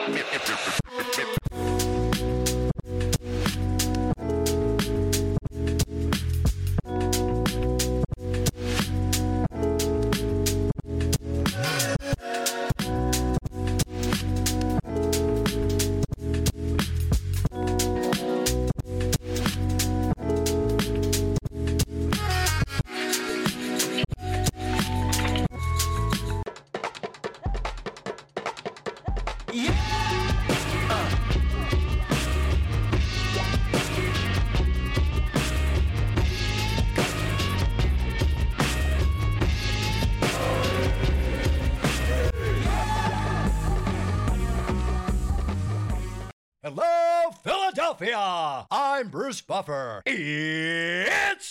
Hello, Philadelphia! I'm Bruce Buffer. It's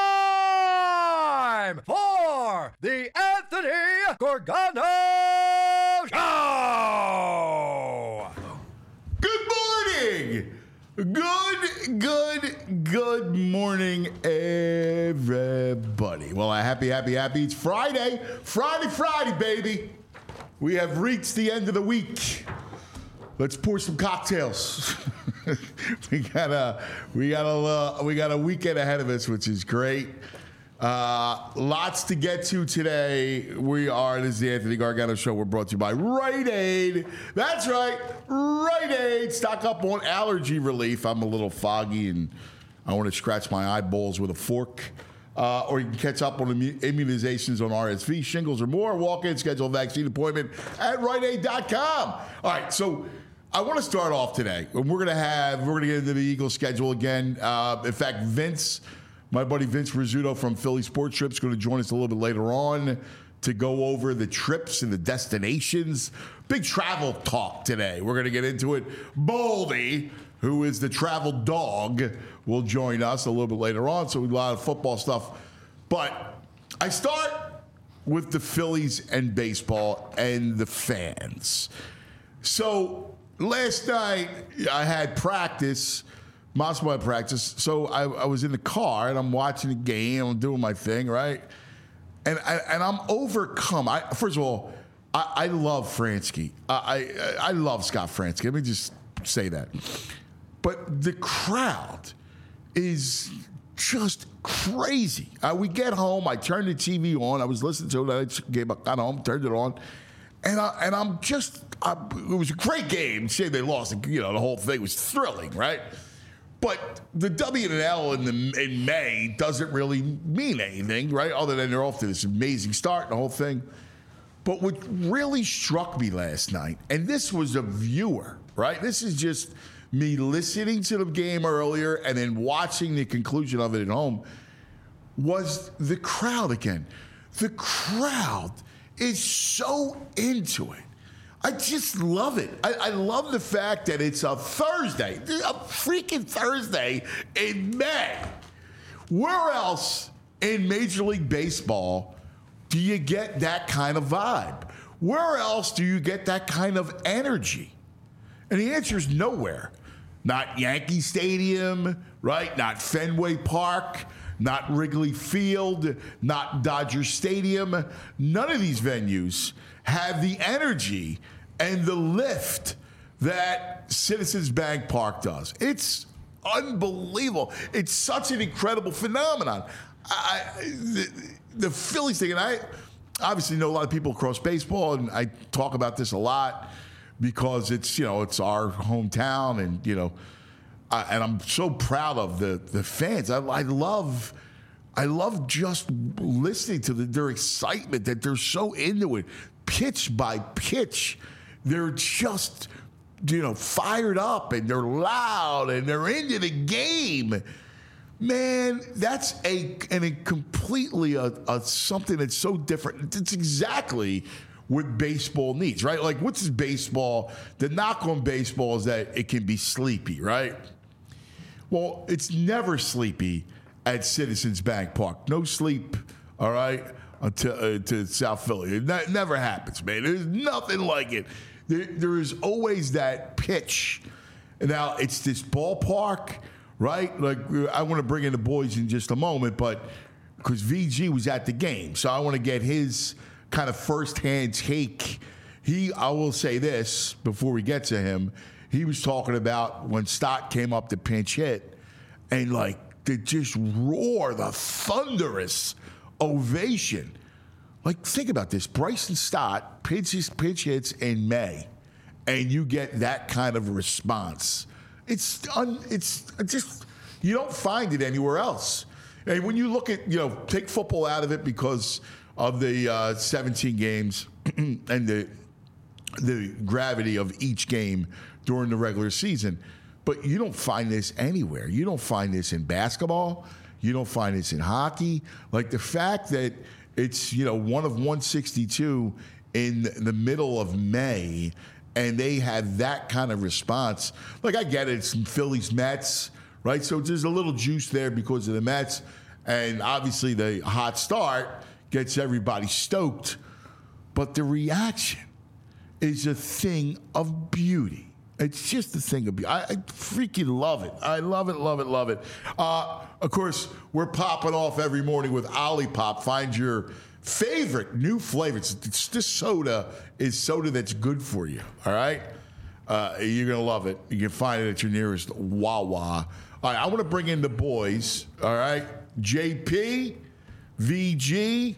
time for the Anthony Gorgano Show! Good morning! Good morning, everybody. Well, happy. It's Friday. Friday, baby. We have reached the end of the week. Let's pour some cocktails. we got a weekend ahead of us, which is great. Lots to get to today. This is the Anthony Gargano Show. We're brought to you by Rite Aid. That's right, Rite Aid. Stock up on allergy relief. I'm a little foggy and I want to scratch my eyeballs with a fork. Or you can catch up on immunizations on RSV, shingles, or more. Walk in, schedule a vaccine appointment at RiteAid.com. All right, so I want to start off today. We're going to get into the Eagles schedule again. In fact, my buddy Vince Rizzuto from Philly Sports Trips, is going to join us a little bit later on to go over the trips and the destinations. Big travel talk today. We're going to get into it. Baldy, who is the travel dog, will join us a little bit later on. So a lot of football stuff. But I start with the Phillies and baseball and the fans. So last night I had practice, Moscow had practice. So I was in the car and I'm watching the game. I'm doing my thing, right? And I'm overcome. First of all, I love Fransky. I love Scott Fransky. Let me just say that. But the crowd is just crazy. We get home. I turned the TV on. I was listening to it. I got home, turned it on, and it was a great game. Say they lost. The whole thing was thrilling, right? But the W and L in May doesn't really mean anything, right? Other than they're off to this amazing start and the whole thing. But what really struck me last night, and this was a viewer, right? This is just me listening to the game earlier and then watching the conclusion of it at home, was the crowd again. The crowd is so into it. I just love it. I love the fact that it's a Thursday, a freaking Thursday in May. Where else in Major League Baseball do you get that kind of vibe? Where else do you get that kind of energy? And the answer is nowhere. Not Yankee Stadium, right? Not Fenway Park, not Wrigley Field, not Dodger Stadium. None of these venues have the energy and the lift that Citizens Bank Park does. It's unbelievable. It's such an incredible phenomenon. The Phillies thing, and I obviously know a lot of people across baseball, and I talk about this a lot because it's our hometown, and and I'm so proud of the fans. I love just listening to their excitement, that they're so into it, pitch by pitch. They're just fired up, and they're loud, and they're into the game. Man, that's a completely something that's so different. It's exactly what baseball needs, right? Like, what's baseball? The knock on baseball is that it can be sleepy, right? Well, it's never sleepy at Citizens Bank Park. No sleep, all right, to South Philly. It never happens, man. There's nothing like it. There is always that pitch. Now, it's this ballpark, right? Like, I want to bring in the boys in just a moment, but because VG was at the game, so I want to get his kind of firsthand take, I will say this before we get to him. He was talking about when Stott came up to pinch hit, and like they just roar the thunderous ovation. Like, think about this: Bryson Stott pitch hits in May, and you get that kind of response. It's just you don't find it anywhere else. And when you look at take football out of it because of the 17 games and the gravity of each game during the regular season, but you don't find this anywhere. You don't find this in basketball. You don't find this in hockey. Like the fact that it's 1 of 162 in the middle of May, and they had that kind of response. Like I get it, it's Phillies Mets, right? So there's a little juice there because of the Mets, and obviously the hot start gets everybody stoked. But the reaction is a thing of beauty. It's just a thing of beauty. I freaking love it. I love it, love it, love it. Of course, we're popping off every morning with Olipop. Find your favorite new flavors. This soda is soda that's good for you, all right? You're going to love it. You can find it at your nearest Wawa. All right, I want to bring in the boys, all right? JP, VG.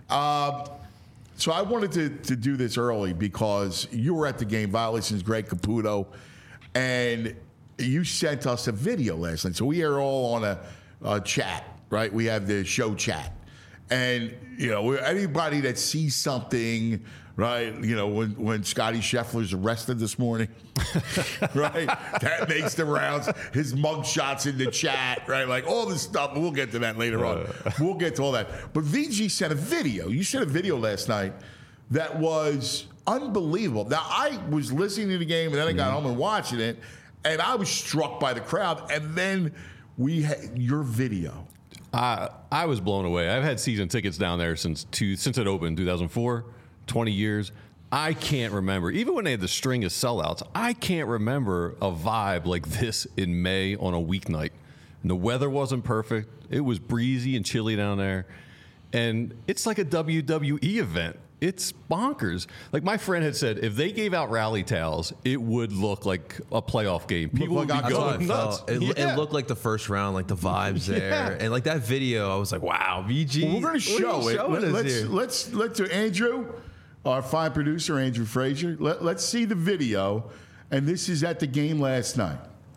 So I wanted to do this early because you were at the game, Violations, Greg Caputo, and you sent us a video last night. So we are all on a chat, right? We have the show chat. And, anybody that sees something, right, when Scotty Scheffler's arrested this morning, right, that makes the rounds. His mugshots in the chat, right, like all this stuff. We'll get to that later on. We'll get to all that. But VG sent a video. You sent a video last night that was unbelievable. Now, I was listening to the game, and then I got home and watching it, and I was struck by the crowd. And then we had your video. I was blown away. I've had season tickets down there since it opened, 2004, 20 years. I can't remember. Even when they had the string of sellouts, I can't remember a vibe like this in May on a weeknight. And the weather wasn't perfect. It was breezy and chilly down there. And it's like a WWE event. It's bonkers. Like my friend had said, if they gave out rally towels, it would look like a playoff game. People would be going nuts. It looked like the first round, like the vibes there. And like that video, I was like, wow, VG. Well, we're going to show it. Let's do Andrew, our fine producer, Andrew Frazier. Let's see the video. And this is at the game last night.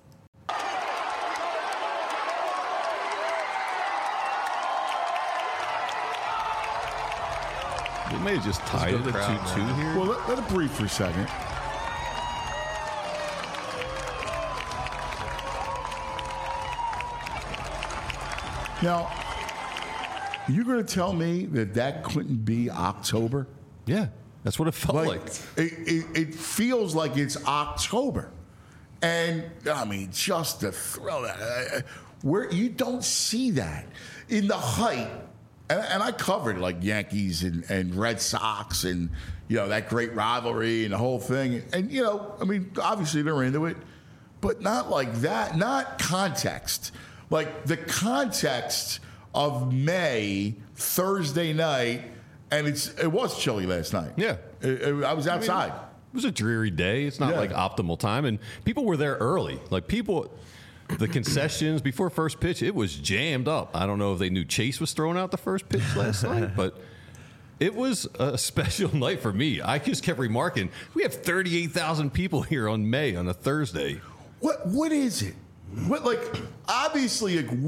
They may have just tied it at 2-2 here. Well, let it breathe for a second. Now, you're going to tell me that couldn't be October? Yeah, that's what it felt like. It feels like it's October. And, I mean, just to throw that, where you don't see that in the height. And I covered like Yankees and Red Sox and, that great rivalry and the whole thing. And, I mean, obviously they're into it, but not like that, not context. Like the context of May, Thursday night, and it was chilly last night. Yeah. I was outside. It was a dreary day. It's not like optimal time. And people were there early. Like the concessions before first pitch, it was jammed up. I don't know if they knew Chase was throwing out the first pitch last night, but it was a special night for me. I just kept remarking, we have 38,000 people here on May on a Thursday. What is it? Obviously, like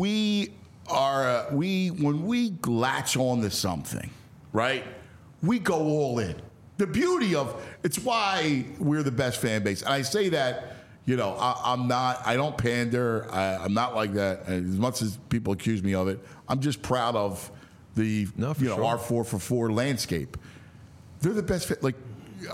when we latch on to something, right? We go all in. The beauty of it's why we're the best fan base. And I say that, I don't pander. I'm not like that. As much as people accuse me of it, I'm just proud of the our 4-for-4 landscape. They're the best.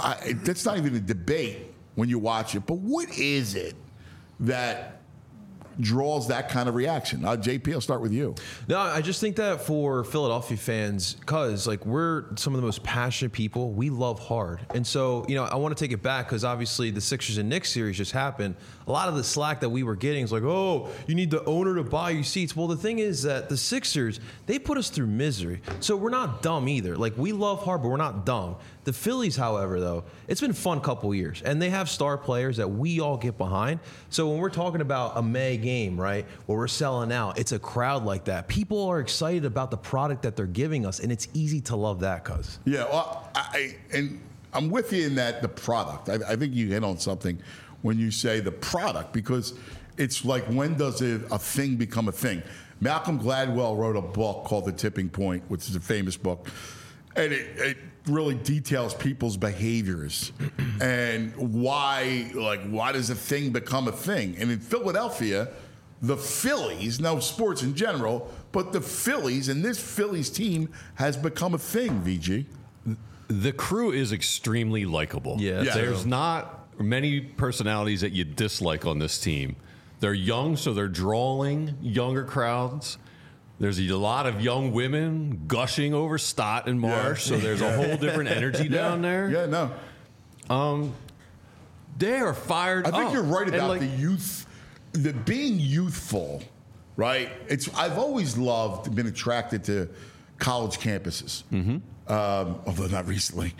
That's not even a debate when you watch it. But what is it that draws that kind of reaction? JP, I'll start with you. No, I just think that for Philadelphia fans, because like we're some of the most passionate people, we love hard. And so, I want to take it back because obviously the Sixers and Knicks series just happened. A lot of the slack that we were getting is like, oh, you need the owner to buy you seats. Well, the thing is that the Sixers, they put us through misery. So we're not dumb either. Like, we love hard, but we're not dumb. The Phillies, however, though, it's been a fun couple years, and they have star players that we all get behind. So when we're talking about a May game, right, where we're selling out, it's a crowd like that. People are excited about the product that they're giving us, and it's easy to love that, cuz. Yeah, well, I'm with you in that the product. I think you hit on something when you say the product, because it's like, when does a thing become a thing? Malcolm Gladwell wrote a book called The Tipping Point, which is a famous book, and it really details people's behaviors and why does a thing become a thing? And in Philadelphia, the Phillies, no sports in general, but the Phillies and this Phillies team has become a thing, VG. The crew is extremely likable. Yeah, There's not many personalities that you dislike on this team. They're young, so they're drawing younger crowds. There's a lot of young women gushing over Stott and Marsh, so there's a whole different energy down there. Yeah, no. They are fired up. I think you're right about the youth, the being youthful, right? I've always been attracted to college campuses. Mm-hmm. Although not recently.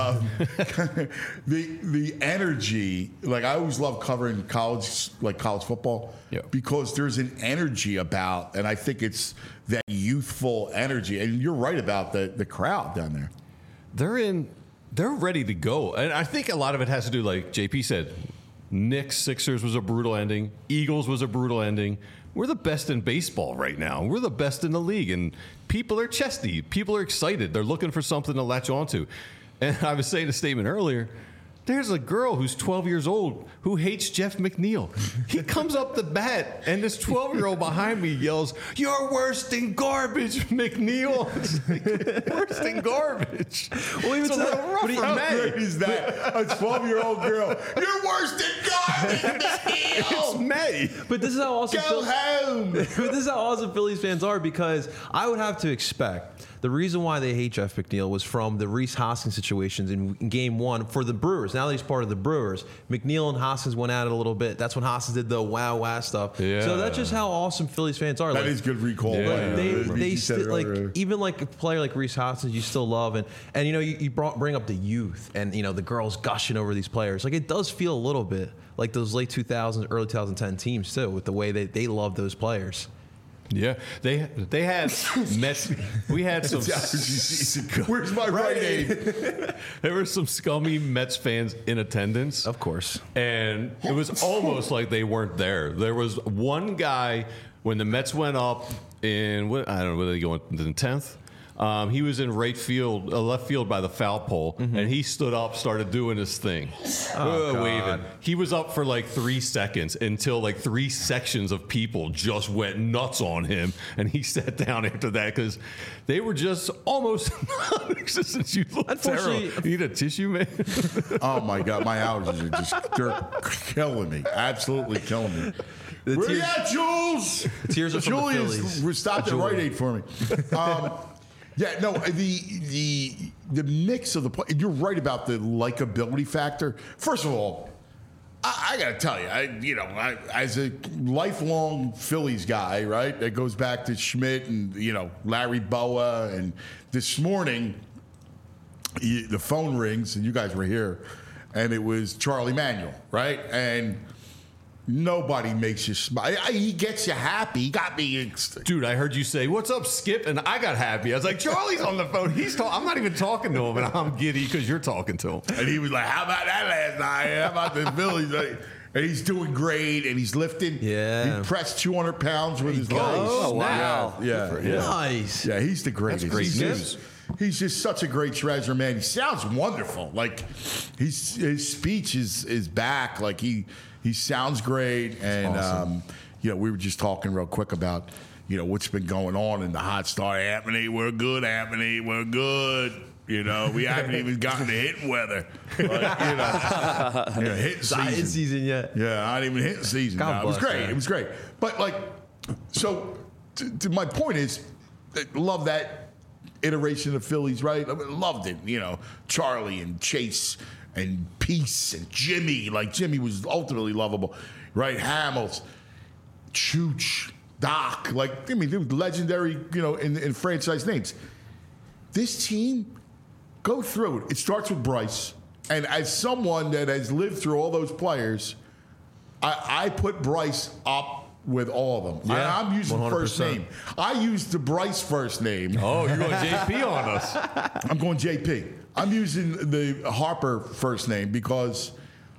The energy, like I always love covering college football, because there's an energy about, and I think it's that youthful energy. And you're right about the crowd down there. They're ready to go. And I think a lot of it has to do, like JP said, Knicks, Sixers was a brutal ending. Eagles was a brutal ending. We're the best in baseball right now. We're the best in the league. And people are chesty. People are excited. They're looking for something to latch onto. And I was saying a statement earlier. There's a girl who's 12 years old who hates Jeff McNeil. He comes up the bat, and this 12-year-old behind me yells, "You're worse than garbage, McNeil." It's like, worse than garbage. Well, it's a little rough for How men. great is that? A 12-year-old girl. You're worse than garbage, McNeil. It's May. But this is how awesome Go home. This is how awesome Phillies fans are, because I would have to expect the reason why they hate Jeff McNeil was from the Rhys Hoskins situations in Game 1 for the Brewers. Now that he's part of the Brewers, McNeil and Hoskins went at it a little bit. That's when Hoskins did the wow stuff. Yeah. So that's just how awesome Phillies fans are. That is good recall. Yeah. They still, even like a player like Rhys Hoskins, you still love, and you bring up the youth and the girls gushing over these players. Like, it does feel a little bit like those late 2000s, early 2010 teams too, with the way they love those players. Yeah, they had Mets. We had some. Where's my right aid? There were some scummy Mets fans in attendance, Of course. and it was almost like they weren't there. There was one guy when the Mets went up in I don't know whether they go in the 10th. He was in left field by the foul pole, and he stood up, started doing his thing, waving. He was up for like 3 seconds until like 3 sections of people just went nuts on him, and he sat down after that because they were just almost non-existent. You look terrible. You need a tissue, man? Oh my God, my allergies they're killing me. Absolutely killing me. Where you at, Jules? Tears are from the Phillies. Stop at Rite Aid for me. Yeah, no, the mix of the play. You're right about the likability factor. First of all, I got to tell you, as a lifelong Phillies guy, right, that goes back to Schmidt and Larry Boa, and this morning the phone rings and you guys were here, and it was Charlie Manuel, right, and. Nobody makes you smile. He gets you happy. He got me. Dude, I heard you say, "What's up, Skip?" And I got happy. I was like, Charlie's on the phone. I'm not even talking to him, and I'm giddy because you're talking to him. And he was like, "How about that last night? How about the Phillies?" And he's doing great, and he's lifting. Yeah. He pressed 200 pounds with his legs. Oh, wow. Yeah. Nice. Yeah, he's the greatest. That's great news. He's just such a great treasure, man. He sounds wonderful. Like, his speech is back. Like, he sounds great. And, awesome. We were just talking real quick about, what's been going on in the hot start. Anthony, we're good, Anthony. We're good. You know, we haven't even gotten to hitting weather. Like, hitting Not season yet. Yeah, not even hitting season. God It was bless, great. man. It was great. But like, so to my point is, love that iteration of Phillies, right? I loved it. You know, Charlie and Chase and Peace and Jimmy. Like Jimmy was ultimately lovable, right? Hamels, Chooch, Doc. Like, I mean, they were legendary, in franchise names. This team, go through it. It starts with Bryce. And as someone that has lived through all those players, I put Bryce up with all of them. Yeah, I'm using 100%. first name. I used the Bryce first name. Oh, you're going JP on us. I'm going JP. I'm using the Harper first name because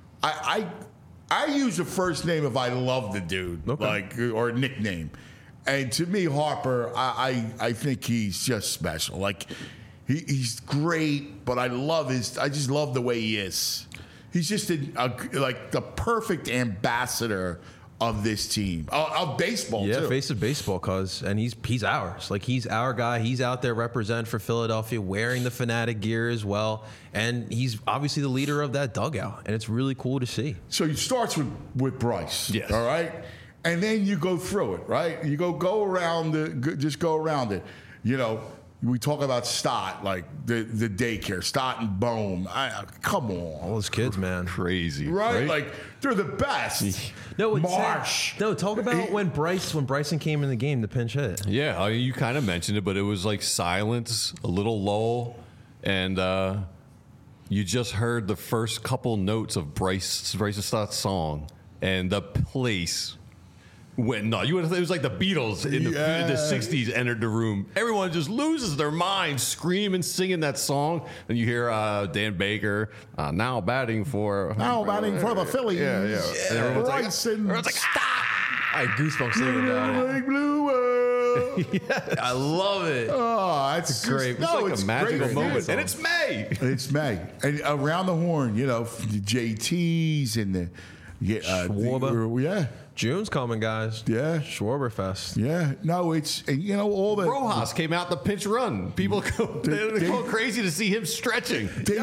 I use a first name if I love the dude, or a nickname. And to me, Harper, I think he's just special. Like, he's great, but I just love the way he is. He's just like the perfect ambassador of this team, of baseball, Yeah, too. face of baseball, and he's ours. Like, he's our guy. He's out there representing for Philadelphia, wearing the Fanatic gear as well, and he's obviously the leader of that dugout, and it's really cool to see. So it starts with Bryce, Yes. all right? And then you go through it, right? You go around just go around it. You know, we talk about Stott, like the daycare, Stott and Bohm. Come on. All those kids, man. Crazy. Right? Like, they're the best. No, it's Marsh. talk about when Bryson came in the game, the pinch hit. Yeah, I mean, you kind of mentioned it, but it was like silence, a little lull, and you just heard the first couple notes of Bryce Stott's song, and the place went nuts. It was like the Beatles in the 60s entered the room. Everyone just loses their mind screaming, singing that song. And you hear Dan Baker now batting for the Phillies. Yeah. And everyone's Bryce and like, I had goosebumps thinking about it. Big Blue World. I love it. Oh, that's great. Just, no, it's like a magical great. moment. And it's May. It's May. And around the horn, the JTs and the Schwarber. Yeah. June's coming, guys. Yeah. Schwarberfest. Yeah. No, it's, all the. Rojas came out the pinch run. People they're going crazy to see him stretching. They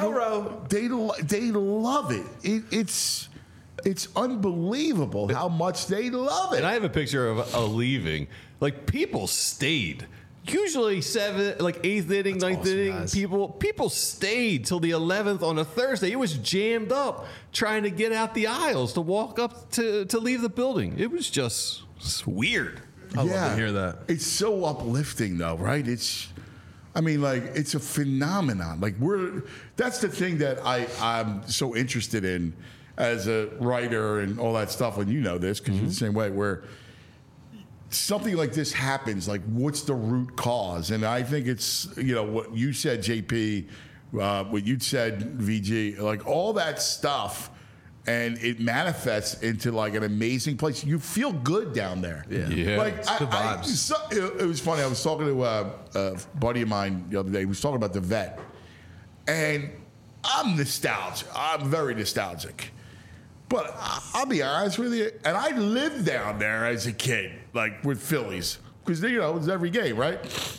love it. It's unbelievable how much they love it. And I have a picture of a leaving. Like, people stayed. Usually 8th inning, ninth awesome, inning, guys. people stayed till the 11th on a Thursday. It was jammed up trying to get out the aisles to walk up to leave the building. It was just weird. I love to hear that. It's so uplifting, though, right? It's a phenomenon. Like, that's the thing that I'm so interested in as a writer and all that stuff. And you know this because you're the same way, where something like this happens, like, what's the root cause? And I think it's, what you said, JP, what you said, VG, like, all that stuff, and it manifests into, like, an amazing place. You feel good down there. Yeah. Like, It's good vibes. it was funny. I was talking to a buddy of mine the other day. He was talking about the vet. And I'm nostalgic. I'm very nostalgic. But I'll be honest with you, and I lived down there as a kid, like, with Phillies, because, it was every game, right?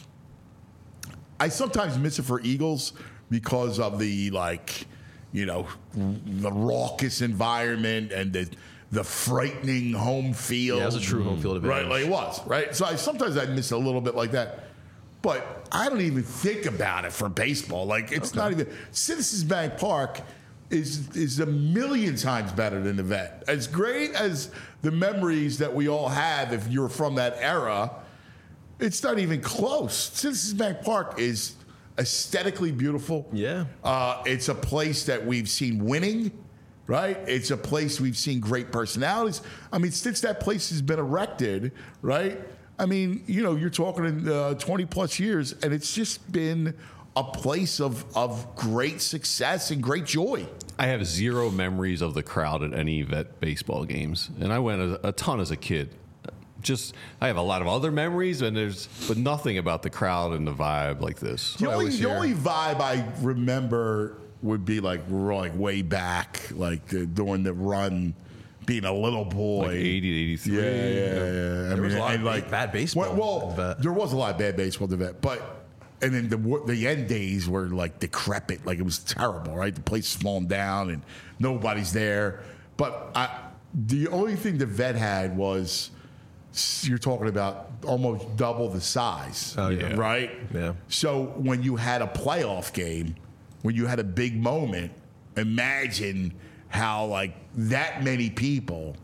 I sometimes miss it for Eagles because of the, the raucous environment and the frightening home field. Yeah, it was a true home field advantage. Right, like it was, right? So sometimes I miss it a little bit like that. But I don't even think about it for baseball. Like, it's not even. Citizens Bank Park is a million times better than the vet. As great as the memories that we all have, if you're from that era, it's not even close. Citizens Bank Park is aesthetically beautiful. Yeah. It's a place that we've seen winning, right? It's a place we've seen great personalities. I mean, since that place has been erected, right? I mean, you're talking in 20 plus years, and it's just been a place of great success and great joy. I have zero memories of the crowd at any vet baseball games, and I went a ton as a kid. I have a lot of other memories, but nothing about the crowd and the vibe like this. The only vibe I remember would be like way back, like during the run, being a little boy. Like 80 to 83. Yeah. There was a lot of bad baseball at the vet. There was a lot of bad baseball at the vet, but And then the end days were like decrepit, like it was terrible, right? The place is falling down and nobody's there. But the only thing the vet had was, you're talking about almost double the size, right? Yeah. So when you had a playoff game, when you had a big moment, imagine how like that many people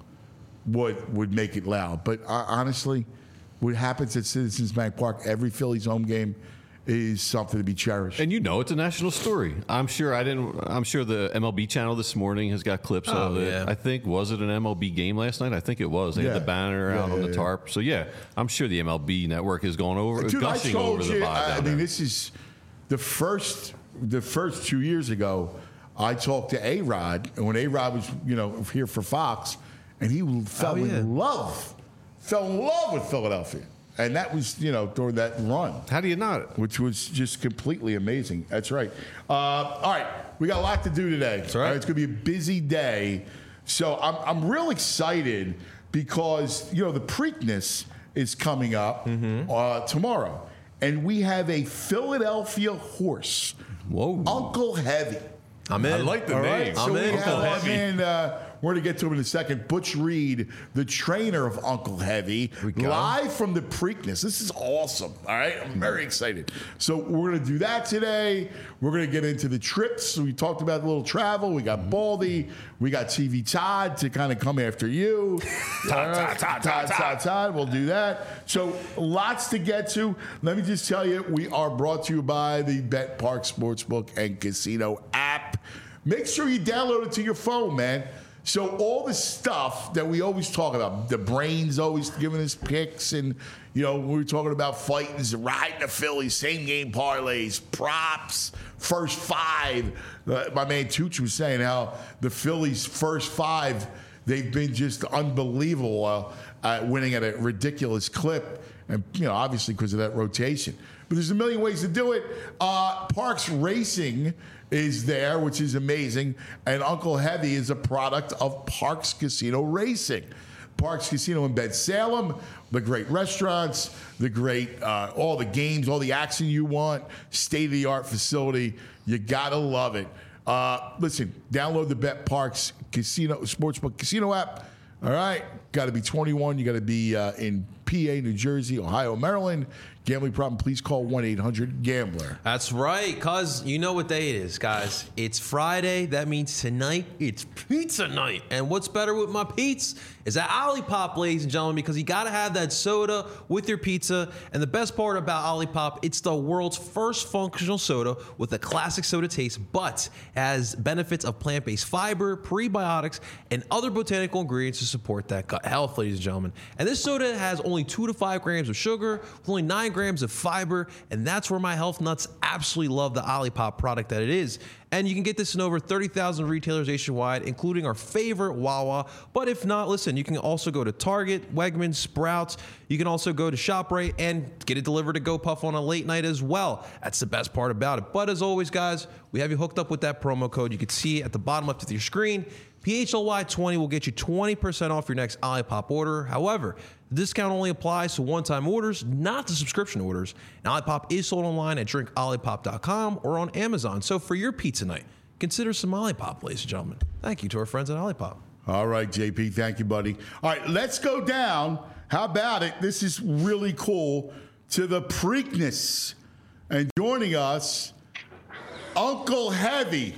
would make it loud. But honestly, what happens at Citizens Bank Park, every Phillies home game is something to be cherished. And it's a national story. I'm sure the MLB channel this morning has got clips of it. Yeah. I think, was it an MLB game last night? I think it was. They had the banner out on the tarp. So I'm sure the MLB network is going over, Dude, gushing over the vibe down there. this is the first 2 years ago. I talked to A-Rod, and when A-Rod was here for Fox, and he fell in love with Philadelphia. And that was, during that run. How do you not? Which was just completely amazing. That's right. All right, we got a lot to do today. That's right. It's going to be a busy day. So I'm real excited because, the Preakness is coming up tomorrow. And we have a Philadelphia horse. Whoa. Uncle Heavy. I'm in. I like the All name. right, so I'm we in. have our man, we're going to get to him in a second. Butch Reed, the trainer of Uncle Heavy, live from the Preakness. This is awesome. All right, I'm very excited. So we're going to do that today. We're going to get into the trips. We talked about a little travel. We got Baldy. We got TV Todd to kind of come after you. Todd. We'll do that. So lots to get to. Let me just tell you, we are brought to you by the Bet Park Sportsbook and Casino app. Make sure you download it to your phone, man. So all the stuff that we always talk about, the brain's always giving us picks, and we were talking about fightings, riding the Phillies, same game parlays, props, first five. My man Tooch was saying how the Phillies' first five, they've been just unbelievable, winning at a ridiculous clip, and obviously because of that rotation. But there's a million ways to do it. Parks Racing is there, which is amazing. And Uncle Heavy is a product of Parks Casino Racing. Parks Casino in Salem, the great restaurants, the great, all the games, all the action you want, state-of-the-art facility. You got to love it. Listen, download the Bet Parks Casino Sportsbook Casino app. All right, got to be 21. You got to be in PA, New Jersey, Ohio, Maryland. Gambling problem, please call 1-800-GAMBLER. That's right, cuz you know what day it is, guys. It's Friday. That means tonight it's pizza night. And what's better with my Pete's is that Olipop, ladies and gentlemen, because you got to have that soda with your pizza. And the best part about Olipop, it's the world's first functional soda with a classic soda taste, but has benefits of plant-based fiber, prebiotics, and other botanical ingredients to support that gut health, ladies and gentlemen. And this soda has only 2 to 5 grams of sugar, with only 9 grams of fiber, and that's where my health nuts absolutely love the Olipop product that it is. And you can get this in over 30,000 retailers nationwide, including our favorite Wawa. But if not, listen, you can also go to Target, Wegmans, Sprouts. You can also go to ShopRite and get it delivered to GoPuff on a late night as well. That's the best part about it. But as always, guys, we have you hooked up with that promo code. You can see it at the bottom left of your screen. PHLY20 will get you 20% off your next Olipop order. However, the discount only applies to one-time orders, not to subscription orders. And Olipop is sold online at drinkolipop.com or on Amazon. So for your pizza night, consider some Olipop, ladies and gentlemen. Thank you to our friends at Olipop. All right, JP. Thank you, buddy. All right, let's go down. How about it? This is really cool. To the Preakness. And joining us, Uncle Heavy.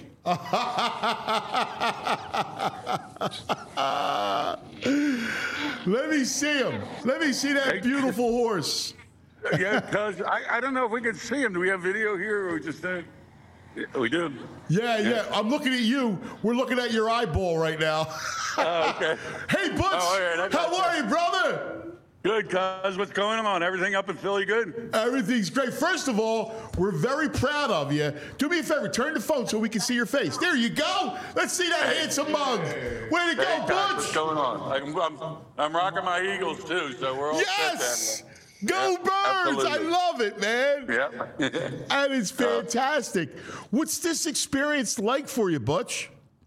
Let me see him. Let me see that beautiful horse. Yeah, cuz I don't know if we can see him. Do we have video here or we just we do? Yeah. I'm looking at you. We're looking at your eyeball right now. Okay. Hey, Butch. How are you, brother? Good, cuz. What's going on? Everything up in Philly good? Everything's great. First of all, we're very proud of you. Do me a favor. Turn the phone so we can see your face. There you go. Let's see that handsome mug. Way to go, Butch. What's going on? I'm rocking my Eagles, too, so we're all Yes. set. Go Birds! Absolutely. I love it, man. Yeah. That is fantastic. What's this experience like for you, Butch?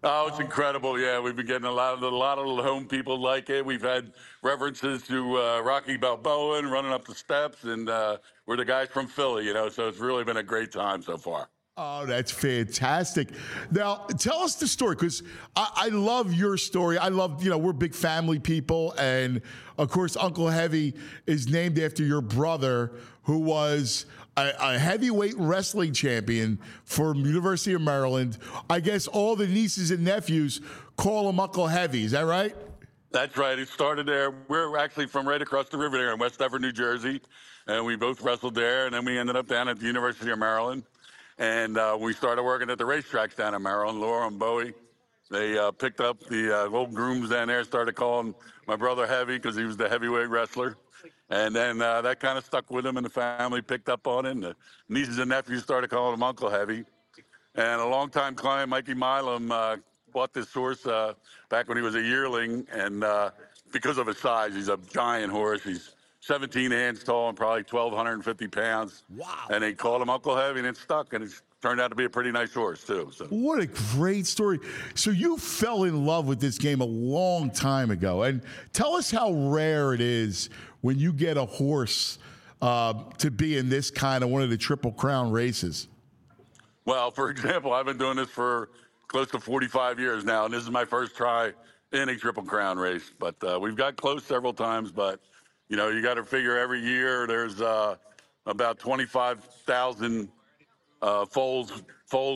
Oh, it's incredible! Yeah, we've been getting a lot of the home people like it. We've had references to Rocky Balboa and running up the steps, and we're the guys from Philly, So it's really been a great time so far. Oh, that's fantastic. Now, tell us the story, because I love your story. I love, we're big family people. And, of course, Uncle Heavy is named after your brother, who was a heavyweight wrestling champion for University of Maryland. I guess all the nieces and nephews call him Uncle Heavy. Is that right? That's right. It started there. We're actually from right across the river there in West Effort, New Jersey. And we both wrestled there. And then we ended up down at the University of Maryland. And we started working at the racetracks down in Maryland. Laura and Bowie, they picked up the old grooms down there, started calling my brother Heavy because he was the heavyweight wrestler. And then that kind of stuck with him, and the family picked up on it. And the nieces and nephews started calling him Uncle Heavy. And a longtime client, Mikey Milam, bought this horse back when he was a yearling. And because of his size, he's a giant horse. He's 17 hands tall and probably 1,250 pounds. Wow. And they called him Uncle Heavy, and it stuck, and it's turned out to be a pretty nice horse, too. So. What a great story. So you fell in love with this game a long time ago. And tell us how rare it is when you get a horse to be in this kind of one of the Triple Crown races. Well, for example, I've been doing this for close to 45 years now, and this is my first try in a Triple Crown race. But we've got close several times, but you got to figure every year there's about 25,000 foals. Foal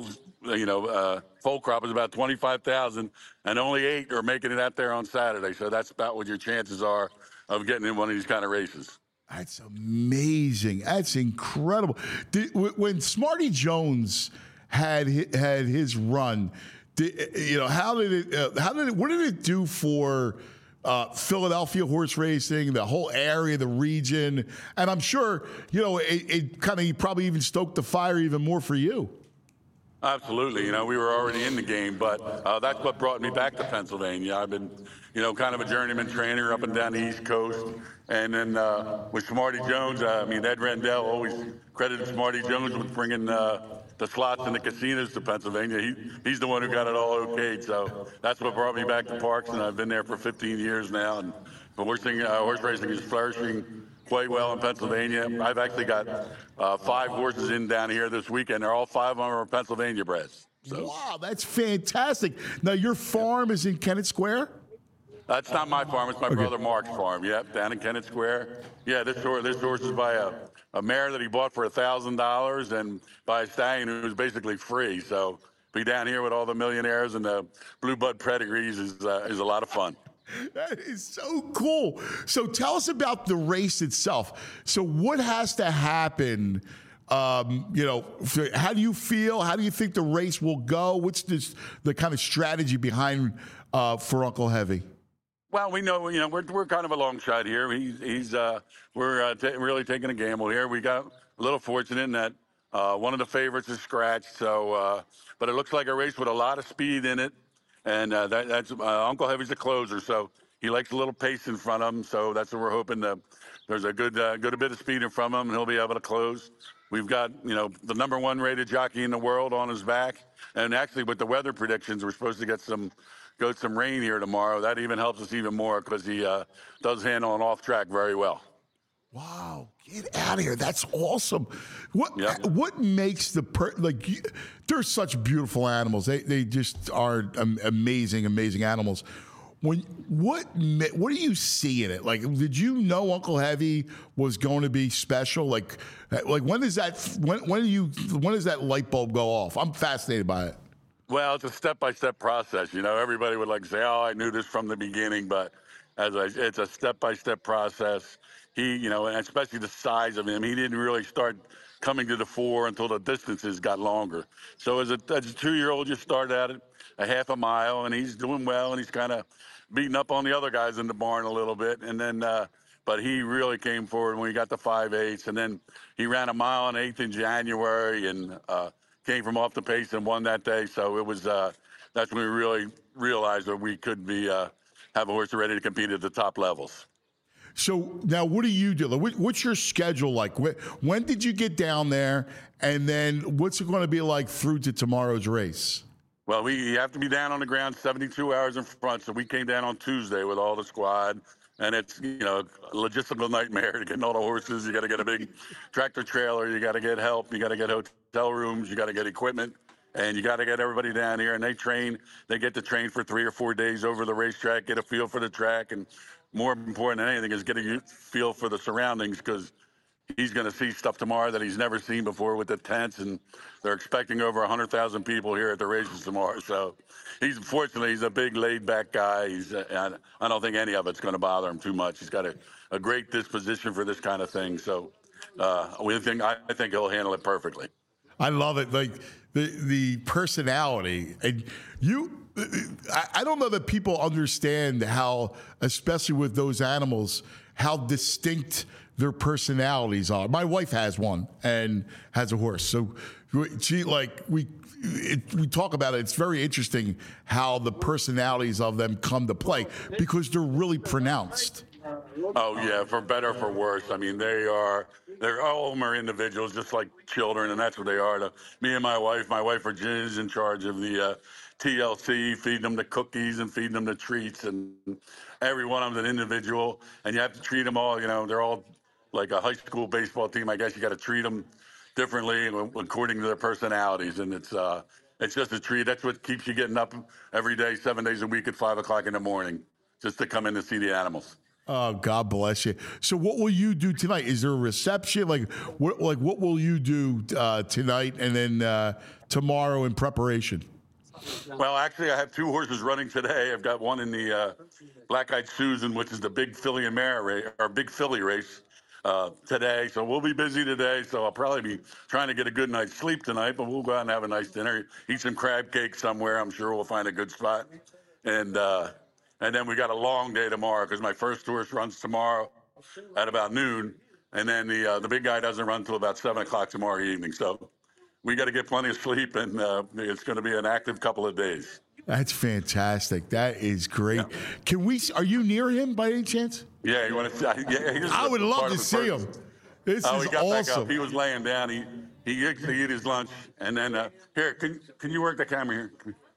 crop is about 25,000, and only 8 are making it out there on Saturday. So that's about what your chances are of getting in one of these kind of races. That's amazing. That's incredible. When Smarty Jones had his run, what did it do for Philadelphia horse racing, the whole area, the region? And I'm sure, it kind of probably even stoked the fire even more for you. Absolutely. We were already in the game, but that's what brought me back to Pennsylvania. I've been, kind of a journeyman trainer up and down the East Coast. And then with Smarty Jones, Ed Rendell always credited Smarty Jones with bringing the slots and the casinos to Pennsylvania. He's the one who got it all okayed. So that's what brought me back to Parks, and I've been there for 15 years now. And horse racing is flourishing quite well in Pennsylvania. I've actually got 5 horses in down here this weekend. They're all 5 of them are Pennsylvania breds. So. Wow, that's fantastic. Now, your farm is in Kennett Square? That's not my farm. It's my brother Mark's farm. Yep, down in Kennett Square. Yeah, this horse is by a mare that he bought for $1,000 and by a stallion who was basically free. So be down here with all the millionaires and the blue blood pedigrees is a lot of fun. That is so cool. So tell us about the race itself. So what has to happen? How do you feel? How do you think the race will go? What's the kind of strategy behind for Uncle Heavy? Well, we know, we're kind of a long shot here. We're really taking a gamble here. We got a little fortunate in that one of the favorites is scratched. So, but it looks like a race with a lot of speed in it. And that's Uncle Heavy's a closer, so he likes a little pace in front of him. So that's what we're hoping. There's a good bit of speed in front of him, and he'll be able to close. We've got, the number 1 rated jockey in the world on his back. And actually, with the weather predictions, we're supposed to get some rain here tomorrow. That even helps us even more because he does handle an off track very well. Wow, get out of here. That's awesome. What makes they're such beautiful animals. They just are amazing animals. What do you see in it? Like, did you know Uncle Heavy was going to be special? Like when does that light bulb go off? I'm fascinated by it. Well, it's a step-by-step process. Everybody would say, "Oh, I knew this from the beginning," but it's a step-by-step process. He, and especially the size of him, he didn't really start coming to the fore until the distances got longer. So as a 2-year-old, you start at it a half a mile, and he's doing well, and he's kind of beating up on the other guys in the barn a little bit. And then, but he really came forward when he got to 5/8, and then he ran a mile and 1/8 in January, and came from off the pace and won that day. So it was that's when we really realized that we could be have a horse ready to compete at the top levels. So now, what do you do? What's your schedule like? When did you get down there, and then what's it going to be like through to tomorrow's race? Well, we have to be down on the ground 72 hours in front. So we came down on Tuesday with all the squad. And it's, a logistical nightmare to get all the horses. You got to get a big tractor trailer. You got to get help. You got to get hotel rooms. You got to get equipment. And you got to get everybody down here. And they get to train for 3 or 4 days over the racetrack, get a feel for the track. And more important than anything is getting a feel for the surroundings, because he's going to see stuff tomorrow that he's never seen before with the tents, and they're expecting over 100,000 people here at the races tomorrow. So he's a big laid-back guy. I don't think any of it's going to bother him too much. He's got a great disposition for this kind of thing. So I think he'll handle it perfectly. I love it. Like the personality, and I don't know that people understand how, especially with those animals, how distinct their personalities are. My wife has one and has a horse. So we talk about it. It's very interesting how the personalities of them come to play, because they're really pronounced. Oh yeah, for better or for worse. I mean, they're all of them are individuals, just like children, and that's what they are. Me and my wife Virginia is in charge of the TLC, feeding them the cookies and feeding them the treats, and every one of them's an individual, and you have to treat them all. They're all like a high school baseball team. I guess you got to treat them differently according to their personalities, and it's just a treat. That's what keeps you getting up every day, 7 days a week at 5 o'clock in the morning, just to come in to see the animals. Oh, God bless you. So what will you do tonight? Is there a reception? What will you do tonight and then tomorrow in preparation? Well, actually, I have 2 horses running today. I've got one in the Black-Eyed Susan, which is the big filly and mare race, or big filly race today. So we'll be busy today. So I'll probably be trying to get a good night's sleep tonight, but we'll go out and have a nice dinner, eat some crab cake somewhere. I'm sure we'll find a good spot. And then we got a long day tomorrow, because my first horse runs tomorrow at about noon. And then the big guy doesn't run until about 7 o'clock tomorrow evening. So we got to get plenty of sleep, and it's going to be an active couple of days. That's fantastic. That is great. Yeah. Are you near him by any chance? Yeah, you want to? Yeah, I would love to see him. This is he got awesome. back up. He was laying down. He ate his lunch, and then here, can you work the camera here?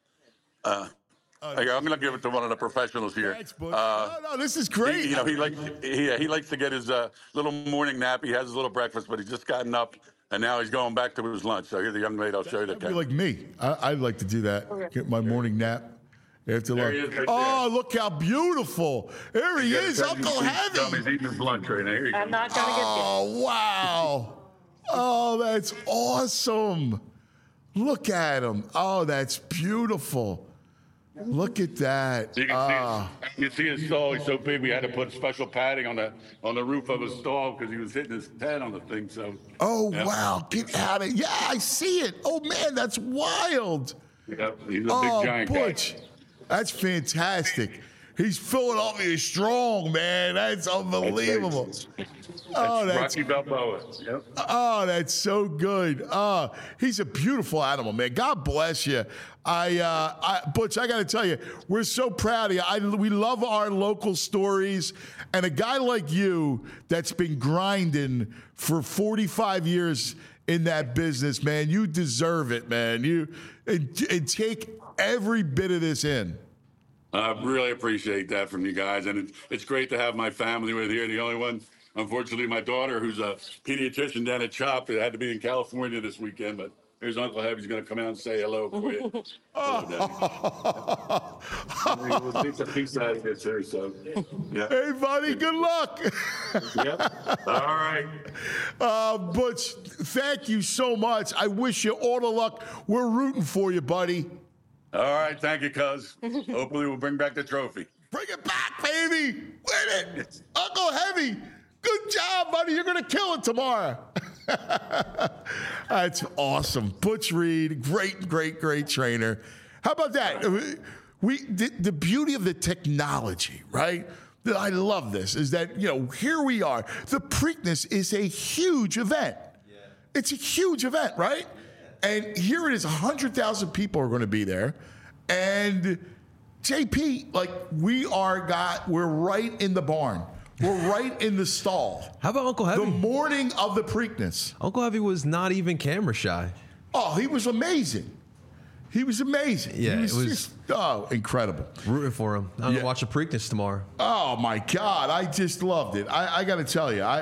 I'm going to give it to one of the professionals here. No, this is great. He likes to get his little morning nap. He has his little breakfast, but he's just gotten up, and now he's going back to his lunch. So here's the young lady. I'll show you the camera. Be like me. I'd like to do that. Okay. Get my morning nap after lunch. Look how beautiful. There he is, Uncle Heavy. He's eating his lunch right now. Here you go. I'm not going to get you. Oh, wow. Oh, that's awesome. Look at him. Oh, that's beautiful. Look at that. You can see his stall. He's so big, we had to put special padding on the roof of his stall because he was hitting his head on the thing. So. Oh, wow. Get out of it. Yeah, I see it. Oh, man, that's wild. Yep, he's a big giant Butch, guy. That's fantastic. He's Philadelphia strong, man. That's unbelievable. That's Rocky Balboa. Yep. Oh, that's so good. He's a beautiful animal, man. God bless you. Butch, I got to tell you, we're so proud of you. We love our local stories, and a guy like you that's been grinding for 45 years in that business, man. You deserve it, man. And take every bit of this in. I really appreciate that from you guys, and it's great to have my family with here. The only one, unfortunately, my daughter, who's a pediatrician down at CHOP, had to be in California this weekend, but here's Uncle Heavy's going to come out and say hello for you. We'll take a piece out of it too, so, yeah. Hey, buddy, good luck. Yep. All right. Butch, thank you so much. I wish you all the luck. We're rooting for you, buddy. All right, thank you, cuz. Hopefully we'll bring back the trophy. Bring it back, baby. Win it. Uncle Heavy, good job, buddy. You're going to kill it tomorrow. That's awesome. Butch Reed, great trainer. How about that? The beauty of the technology, right? I love this, is that, here we are. The Preakness is a huge event. Yeah. It's a huge event, right? And here it is, 100,000 people are going to be there. And JP, we're right in the barn. We're right in the stall. How about Uncle Heavy? The morning of the Preakness. Uncle Heavy was not even camera shy. Oh, he was amazing. He was amazing. Yeah, he was, it was just incredible. Rooting for him. I'm Yeah. gonna watch the Preakness tomorrow. Oh my God, I just loved it. I got to tell you,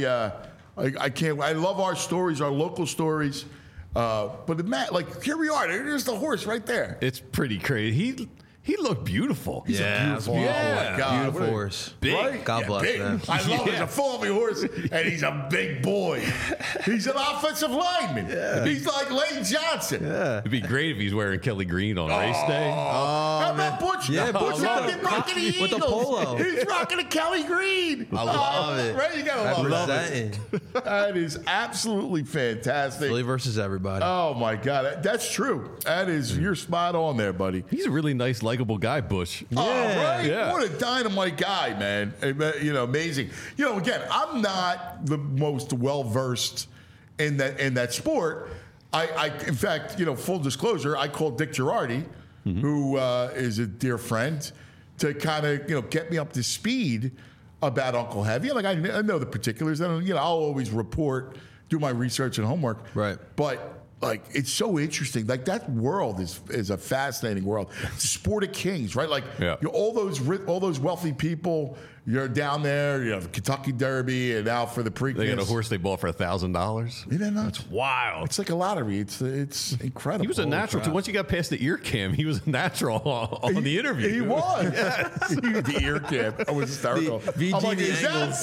I can't. I love our stories, our local stories. But like here we are. There's the horse right there. It's pretty crazy. He looked beautiful. Beautiful. Oh my God, Beautiful what a- horse. Big. Right? God bless, big. man. I love it. He's a full-on horse, and he's a big boy. He's an offensive lineman. He's like Lane Johnson. It'd be great if he's wearing Kelly Green on race day. How about Butch? Yeah, Butch Butch rocking the Eagles. with the polo. He's rocking a Kelly Green. I love it. Right? You gotta love it. Representing. That is absolutely fantastic. Philly versus everybody. Oh my God, that's true. That is, you're spot on there, buddy. He's a really nice, likable guy, Bush. Oh, right? Yeah. What a dynamite guy, man. Amazing. Again, I'm not the most well-versed in that sport. In fact, full disclosure, I called Dick Girardi, who is a dear friend, to kind of, get me up to speed about Uncle Heavy. Like, I know the particulars. I'll always do my research and homework. Right. But like, it's so interesting. Like, that world is a fascinating world. It's a sport of kings, right? Like, all those wealthy people, you're down there, the Kentucky Derby, and now for the Preakness. They got a horse they bought for $1,000. Isn't that nuts? That's wild. It's like a lottery. It's incredible. He was a natural too. Once you got past the ear cam, he was a natural on the interview. He was. The ear cam. I was hysterical. VG I'm like, the is angles.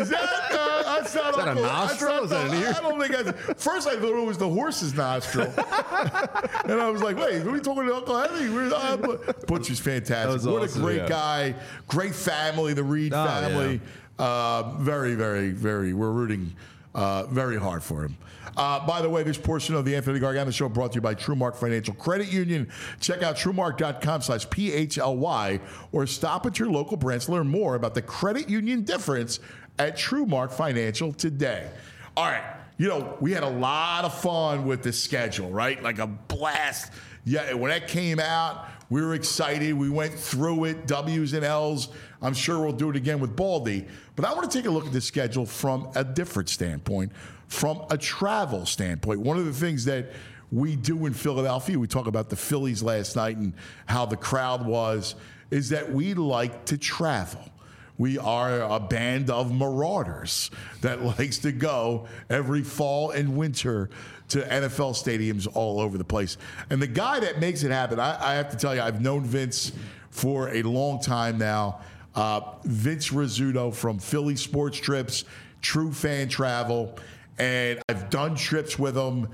that's not that a Uncle- nostril? Is that an ear? I don't think that's. First, I thought it was the horse's nostril. And I was like, wait, are we talking to Uncle Henry? Butch is fantastic. was What awesome. a great guy. Great family, the Reed family. Very, very, very, we're rooting very hard for him. By the way, this portion of the Anthony Gargano Show brought to you by TrueMark Financial Credit Union. Check out TrueMark.com/PHLY or stop at your local branch to learn more about the credit union difference at TrueMark Financial today. All right. We had a lot of fun with the schedule, right? Like a blast. Yeah, when that came out, we were excited. We went through it, W's and L's. I'm sure we'll do it again with Baldy. But I want to take a look at the schedule from a different standpoint, from a travel standpoint. One of the things that we do in Philadelphia, we talk about the Phillies last night and how the crowd was, is that we like to travel. We are a band of marauders that likes to go every fall and winter to NFL stadiums all over the place. And the guy that makes it happen, I have to tell you, I've known Vince for a long time now. Vince Rizzuto from Philly Sports Trips, True Fan Travel, and I've done trips with him.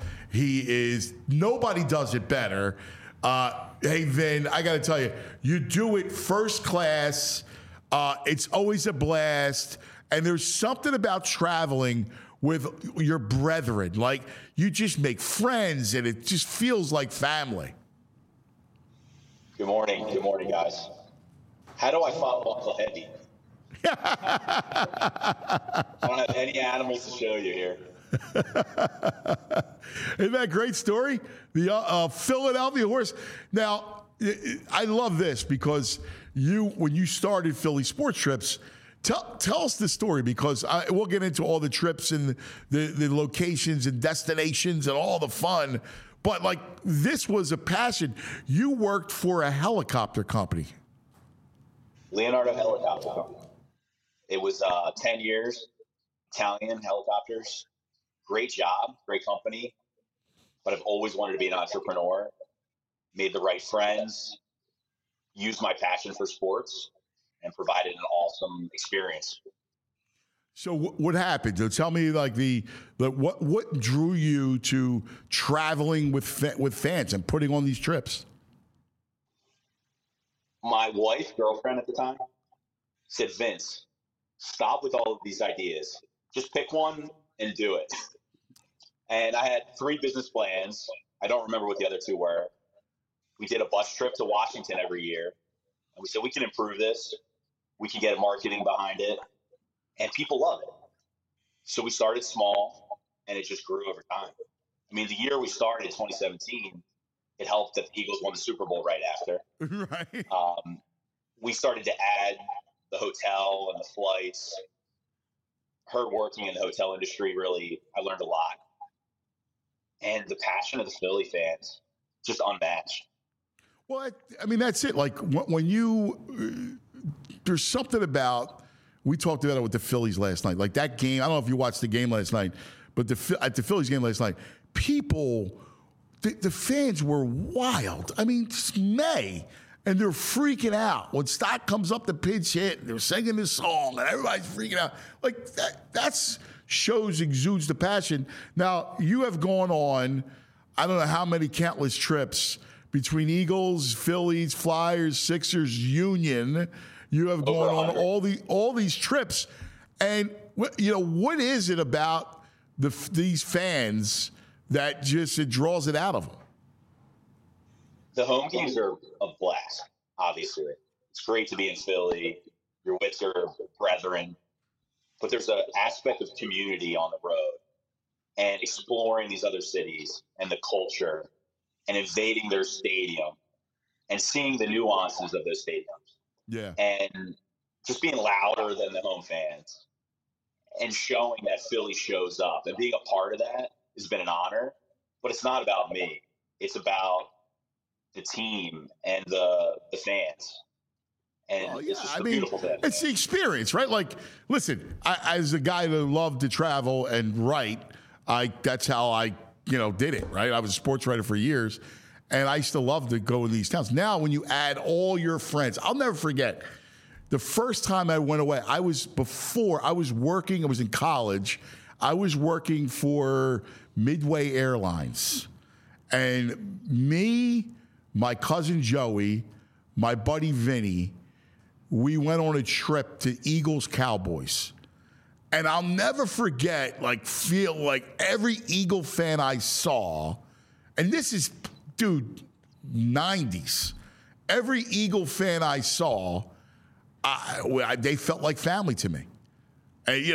Nobody does it better. Hey, Vin, I got to tell you, you do it first class. It's always a blast. And there's something about traveling with your brethren. Like, you just make friends, and it just feels like family. Good morning. Good morning, guys. How do I follow Uncle Heavy? I don't have any animals to show you here. Isn't that a great story? The Philadelphia horse. Now, I love this because when you started Philly Sports Trips, tell us the story, because we'll get into all the trips and the locations and destinations and all the fun. But like, this was a passion. You worked for a helicopter company. Leonardo Helicopter Company. It was 10 years, Italian helicopters. Great job, great company. But I've always wanted to be an entrepreneur. Made the right friends, used my passion for sports, and provided an awesome experience. So what happened? So tell me, like, what drew you to traveling with fans and putting on these trips? My wife, girlfriend at the time, said, Vince, stop with all of these ideas. Just pick one and do it. And I had 3 business plans. I don't remember what the other 2 were. We did a bus trip to Washington every year. And we said, we can improve this. We can get marketing behind it. And people love it. So we started small, and it just grew over time. I mean, the year we started, 2017, it helped that the Eagles won the Super Bowl right after. Right. We started to add the hotel and the flights. Her working in the hotel industry, really, I learned a lot. And the passion of the Philly fans just unmatched. Well, I mean, that's it. Like when you, there's something about, we talked about it with the Phillies last night. Like that game, I don't know if you watched the game last night, but at the Phillies game last night, people, the fans were wild. I mean, it's May, and they're freaking out. When Stott comes up the pinch hit, they're singing this song, and everybody's freaking out. Like that's shows, exudes the passion. Now, you have gone on, I don't know how many countless trips between Eagles, Phillies, Flyers, Sixers, Union. You have gone on all these trips. And, you know, what is it about these fans that just, it draws it out of them? The home games are a blast, obviously. It's great to be in Philly. You're with your brethren. But there's an aspect of community on the road and exploring these other cities and the culture and invading their stadium and seeing the nuances of those stadiums. Yeah. And just being louder than the home fans and showing that Philly shows up and being a part of that has been an honor. But it's not about me. It's about the team and the fans. And it's just a beautiful thing. It's the experience, right? Like, listen, I, as a guy that loved to travel and write, that's how I, did it, right? I was a sports writer for years, and I used to love to go in these towns. Now, when you add all your friends, I'll never forget the first time I went away. I was working, I was in college. I was working for Midway Airlines. And me, my cousin Joey, my buddy Vinny, we went on a trip to Eagles Cowboys. And I'll never forget, feel like every Eagle fan I saw, and this is, dude, 90s. Every Eagle fan I saw, they felt like family to me. And,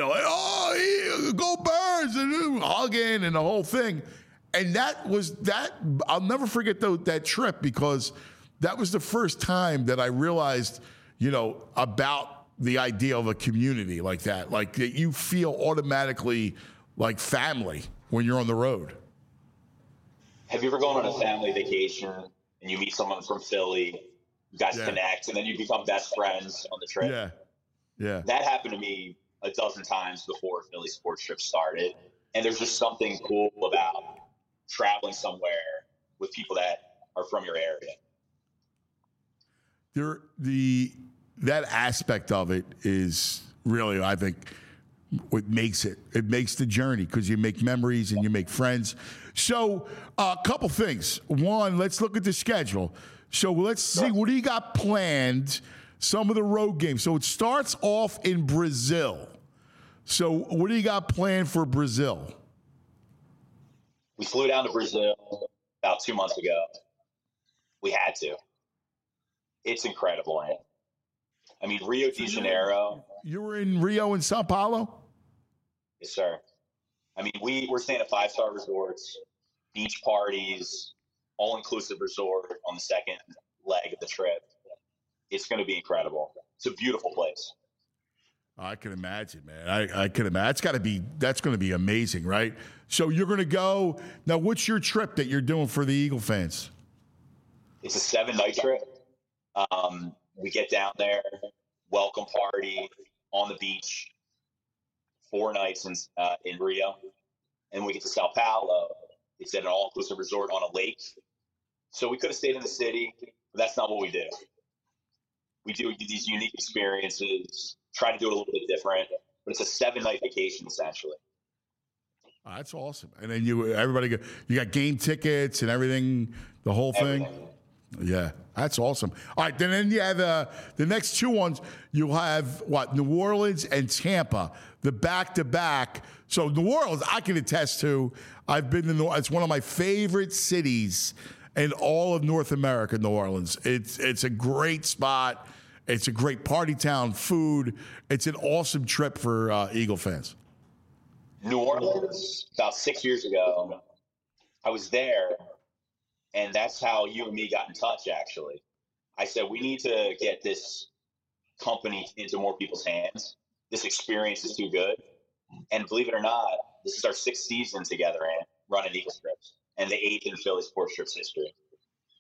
go Birds, and hugging and the whole thing. And I'll never forget that trip, because that was the first time that I realized, about the idea of a community like that. Like that you feel automatically like family when you're on the road. Have you ever gone on a family vacation and you meet someone from Philly, you guys connect, and then you become best friends on the trip? Yeah. Yeah. That happened to me a dozen times before Philly sports trip started. And there's just something cool about traveling somewhere with people that are from your area. That aspect of it is really, I think, what makes it. It makes the journey, because you make memories and you make friends. So a couple things. One, let's look at the schedule. So let's see, what do you got planned? Some of the road games. So it starts off in Brazil. So what do you got planned for Brazil? We flew down to Brazil about 2 months ago. We had to. It's incredible, man. I mean, Rio de Janeiro. You were in Rio and Sao Paulo? Yes, sir. I mean, we're staying at 5-star resorts, beach parties, all-inclusive resort on the second leg of the trip. It's going to be incredible. It's a beautiful place. I can imagine, man. I can imagine. That's going to be amazing, right? So you're going to go. Now, what's your trip that you're doing for the Eagle fans? It's a 7-night trip. We get down there, welcome party on the beach, 4 nights in Rio. And we get to Sao Paulo. It's at an all-inclusive resort on a lake. So we could have stayed in the city, but that's not what we do. We do these unique experiences, try to do it a little bit different, but it's a 7-night vacation, essentially. Oh, that's awesome. And then you got game tickets and everything, the whole thing? Everything. Yeah, that's awesome. All right, then you have the next 2 ones. You'll have, New Orleans and Tampa, the back-to-back. So New Orleans, I can attest to. I've been to New Orleans. It's one of my favorite cities in all of North America, New Orleans. It's a great spot. It's a great party town, food. It's an awesome trip for Eagle fans. New Orleans, about 6 years ago, I was there, and that's how you and me got in touch, actually. I said, we need to get this company into more people's hands. This experience is too good. And believe it or not, this is our 6th season together and running Eagle Trips, and the 8th in Philly Sports Trips history.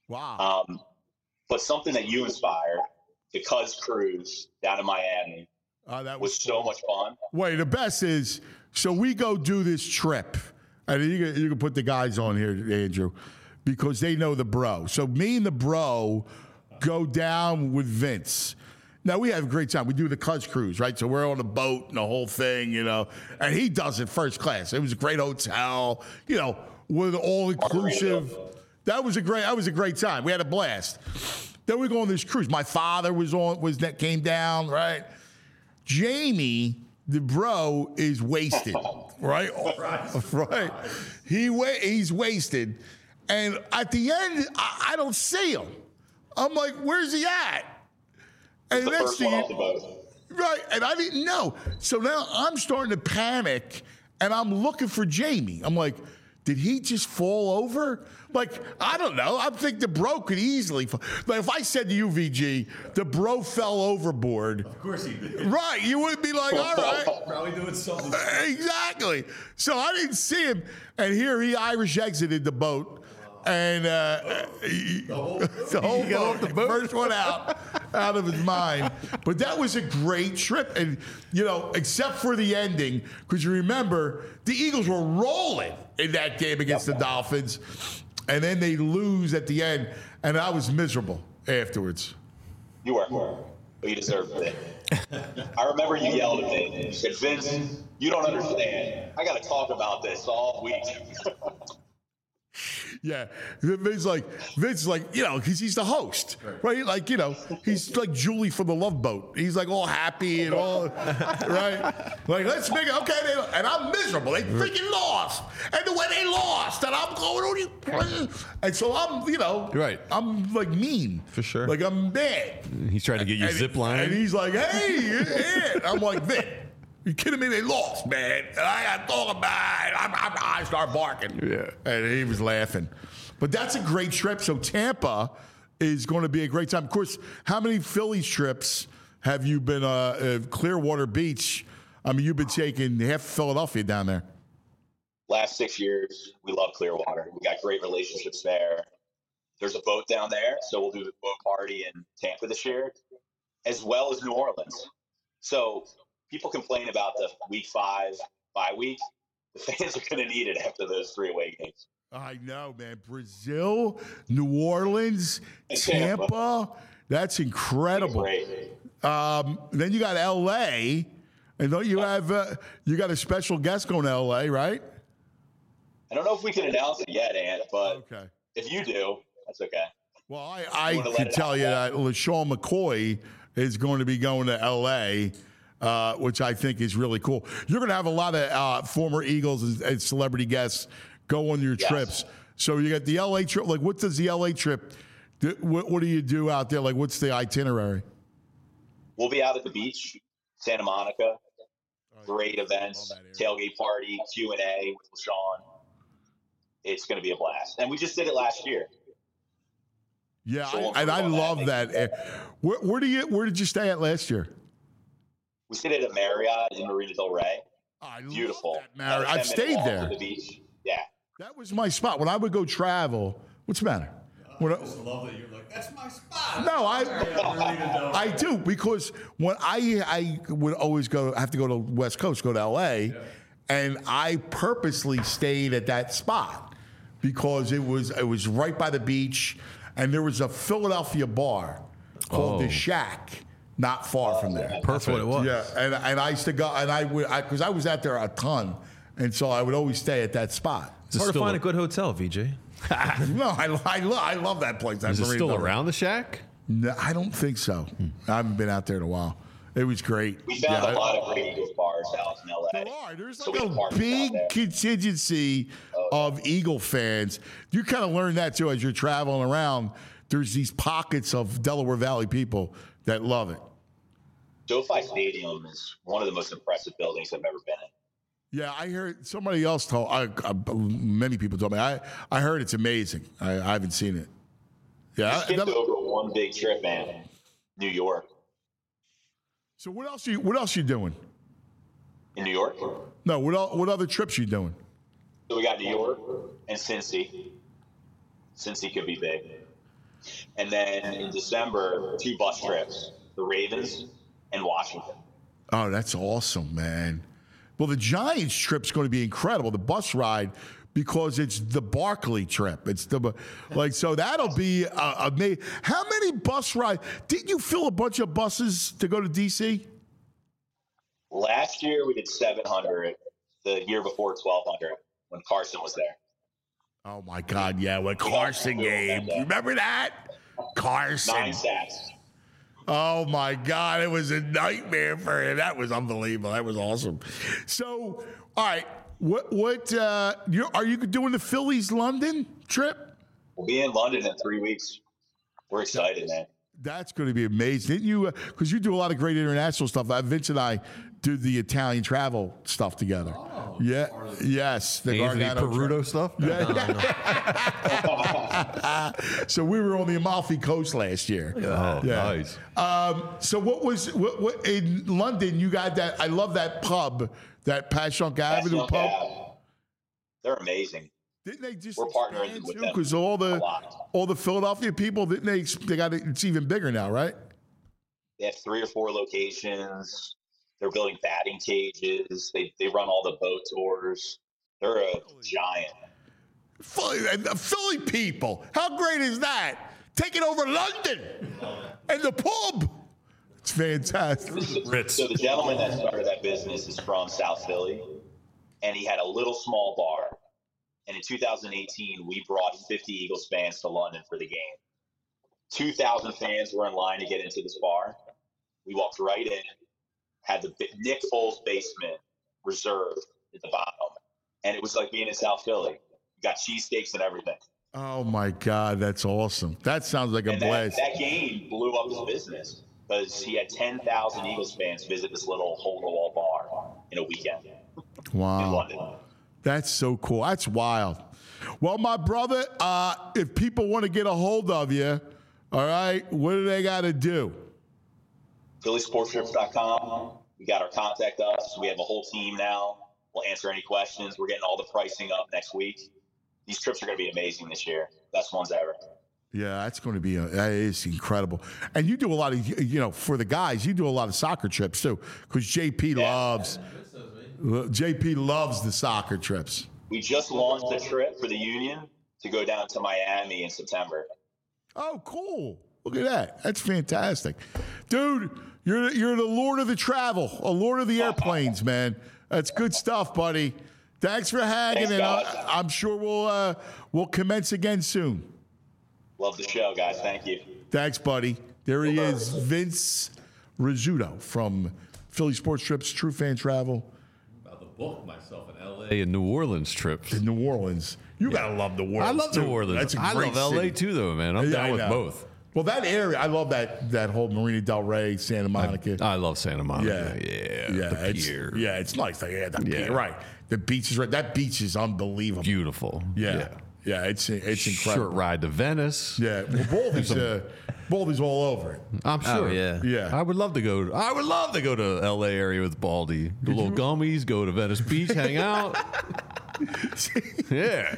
Wow. But something that you inspired, the Cuz cruise down in Miami, That was so much fun. Wait, the best is, so we go do this trip, and you can put the guys on here, Andrew, because they know the bro. So me and the bro go down with Vince. Now, we have a great time. We do the Cuz cruise, right? So we're on a boat and the whole thing, and he does it first class. It was a great hotel, with all inclusive. That was a great time. We had a blast. Then we go on this cruise. My father came down, right? Jamie, the bro, is wasted, right? Right. He's wasted. And at the end, I don't see him. I'm like, where's he at? And The first one off the boat. Right, and I didn't know. So now I'm starting to panic, and I'm looking for Jamie. I'm like, did he just fall over? Like, I don't know. I think the bro could easily fall. Like, if I said to you, VG, the bro fell overboard. Of course he did. Right, you would be like, all right. Probably doing something. Exactly. So I didn't see him, and here he Irish exited the boat. And the whole boat, first one out of his mind. But that was a great trip. And, except for the ending, because you remember, the Eagles were rolling in that game against the Dolphins. And then they lose at the end. And I was miserable afterwards. You were. But you deserved it. I remember you yelled at me. You said, Vince, you don't understand. I got to talk about this all week. Yeah, Vince like, because he's the host, right? Like, he's like Julie from the Love Boat. He's like all happy and all, right? Like, let's make it, okay. And I'm miserable. They freaking lost. And the way they lost, and I'm going, and so I'm, right. I'm like mean. For sure. Like, I'm mad. He's trying to get you zip line. And he's like, hey, yeah. I'm like, Vince. You kidding me? They lost, man. And I got to talk about it. I start barking. Yeah. And he was laughing. But that's a great trip. So Tampa is going to be a great time. Of course, how many Phillies trips have you been Clearwater Beach? I mean, you've been taking half Philadelphia down there. Last 6 years, we love Clearwater. We got great relationships there. There's a boat down there, so we'll do the boat party in Tampa this year, as well as New Orleans. So people complain about the week 5 bye week. The fans are going to need it after those 3 away games. I know, man. Brazil, New Orleans, Tampa. That's incredible. Then you got L.A., and don't you have you got a special guest going to L.A., right? I don't know if we can announce it yet, Ant, but Okay. if you do, that's okay. Well, I can tell you that LaShawn McCoy is going to be going to L.A., which I think is really cool. You're going to have a lot of former Eagles and celebrity guests go on your trips. So you got the L.A. trip. Like, what does the L.A. trip, what do you do out there? Like, what's the itinerary? We'll be out at the beach, Santa Monica. Great events, tailgate party, Q&A with LaShawn. It's going to be a blast. And we just did it last year. Yeah, I love that. Where did you stay at last year? We stayed at a Marriott in Marina Del Rey. Beautiful. Love that Marriott. I've stayed there. The beach. Yeah. That was my spot. When I would go travel, what's the matter? I just love that you're like, that's my spot. No, I do, because when I would always have to go to West Coast, go to L.A., and I purposely stayed at that spot because it was right by the beach, and there was a Philadelphia bar called the Shack, not far from there. That's what it was. Yeah, and I used to go, and because I was out there a ton, and so I would always stay at that spot. It's hard to find a good hotel, VJ. No, I love that place. Is it still around the Shack? No, I don't think so. I haven't been out there in a while. It was great. We found a lot of great Eagles bars out in LA. There are. There's like a big contingency of Eagle fans. You kind of learn that too as you're traveling around. There's these pockets of Delaware Valley people that love it. SoFi Stadium is one of the most impressive buildings I've ever been in. Yeah, I heard somebody else told. Many people told me. I heard it's amazing. I haven't seen it. Yeah, I skipped over one big trip, man. New York. So what else you doing? In New York? No, what other trips you doing? So we got New York and Cincy. Cincy could be big. And then in December, 2 bus trips, the Ravens and Washington. Oh, that's awesome, man. Well, the Giants trip's going to be incredible. The bus ride, because it's the Barkley trip. It's the so that'll be amazing. How many bus rides? Didn't you fill a bunch of buses to go to DC? Last year we did 700. The year before 1,200 when Carson was there. Oh my God, yeah, when Carson game. You remember that? Carson. 9 sacks. Oh my God, it was a nightmare for him. That was unbelievable. That was awesome. So, all right, are you doing the Phillies London trip? We'll be in London in 3 weeks. We're excited, man. That's going to be amazing. Didn't you? Because you do a lot of great international stuff. Vince and I do the Italian travel stuff together. Oh, yeah. Yes. The Anthony Peruto stuff? Yeah. So we were on the Amalfi Coast last year. Oh, yeah. Nice. So what in London, you got that, I love that pub, that Passyunk Avenue pub. They're amazing. Didn't they just We're partnering with them because all the Philadelphia people, didn't they got it, it's even bigger now, right? They have 3 or 4 locations. They're building batting cages. They run all the boat tours. They're a giant. Philly people, how great is that? Taking over London and the pub. It's fantastic. So the gentleman that started that business is from South Philly, and he had a little small bar. And in 2018, we brought 50 Eagles fans to London for the game. 2,000 fans were in line to get into this bar. We walked right in, had the Nick Foles basement reserved at the bottom. And it was like being in South Philly. You got cheesesteaks and everything. Oh, my God. That's awesome. That sounds like a blast. That game blew up his business because he had 10,000 Eagles fans visit this little hole-in-the-wall bar in a weekend. Wow. In London. That's so cool. That's wild. Well, my brother, if people want to get a hold of you, all right, what do they got to do? PhillySportsTrips.com. We got our contact us. We have a whole team now. We'll answer any questions. We're getting all the pricing up next week. These trips are going to be amazing this year. Best ones ever. Yeah, that's going to be that is incredible. And you do a lot of, for the guys, you do a lot of soccer trips too, because JP loves the soccer trips. We just launched a trip for the Union to go down to Miami in September. Oh, cool. Look at that. That's fantastic. Dude, you're the Lord of the travel, a Lord of the airplanes, man. That's good stuff, buddy. Thanks for hanging, and I'm sure we'll commence again soon. Love the show, guys. Thank you. Thanks, buddy. There he is, Vince Rizzuto from Philly Sports Trips, True Fan Travel. About to book myself an L.A. and New Orleans trips. In New Orleans. You got to love New Orleans. I love too. New Orleans. That's a I great love city. L.A. too, though, man. I'm down with both. Well, that area, I love that whole Marina Del Rey, Santa Monica. I love Santa Monica. Yeah. The pier. It's nice. The pier, right. The beach is right. That beach is unbelievable. Beautiful. Yeah, it's incredible. Short ride to Venice. Yeah, well, Baldy's all over it. I'm sure. Oh, yeah. Yeah. I would love to go to L.A. area with Baldy. Do little gummies, go to Venice Beach, hang out. Yeah.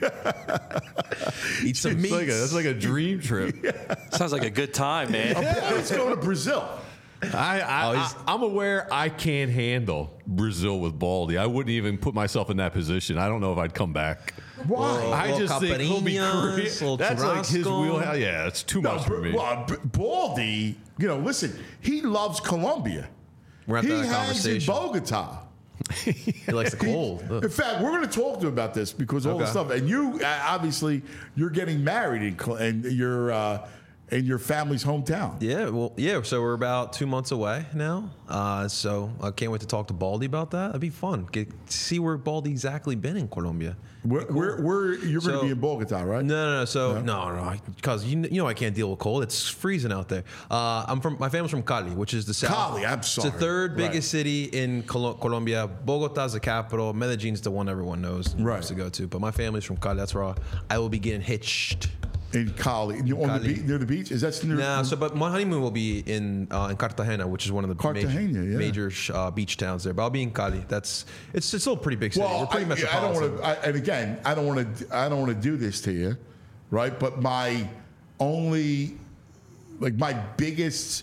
Eat some meat. That's like a dream trip. Sounds like a good time, man. Let's go to Brazil. I'm aware I can't handle Brazil with Baldy. I wouldn't even put myself in that position. I don't know if I'd come back. Why? I just think he'll be crazy. That's like his wheelhouse. Yeah, it's too much for me. Well, Baldy, listen, he loves Colombia. We're at He that hangs in conversation. Bogota. He likes the cold. In fact, we're going to talk to him about this because all the stuff. And you, obviously, you're getting married in your family's hometown. Yeah. So we're about 2 months away now. So I can't wait to talk to Baldy about that. That'd be fun. See where Baldy exactly been in Colombia. Where you're going to be in Bogota, right? No. So no, because I can't deal with cold. It's freezing out there. My family's from Cali, which is the south. Cali, I'm sorry. It's the third biggest city in Colombia. Bogota's the capital. Medellin's the one everyone knows and wants to go to. But my family's from Cali. That's where I will be getting hitched. In Cali, near the beach. Is that near? No, but my honeymoon will be in Cartagena, which is one of the major beach towns there. But I'll be in Cali. It's still a pretty big city. Well, we're pretty metropolitan. I don't want to do this to you, right? But my only, like my biggest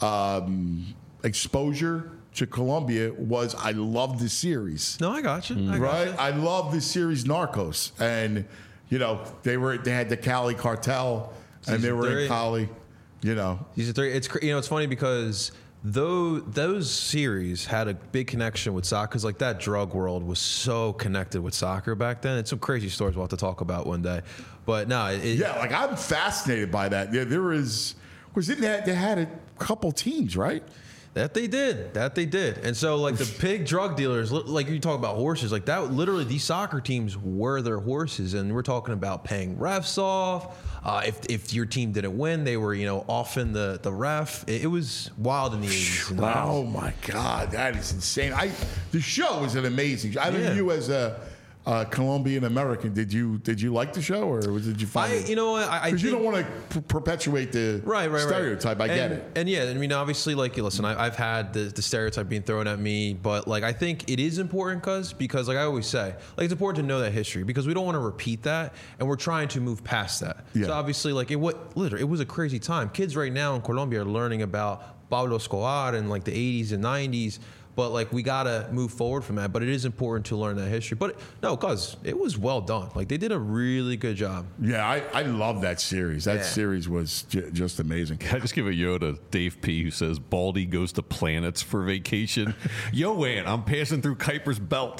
exposure to Colombia was I loved the series. No, I got you. I love the series Narcos, and they had the Cali cartel, and they were in Cali. Season 3. It's funny because those series had a big connection with soccer, because like that drug world was so connected with soccer back then. It's some crazy stories we'll have to talk about one day. But no, like I'm fascinated by that. There is, because they had a couple teams, right? That they did. And so, like, the big drug dealers, like you talk about horses, like that, literally these soccer teams were their horses. And we're talking about paying refs off. If your team didn't win, they were, offing the ref. It was wild in the 80s. Oh, my God. That is insane. The show was an amazing. I don't know you as a Colombian American, did you like the show, or did you find it? Because you don't want to perpetuate the stereotype. I get it. And yeah, I mean, obviously, like, listen, I've had the stereotype being thrown at me, but like, I think it is important because like I always say, like, it's important to know that history, because we don't want to repeat that, and we're trying to move past that. Yeah. So obviously, like, it was a crazy time. Kids right now in Colombia are learning about Pablo Escobar and like the 80s and 90s. But like, we gotta move forward from that. But it is important to learn that history. But no, cause it was well done. Like, they did a really good job. Yeah, I love that series. That series was just amazing. Can I just give a yo to Dave P, who says Baldy goes to planets for vacation? Yo, Ant, I'm passing through Kuiper's Belt.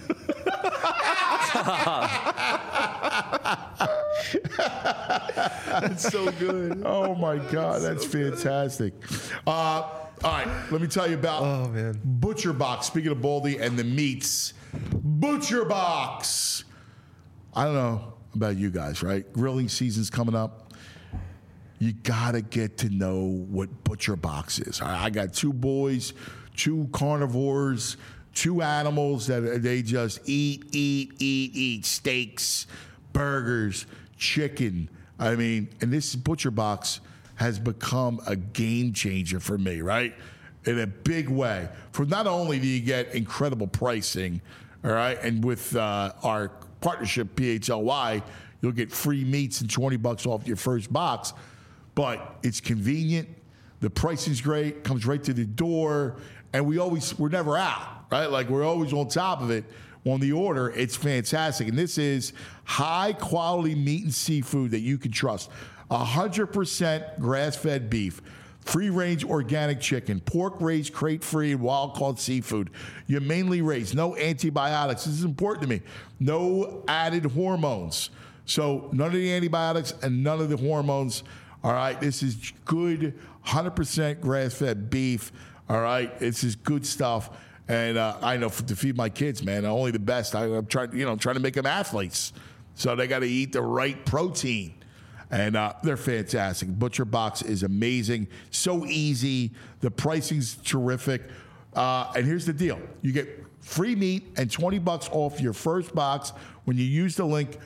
That's so good. Oh my God, that's fantastic. All right, let me tell you about Butcher Box. Speaking of Baldy and the meats, Butcher Box. I don't know about you guys, right? Grilling season's coming up. You gotta get to know what Butcher Box is. I got two boys, two carnivores, two animals that they just eat steaks, burgers, chicken. I mean, and this Butcher Box has become a game changer for me, right? In a big way. For not only do you get incredible pricing, all right, and with our partnership, PHLY, you'll get free meats and $20 off your first box, but it's convenient, the pricing's great, comes right to the door, and we're never out, right? Like, we're always on top of it on the order. It's fantastic. And this is high quality meat and seafood that you can trust. 100% grass-fed beef, free-range organic chicken, pork raised crate-free, wild-caught seafood. You mainly raise. No antibiotics. This is important to me. No added hormones. So none of the antibiotics and none of the hormones. All right, this is good 100% grass-fed beef. All right, this is good stuff. And I know to feed my kids, man, only the best. I'm trying to make them athletes. So they got to eat the right protein. And they're fantastic. Butcher Box is amazing. So easy. The pricing's terrific. And here's the deal. You get free meat and $20 off your first box when you use the link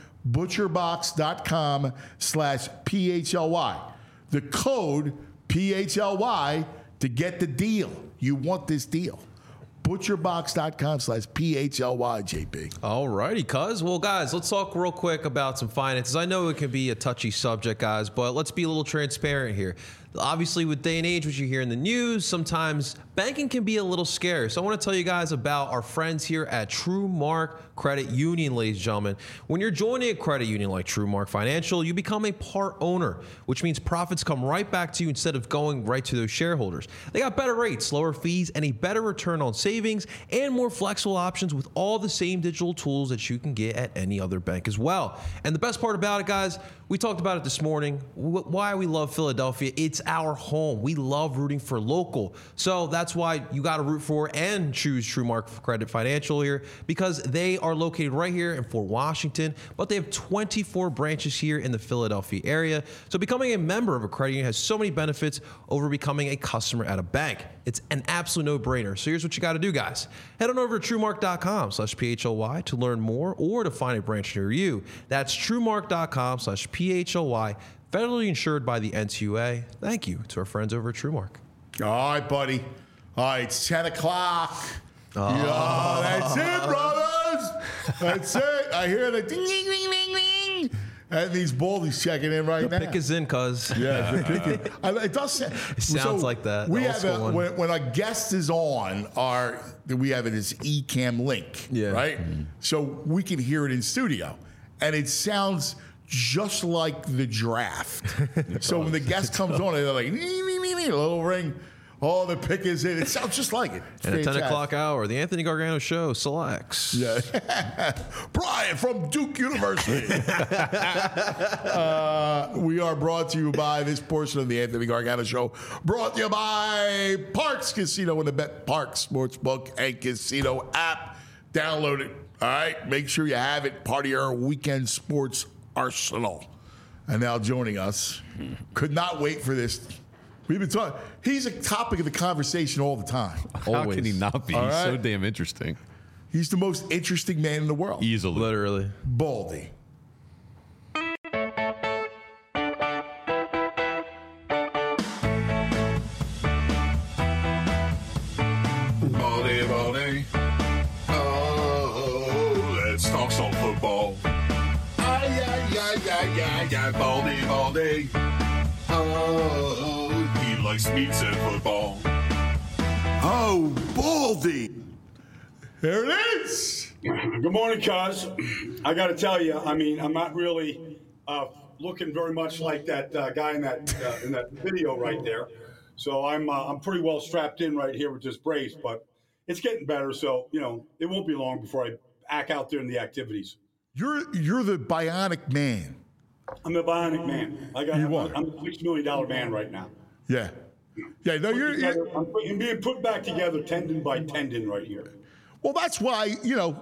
butcherbox.com/PHLY. The code PHLY to get the deal. You want this deal. Butcherbox.com/PHLY, JP. All righty, cuz. Well, guys, let's talk real quick about some finances. I know it can be a touchy subject, guys, but let's be a little transparent here. Obviously, with day and age, what you hear in the news, sometimes banking can be a little scary. So I want to tell you guys about our friends here at TrueMark Credit Union, ladies and gentlemen. When you're joining a credit union like TrueMark Financial, you become a part owner, which means profits come right back to you instead of going right to those shareholders. They got better rates, lower fees, and a better return on savings, and more flexible options with all the same digital tools that you can get at any other bank as well. And the best part about it, guys, we talked about it this morning, why we love Philadelphia. It's our home. We love rooting for local. So that's why you got to root for and choose TrueMark Credit Financial here, because they are located right here in Fort Washington, but they have 24 branches here in the Philadelphia area. So becoming a member of a credit union has so many benefits over becoming a customer at a bank. It's an absolute no-brainer. So here's what you got to do, guys. Head on over to TrueMark.com/PHLY to learn more or to find a branch near you. That's TrueMark.com/PHLY. Federally insured by the NCUA. Thank you to our friends over at TrueMark. All right, buddy. All right, it's 10 o'clock. Yeah, that's it, brothers. That's it. I hear the ding, ding, ding, ding, ding. And these Baldy's checking in right now. Pick is in, cuz. Yeah, it does. It sounds like that. We Old have school one. when a guest is on, we have this Ecamm link, right? So we can hear it in studio, and it sounds just like the draft. So when the guest comes on, they're like, nee, nee, nee, nee, a little ring. Oh, the pick is in. It sounds just like it. It's and at 10 fantastic. o'clock hour, the Anthony Gargano Show selects. Yeah. Brian from Duke University. We are brought to you by this portion of the Anthony Gargano Show. Brought to you by Parks Casino and the Bet Parks Sportsbook and Casino app. Download it. All right. Make sure you have it. Part of your weekend sports arsenal. And now joining us. Could not wait for this. We've been talking. He's a topic of the conversation all the time. How can he not be? All He's so right. damn interesting. He's the most interesting man in the world. Easily. Literally. Baldy. Baldy, Baldy. Oh, let's talk some football. Ay, ay, ay, ay, ay, ay, Baldy, Baldy. Oh, he likes meats and football. Oh, Baldy. There it is. Good morning, cuz. I got to tell you, I mean, I'm not really looking very much like that guy in that video right there. So I'm pretty well strapped in right here with this brace, but it's getting better. So it won't be long before I act out there in the activities. You're the bionic man. I'm the bionic man. I'm a $6 million man right now. Yeah. Yeah. No, I'm being put back together tendon by tendon right here. Well, that's why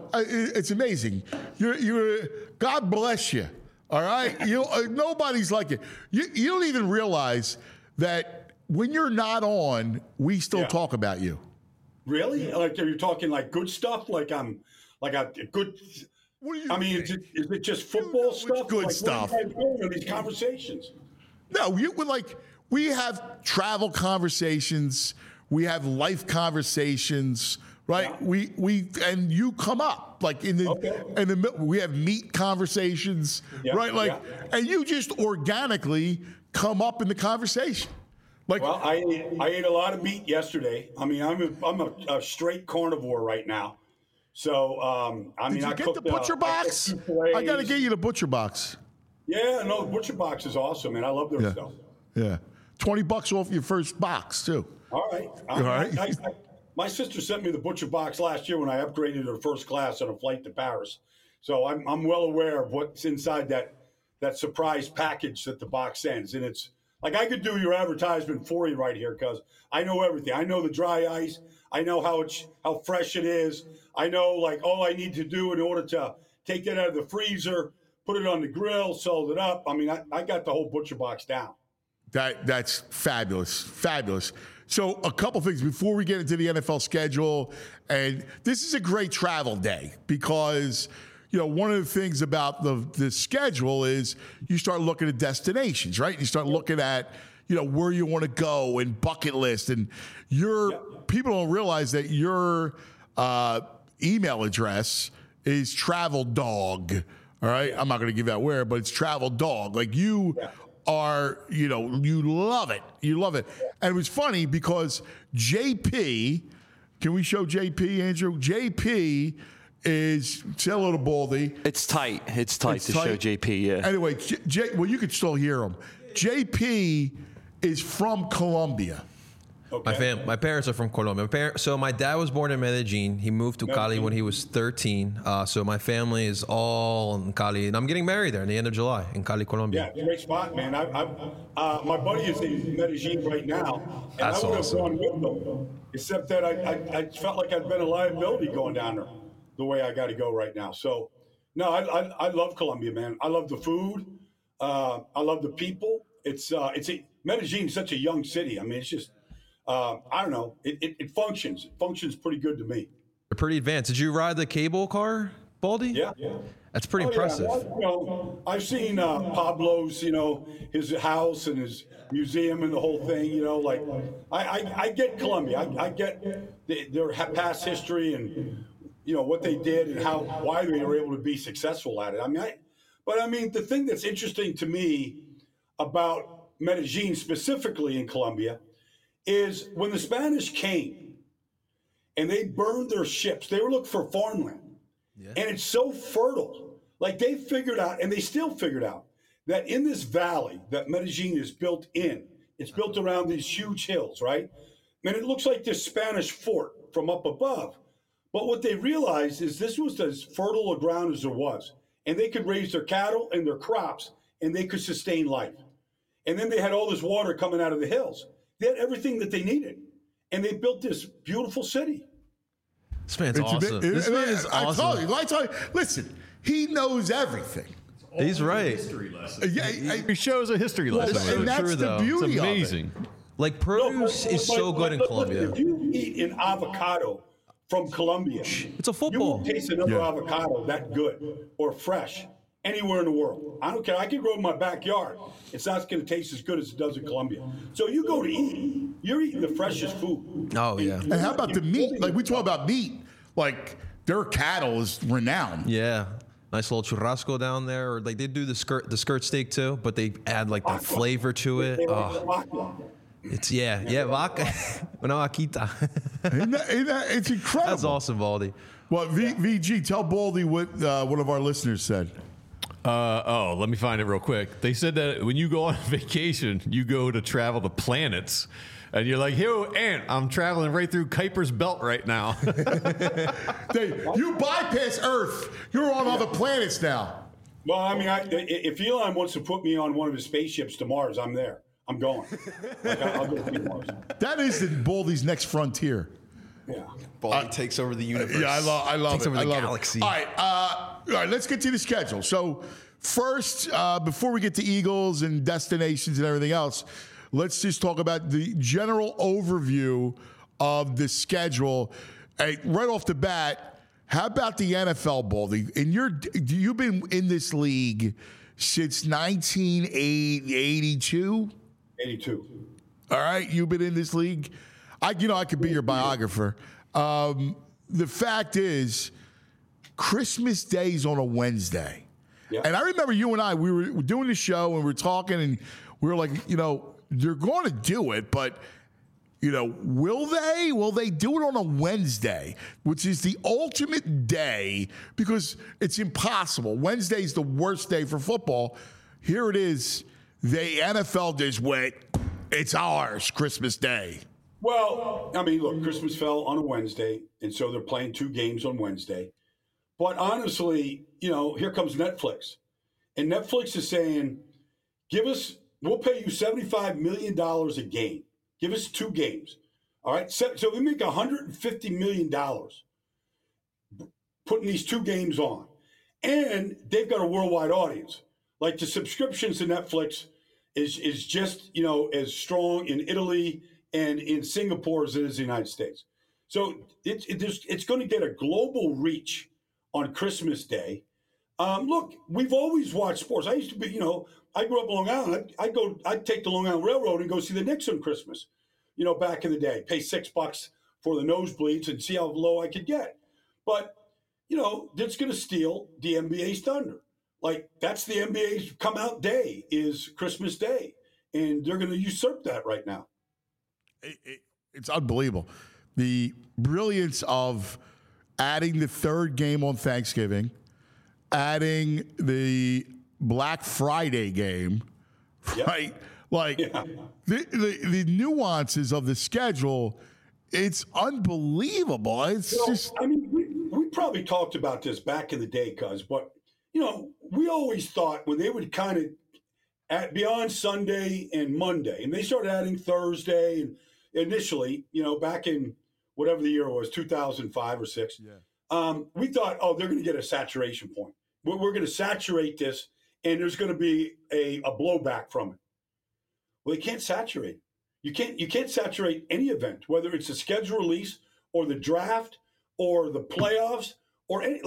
it's amazing. You're God bless you. All right. Nobody's like you. You don't even realize that when you're not on, we still talk about you. Really? Like, are you talking like good stuff? Like I'm like a good. What do you I mean, is it just football stuff? good like, stuff. What are you guys doing in these conversations? No, we have travel conversations, we have life conversations, right? Yeah. We and you come up like in the middle. We have meat conversations, right? Like, and you just organically come up in the conversation. Like, Well, I ate a lot of meat yesterday. I mean, I'm a straight carnivore right now. So I mean, did you I get cooked the butcher box? I got to get you the butcher box. Yeah, no, the butcher box is awesome, man. I love their stuff. Yeah, $20 off your first box too. All right. All right. My sister sent me the butcher box last year when I upgraded her first class on a flight to Paris. So I'm well aware of what's inside that surprise package that the box sends, and it's like I could do your advertisement for you right here because I know everything. I know the dry ice. I know how fresh it is. I know like all I need to do in order to take it out of the freezer, put it on the grill, salt it up. I mean, I got the whole butcher box down. That's fabulous, fabulous. So a couple things before we get into the NFL schedule, and this is a great travel day because one of the things about the schedule is you start looking at destinations, right? You start looking at where you want to go and bucket list, and people don't realize that your email address is Travel Dog. All right, I'm not going to give out where, but it's Travel Dog. Like you are, you love it. You love it. And it was funny because JP, can we show JP, Andrew? JP is, say hello to Baldy. It's tight. It's tight to show JP, yeah. Anyway, well, you could still hear him. JP is from Colombia. Okay. My parents are from Colombia. So my dad was born in Medellin. He moved to Cali when he was 13. So my family is all in Cali, and I'm getting married there in the end of July in Cali, Colombia. Yeah, great spot, man. My buddy is in Medellin right now, and That's I would have awesome. gone with them, except that I felt like I'd been a liability going down there the way I got to go right now. So, no, I love Colombia, man. I love the food. I love the people. Medellin is such a young city. I mean, it's just. I don't know. It functions. It functions pretty good to me. They're pretty advanced. Did you ride the cable car, Baldy? Yeah. That's pretty impressive. Yeah. Well, I've seen Pablo's, his house and his museum and the whole thing. Like I get Colombia. I get their past history and what they did and why they were able to be successful at it. I mean, But I mean, the thing that's interesting to me about Medellin, specifically in Colombia, is when the Spanish came and they burned their ships, they were looking for farmland. Yeah. And it's so fertile. Like they figured out, and they still figured out, that in this valley that Medellin is built in, it's built around these huge hills, right? And it looks like this Spanish fort from up above. But what they realized is this was as fertile a ground as there was. And they could raise their cattle and their crops, and they could sustain life. And then they had all this water coming out of the hills. They had everything that they needed. And they built this beautiful city. This man's awesome. This man is awesome. I told you. Listen, he knows everything. He's right. He shows a history lesson. And that's the beauty it's amazing. Of it. Like produce is so good in Colombia. If you eat an avocado from Colombia, it's a football. You won't taste another avocado that good or fresh anywhere in the world. I don't care. I can grow in my backyard. It's not going to taste as good as it does in Colombia. So you go to eat, you're eating the freshest food. Oh, yeah. And how about the meat? Like we talk about meat. Like their cattle is renowned. Yeah. Nice little churrasco down there. Or like they do the skirt steak too, but they add like the flavor to it. Oh. It's vaca. Una vaquita. It's incredible. That's awesome, Baldy. Well, VG, tell Baldy what one of our listeners said. Let me find it real quick. They said that when you go on vacation, you go to travel the planets. And you're like, hey, Ant, I'm traveling right through Kuiper's Belt right now. You bypass Earth. You're on other planets now. Well, I mean, if Elon wants to put me on one of his spaceships to Mars, I'm there. I'm going. I'll go to Mars. That is Baldy's next frontier. Yeah. Baldy takes over the universe. Yeah, I love takes it. Over the galaxy. All right, let's get to the schedule. So first, before we get to Eagles and destinations and everything else, let's just talk about the general overview of the schedule. Hey, right off the bat, how about the NFL, Baldy? And you've been in this league since 1982? 82. All right, you've been in this league. I could be your biographer. The fact is, Christmas Day is on a Wednesday. Yeah. And I remember you and I, we were doing the show and we were talking and we were like, they're going to do it, but, will they? Will they do it on a Wednesday, which is the ultimate day because it's impossible. Wednesday is the worst day for football. Here it is. The NFL just went, it's ours, Christmas Day. Well, I mean, look, Christmas fell on a Wednesday, and so they're playing 2 games on Wednesday. But honestly, here comes Netflix. And Netflix is saying, we'll pay you $75 million a game. Give us 2 games. All right? So we make $150 million putting these 2 games on. And they've got a worldwide audience. Like the subscriptions to Netflix is just, as strong in Italy and in Singapore as it is in the United States. So it's going to get a global reach on Christmas Day. Look, we've always watched sports. I used to be, I grew up in Long Island. I'd take the Long Island Railroad and go see the Knicks on Christmas, back in the day, pay $6 for the nosebleeds and see how low I could get. But, that's going to steal the NBA's thunder. Like, that's the NBA's come out day is Christmas Day. And they're going to usurp that right now. It's unbelievable. The brilliance of adding the 3rd game on Thanksgiving, adding the Black Friday game, right? Like the nuances of the schedule, it's unbelievable. It's just. I mean, we probably talked about this back in the day, but we always thought when they would kind of beyond Sunday and Monday, and they started adding Thursday, and initially, back in whatever the year was, 2005 or 6, we thought, they're going to get a saturation point. We're going to saturate this, and there's going to be a blowback from it. Well, they can't saturate. You can't saturate any event, whether it's a schedule release or the draft or the playoffs or any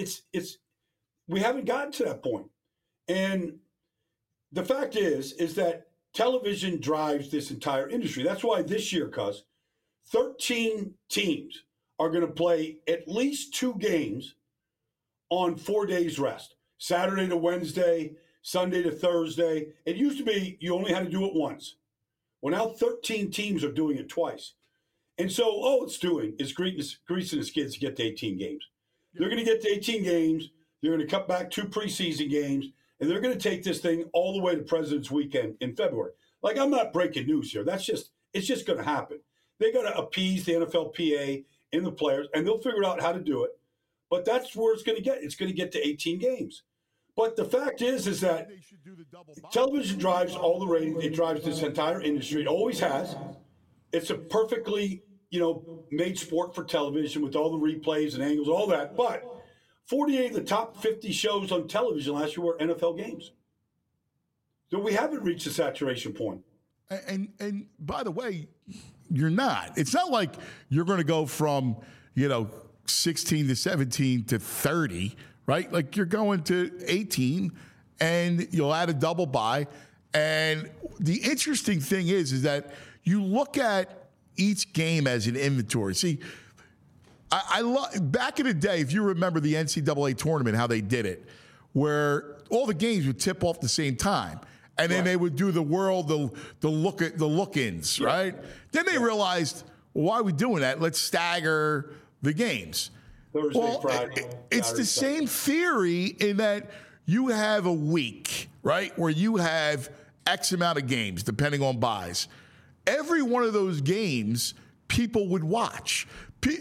we haven't gotten to that point. And the fact is that television drives this entire industry. That's why this year, 13 teams are going to play at least 2 games on 4 days rest. Saturday to Wednesday, Sunday to Thursday. It used to be you only had to do it once. Well, now 13 teams are doing it twice. And so all it's doing is greasing the skids to get to 18 games. They're going to get to 18 games. They're going to cut back 2 preseason games, and they're going to take this thing all the way to President's Weekend in February. Like, I'm not breaking news here. It's just going to happen. They got to appease the NFLPA and the players, and they'll figure out how to do it. But that's where it's going to get. It's going to get to 18 games. But the fact is that television drives all the ratings. It drives this entire industry. It always has. It's a perfectly, made sport for television with all the replays and angles, all that. But 48 of the top 50 shows on television last year were NFL games. So we haven't reached the saturation point. And by the way, you're not. It's not like you're going to go from, 16 to 17 to 30, right? Like you're going to 18 and you'll add a double bye. And the interesting thing is that you look at each game as an inventory. See, I love back in the day, if you remember the NCAA tournament, how they did it, where all the games would tip off the same time. And then they would do the look-ins, right? Then they realized, well, why are we doing that? Let's stagger the games. Thursday, Friday. It's the same theory in that you have a week, right, where you have X amount of games, depending on buys. Every one of those games, people would watch. The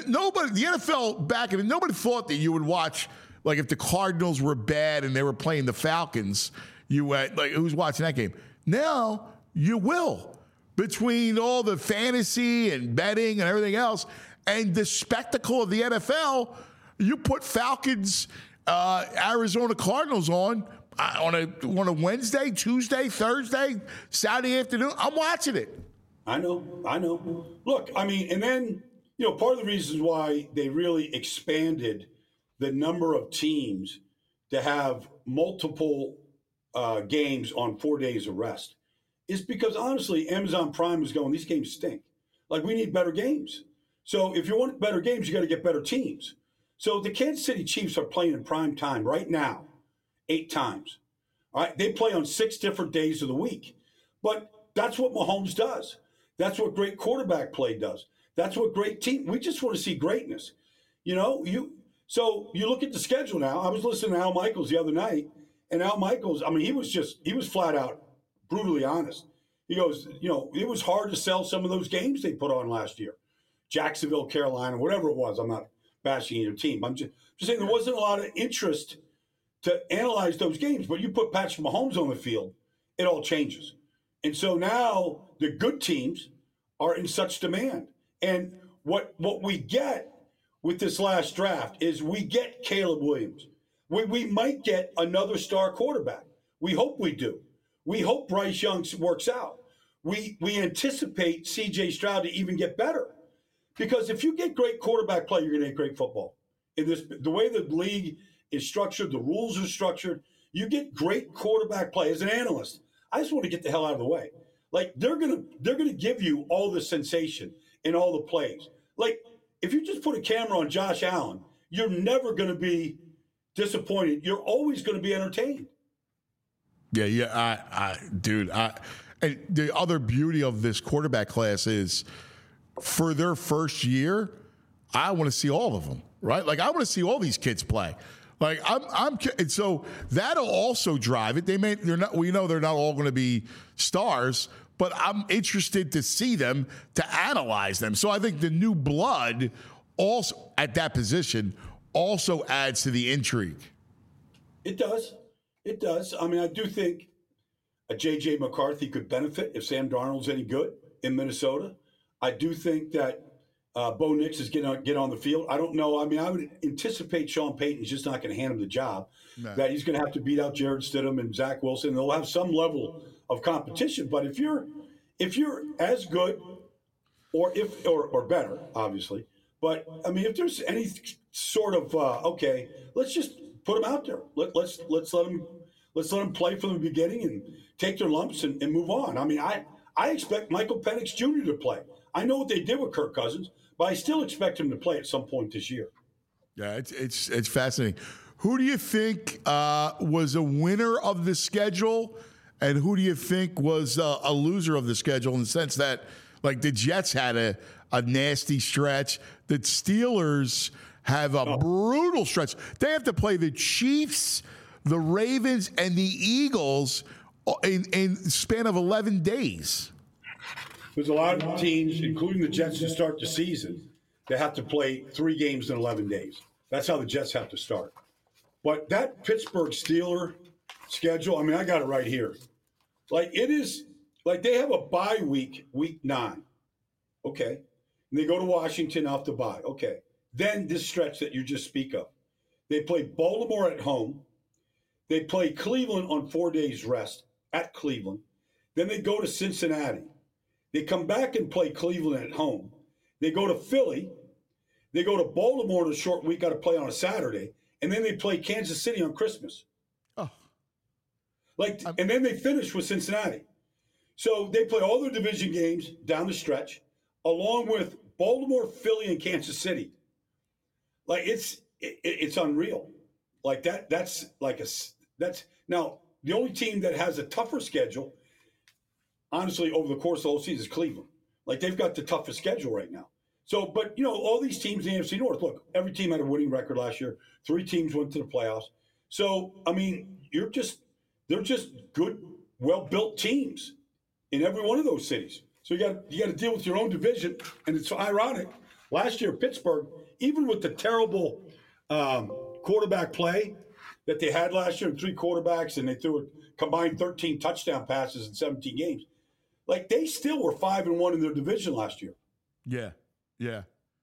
NFL back in it, nobody thought that you would watch, like if the Cardinals were bad and they were playing the Falcons, you went, like, who's watching that game? Now you will. Between all the fantasy and betting and everything else and the spectacle of the NFL, you put Falcons, Arizona Cardinals on a Wednesday, Tuesday, Thursday, Saturday afternoon. I'm watching it. I know. Look, and then, part of the reasons why they really expanded the number of teams to have multiple games on 4 days of rest is because, honestly, Amazon Prime is going, these games stink. Like, we need better games. So if you want better games, you got to get better teams. So the Kansas City Chiefs are playing in prime time right now 8 times. All right, they play on 6 different days of the week. But that's what Mahomes does. That's what great quarterback play does. That's what great team. We just want to see greatness. So you look at the schedule now. I was listening to Al Michaels the other night, and Al Michaels, he was flat out brutally honest. He goes, it was hard to sell some of those games they put on last year. Jacksonville, Carolina, whatever it was. I'm not bashing either team. I'm just saying there wasn't a lot of interest to analyze those games. But you put Patrick Mahomes on the field, it all changes. And so now the good teams are in such demand. And what we get with this last draft is we get Caleb Williams. We might get another star quarterback. We hope we do. We hope Bryce Young works out. We anticipate C.J. Stroud to even get better. Because if you get great quarterback play, you're going to get great football. The way the league is structured, the rules are structured, you get great quarterback play. As an analyst, I just want to get the hell out of the way. Like, they're gonna give you all the sensation and all the plays. Like, if you just put a camera on Josh Allen, you're never going to be disappointed. You're always going to be entertained. Yeah. And the other beauty of this quarterback class is, for their first year, I want to see all of them, right? Like, I want to see all these kids play. Like, and so that'll also drive it. We know they're not all going to be stars, but I'm interested to see them, to analyze them. So I think the new blood also at that position also adds to the intrigue. It does. I do think a J.J. McCarthy could benefit if Sam Darnold's any good in Minnesota. I do think that Bo Nix is going to get on the field. I don't know. I would anticipate Sean Payton's just not going to hand him the job. No. That he's going to have to beat out Jarrett Stidham and Zach Wilson. They'll have some level of competition. But if you're as good or better, obviously. But if there's any sort of okay, let's just put them out there. Let's let them play from the beginning and take their lumps and move on. I expect Michael Penix Jr. to play. I know what they did with Kirk Cousins, but I still expect him to play at some point this year. Yeah, it's fascinating. Who do you think was a winner of the schedule, and who do you think was a loser of the schedule in the sense that, like, the Jets had a nasty stretch, the Steelers have a brutal stretch. They have to play the Chiefs, the Ravens, and the Eagles in span of 11 days. There's a lot of teams, including the Jets, to start the season, that have to play 3 games in 11 days. That's how the Jets have to start. But that Pittsburgh Steeler schedule, I mean, I got it right here. Like, it is, like, they have a bye week, week 9. Okay. And they go to Washington off the bye. Okay. Then this stretch that you just speak of. They play Baltimore at home. They play Cleveland on 4 days rest at Cleveland. Then they go to Cincinnati. They come back and play Cleveland at home. They go to Philly. They go to Baltimore in a short week, got to play on a Saturday. And then they play Kansas City on Christmas. Oh. And then they finish with Cincinnati. So they play all their division games down the stretch, along with Baltimore, Philly, and Kansas City. Like, it's unreal. Like, that's now the only team that has a tougher schedule, honestly, over the course of the whole season is Cleveland. Like, they've got the toughest schedule right now. So, but, all these teams in the AFC North, look, every team had a winning record last year. 3 teams went to the playoffs. So, I mean, they're just good, well-built teams in every one of those cities. So you got to deal with your own division, and it's ironic. Last year, Pittsburgh, even with the terrible quarterback play that they had last year, 3 quarterbacks, and they threw a combined 13 touchdown passes in 17 games, like, they still were 5-1 in their division last year. Yeah. Yeah,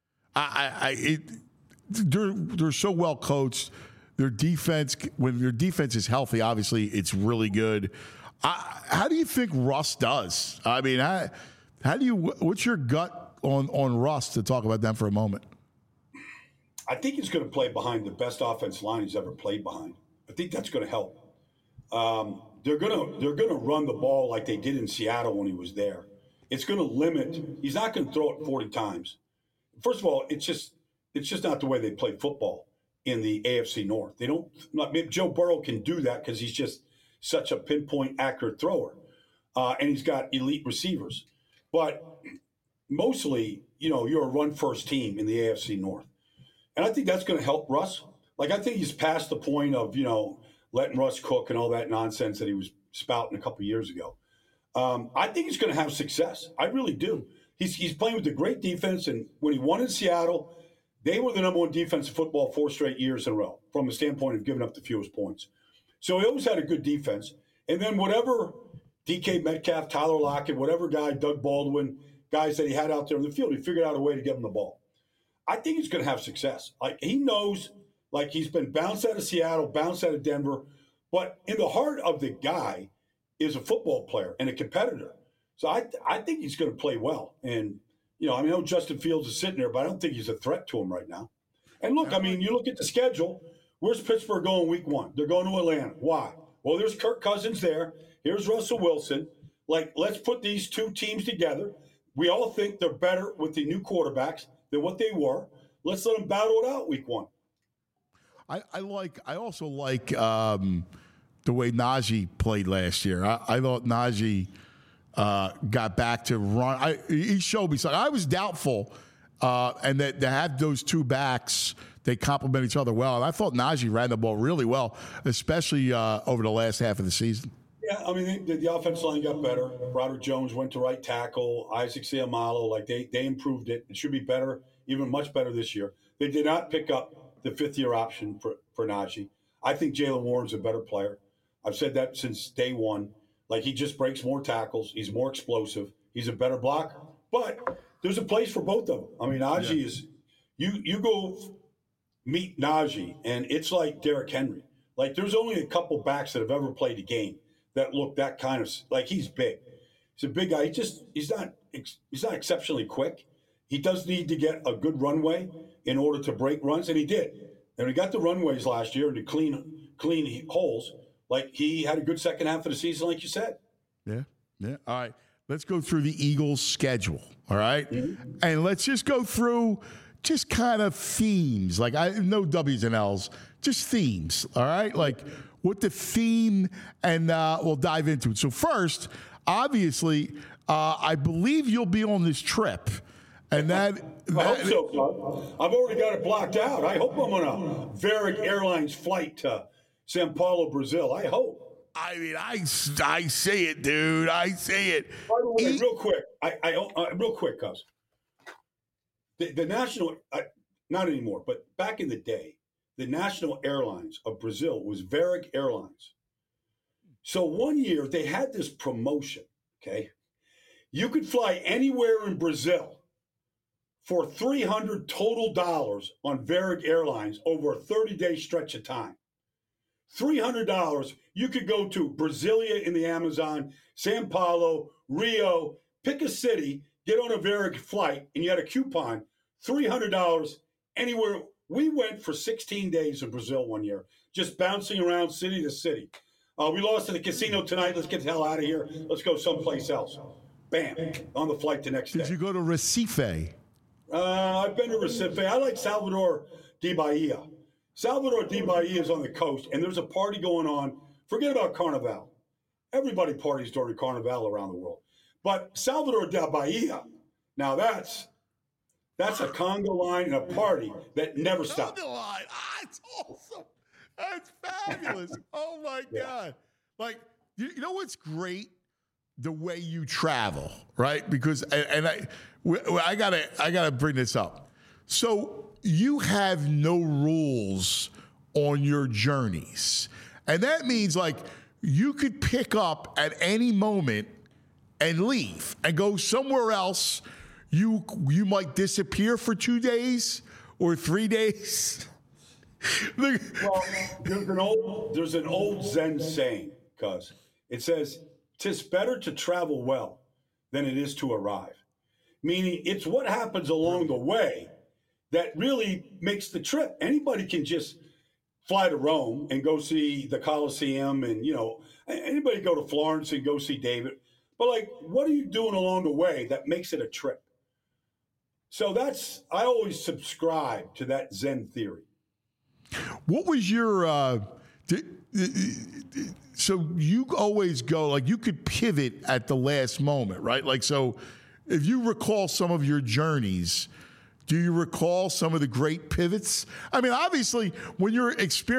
they're so well coached. Their defense, when their defense is healthy, obviously it's really good. How do you think Russ does? I mean, what's your gut on Russ to talk about them for a moment? I think he's going to play behind the best offensive line he's ever played behind. I think that's going to help. They're going to run the ball like they did in Seattle when he was there. It's going to limit. He's not going to throw it 40 times. First of all, it's just not the way they play football in the AFC North. They don't. Maybe Joe Burrow can do that because he's just such a pinpoint, accurate thrower, and he's got elite receivers. But mostly, you're a run-first team in the AFC North, and I think that's going to help Russ. Like, I think he's past the point of letting Russ cook and all that nonsense that he was spouting a couple of years ago. I think he's going to have success. I really do. He's playing with a great defense, and when he won in Seattle, they were the number 1 defense in football 4 straight years in a row from the standpoint of giving up the fewest points. So he always had a good defense. And then whatever DK Metcalf, Tyler Lockett, whatever guy, Doug Baldwin, guys that he had out there in the field, he figured out a way to give him the ball. I think he's going to have success. Like, he knows, like, he's been bounced out of Seattle, bounced out of Denver, but in the heart of the guy is a football player and a competitor. So I think he's going to play well. And, I know Justin Fields is sitting there, but I don't think he's a threat to him right now. And look, I mean, you look at the schedule. Where's Pittsburgh going week 1? They're going to Atlanta. Why? Well, there's Kirk Cousins there. Here's Russell Wilson. Like, let's put these 2 teams together. We all think they're better with the new quarterbacks than what they were. Let's let them battle it out week 1. I also like the way Najee played last year. I thought Najee got back to run. He showed me something. I was doubtful, and that to have those 2 backs, they complement each other well. And I thought Najee ran the ball really well, especially over the last half of the season. Yeah, I mean, the offensive line got better. Broderick Jones went to right tackle. Isaac Seumalo, like, they improved it. It should be better, even much better this year. They did not pick up the 5th-year option for Najee. I think Jaylen Warren's a better player. I've said that since day one. Like, he just breaks more tackles. He's more explosive. He's a better blocker. But there's a place for both of them. I mean, Najee is – you go meet Najee, and it's like Derrick Henry. Like, there's only a couple backs that have ever played a game that look that kind of – like, he's big. He's a big guy. He's not exceptionally quick. He does need to get a good runway in order to break runs, and he did. And he got the runways last year and the clean holes. Like, he had a good second half of the season, like you said. Yeah. All right. Let's go through the Eagles' schedule, all right? Mm-hmm. And let's just go through just kind of themes. Like, I no W's and L's, just themes, all right? Like what the theme, and we'll dive into it. So first, obviously, I believe you'll be on this trip. And I hope so, Bud. I've already got it blocked out. I hope I'm on a Varig Airlines flight to Sao Paulo, Brazil. I hope. I mean, I say it, dude. I say it. By the way, real quick, real quick, cuz the national, not anymore, but back in the day, the national airlines of Brazil was Varig Airlines. So one year they had this promotion. Okay, you could fly anywhere in Brazil for $300 total on Varig Airlines over a 30-day stretch of time. $300, you could go to Brasilia in the Amazon, Sao Paulo, Rio, pick a city, get on a Varig flight, and you had a coupon, $300 anywhere. We went for 16 days in Brazil one year, just bouncing around city to city. We lost at the casino tonight. Let's get the hell out of here. Let's go someplace else. Bam, on the flight the next day. Did you go to Recife? I've been to Recife. I like Salvador de Bahia. Salvador de Bahia is on the coast, and there's a party going on. Forget about Carnival. Everybody parties during Carnival around the world. But Salvador de Bahia, now that's a conga line and a party that never stops. Conga line. It's awesome. That's fabulous. Oh, my God. Like, you know what's great? The way you travel, right? Because, and I gotta bring this up. So you have no rules on your journeys. And that means like you could pick up at any moment and leave and go somewhere else. You might disappear for 2 days or 3 days. Well, there's an old Zen saying, cuz it says, "'Tis better to travel well than it is to arrive." Meaning it's what happens along the way that really makes the trip. Anybody can just fly to Rome and go see the Colosseum, and anybody go to Florence and go see David. But like, what are you doing along the way that makes it a trip? So I always subscribe to that Zen theory. What was your so you always go, like you could pivot at the last moment, right? Like, so if you recall some of your journeys, do you recall some of the great pivots? I mean, obviously, when you're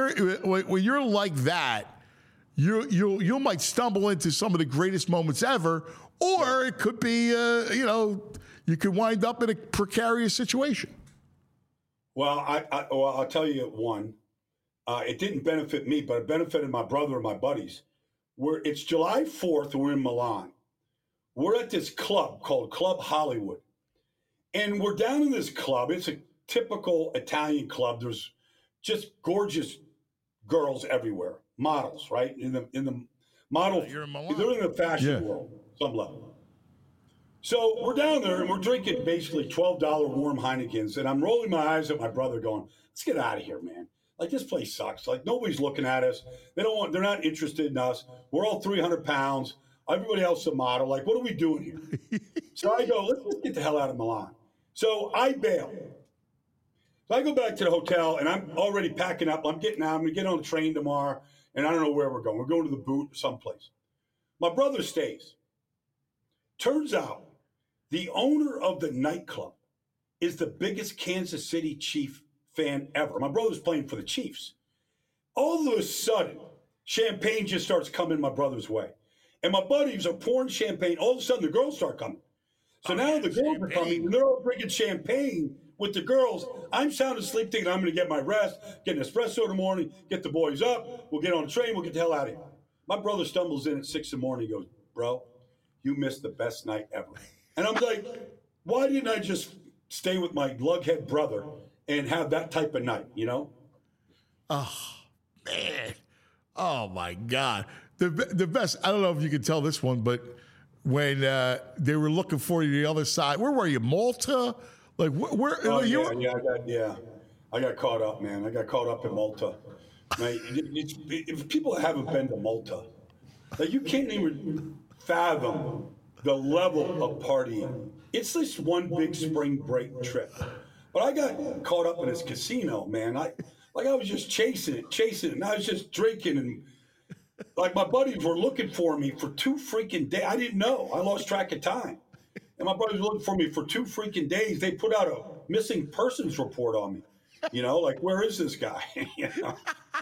like that, you might stumble into some of the greatest moments ever, or it could be, you could wind up in a precarious situation. Well, I'll tell you one. It didn't benefit me, but it benefited my brother and my buddies. It's July 4th, and we're in Milan. We're at this club called Club Hollywood. And we're down in this club. It's a typical Italian club. There's just gorgeous girls everywhere, models, right? In the model, they're in the fashion world, some level. So we're down there and we're drinking basically $12 warm Heinekens, and I'm rolling my eyes at my brother, going, "Let's get out of here, man. Like, this place sucks. Like, nobody's looking at us. They're not interested in us. We're all 300 pounds. Everybody else is a model. Like, what are we doing here?" So I go, let's get the hell out of Milan. So I bail. So I go back to the hotel, and I'm already packing up. I'm getting out. I'm going to get on the train tomorrow, and I don't know where we're going. We're going to the Boot or someplace. My brother stays. Turns out the owner of the nightclub is the biggest Kansas City Chief fan ever. My brother's playing for the Chiefs. All of a sudden, champagne just starts coming my brother's way. And my buddies are pouring champagne. All of a sudden, the girls start coming. So now the girls are coming, and they're all drinking champagne with the girls. I'm sound asleep thinking I'm going to get my rest, get an espresso in the morning, get the boys up. We'll get on the train. We'll get the hell out of here. My brother stumbles in at 6 in the morning. He goes, "Bro, you missed the best night ever." And I'm like, why didn't I just stay with my lughead brother and have that type of night, Oh, man. Oh, my God. The best, I don't know if you can tell this one, but when they were looking for you the other side, where were you, Malta? Like, where? I got caught up, man. I got caught up in Malta. Right? If people haven't been to Malta, like, you can't even fathom the level of partying. It's this one big spring break trip. But I got caught up in this casino, man. Like I was just chasing it. And I was just drinking, and like my buddies were looking for me for 2 freaking days. I didn't know. I lost track of time. And my buddies were looking for me for 2 freaking days. They put out a missing persons report on me. You know, like, where is this guy? You know?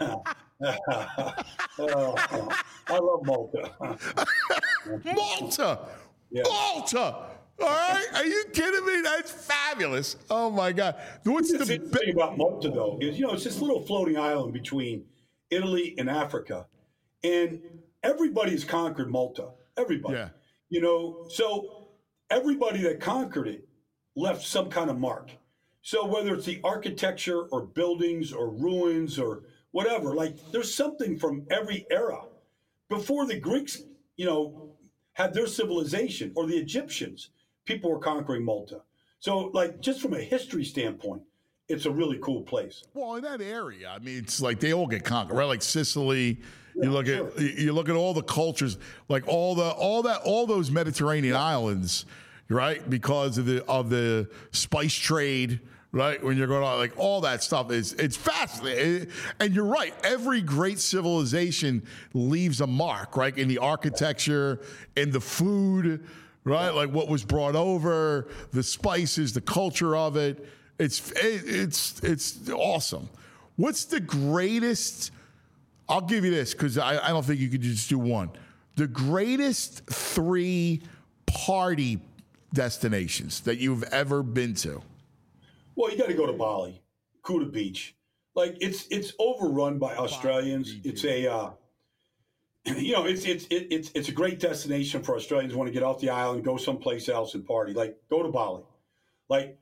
I love Malta. Malta. Yeah. Malta. All right. Are you kidding me? That's fabulous. Oh, my God. What's the the thing about Malta, though, is, you know, it's this little floating island between Italy and Africa. And everybody's conquered Malta. Everybody. Yeah. You know, so everybody that conquered it left some kind of mark. So whether it's the architecture or buildings or ruins or whatever, like there's something from every era. Before the Greeks, you know, had their civilization, or the Egyptians, people were conquering Malta. So like just from a history standpoint, it's a really cool place. Well, in that area, I mean, it's like they all get conquered, right? Like Sicily. You look at all the cultures, like all those Mediterranean islands, right? Because of the spice trade, right? When you're going on, like all that stuff it's fascinating. And you're right. Every great civilization leaves a mark, right? In the architecture, in the food, right? Like what was brought over, the spices, the culture of it. It's awesome. What's the greatest? I'll give you this because I don't think you could just do one. The greatest 3 party destinations that you've ever been to. Well, you got to go to Bali, Kuta Beach. Like it's overrun by Australians. It's a, you know, it's a great destination for Australians who want to get off the island, go someplace else and party. Like go to Bali, like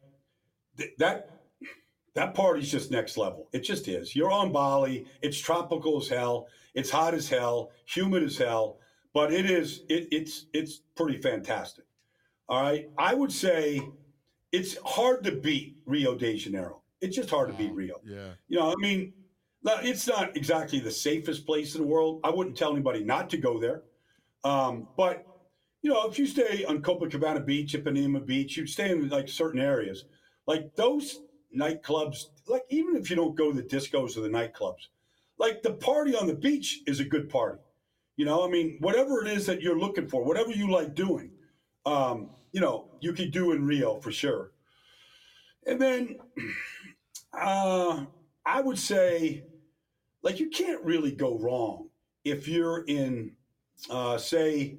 that party's just next level. It just is. You're on Bali. It's tropical as hell. It's hot as hell, humid as hell, but it's pretty fantastic. All right. I would say it's hard to beat Rio de Janeiro. It's just hard to beat Rio. Yeah. You know, I mean, it's not exactly the safest place in the world. I wouldn't tell anybody not to go there. But, you know, if you stay on Copacabana Beach, Ipanema Beach, you stay in like certain areas, like those nightclubs, like even if you don't go to the discos or the nightclubs, like the party on the beach is a good party. You know, I mean, whatever it is that you're looking for, whatever you like doing, you know, you could do in Rio for sure. And then I would say, like, you can't really go wrong if you're in, if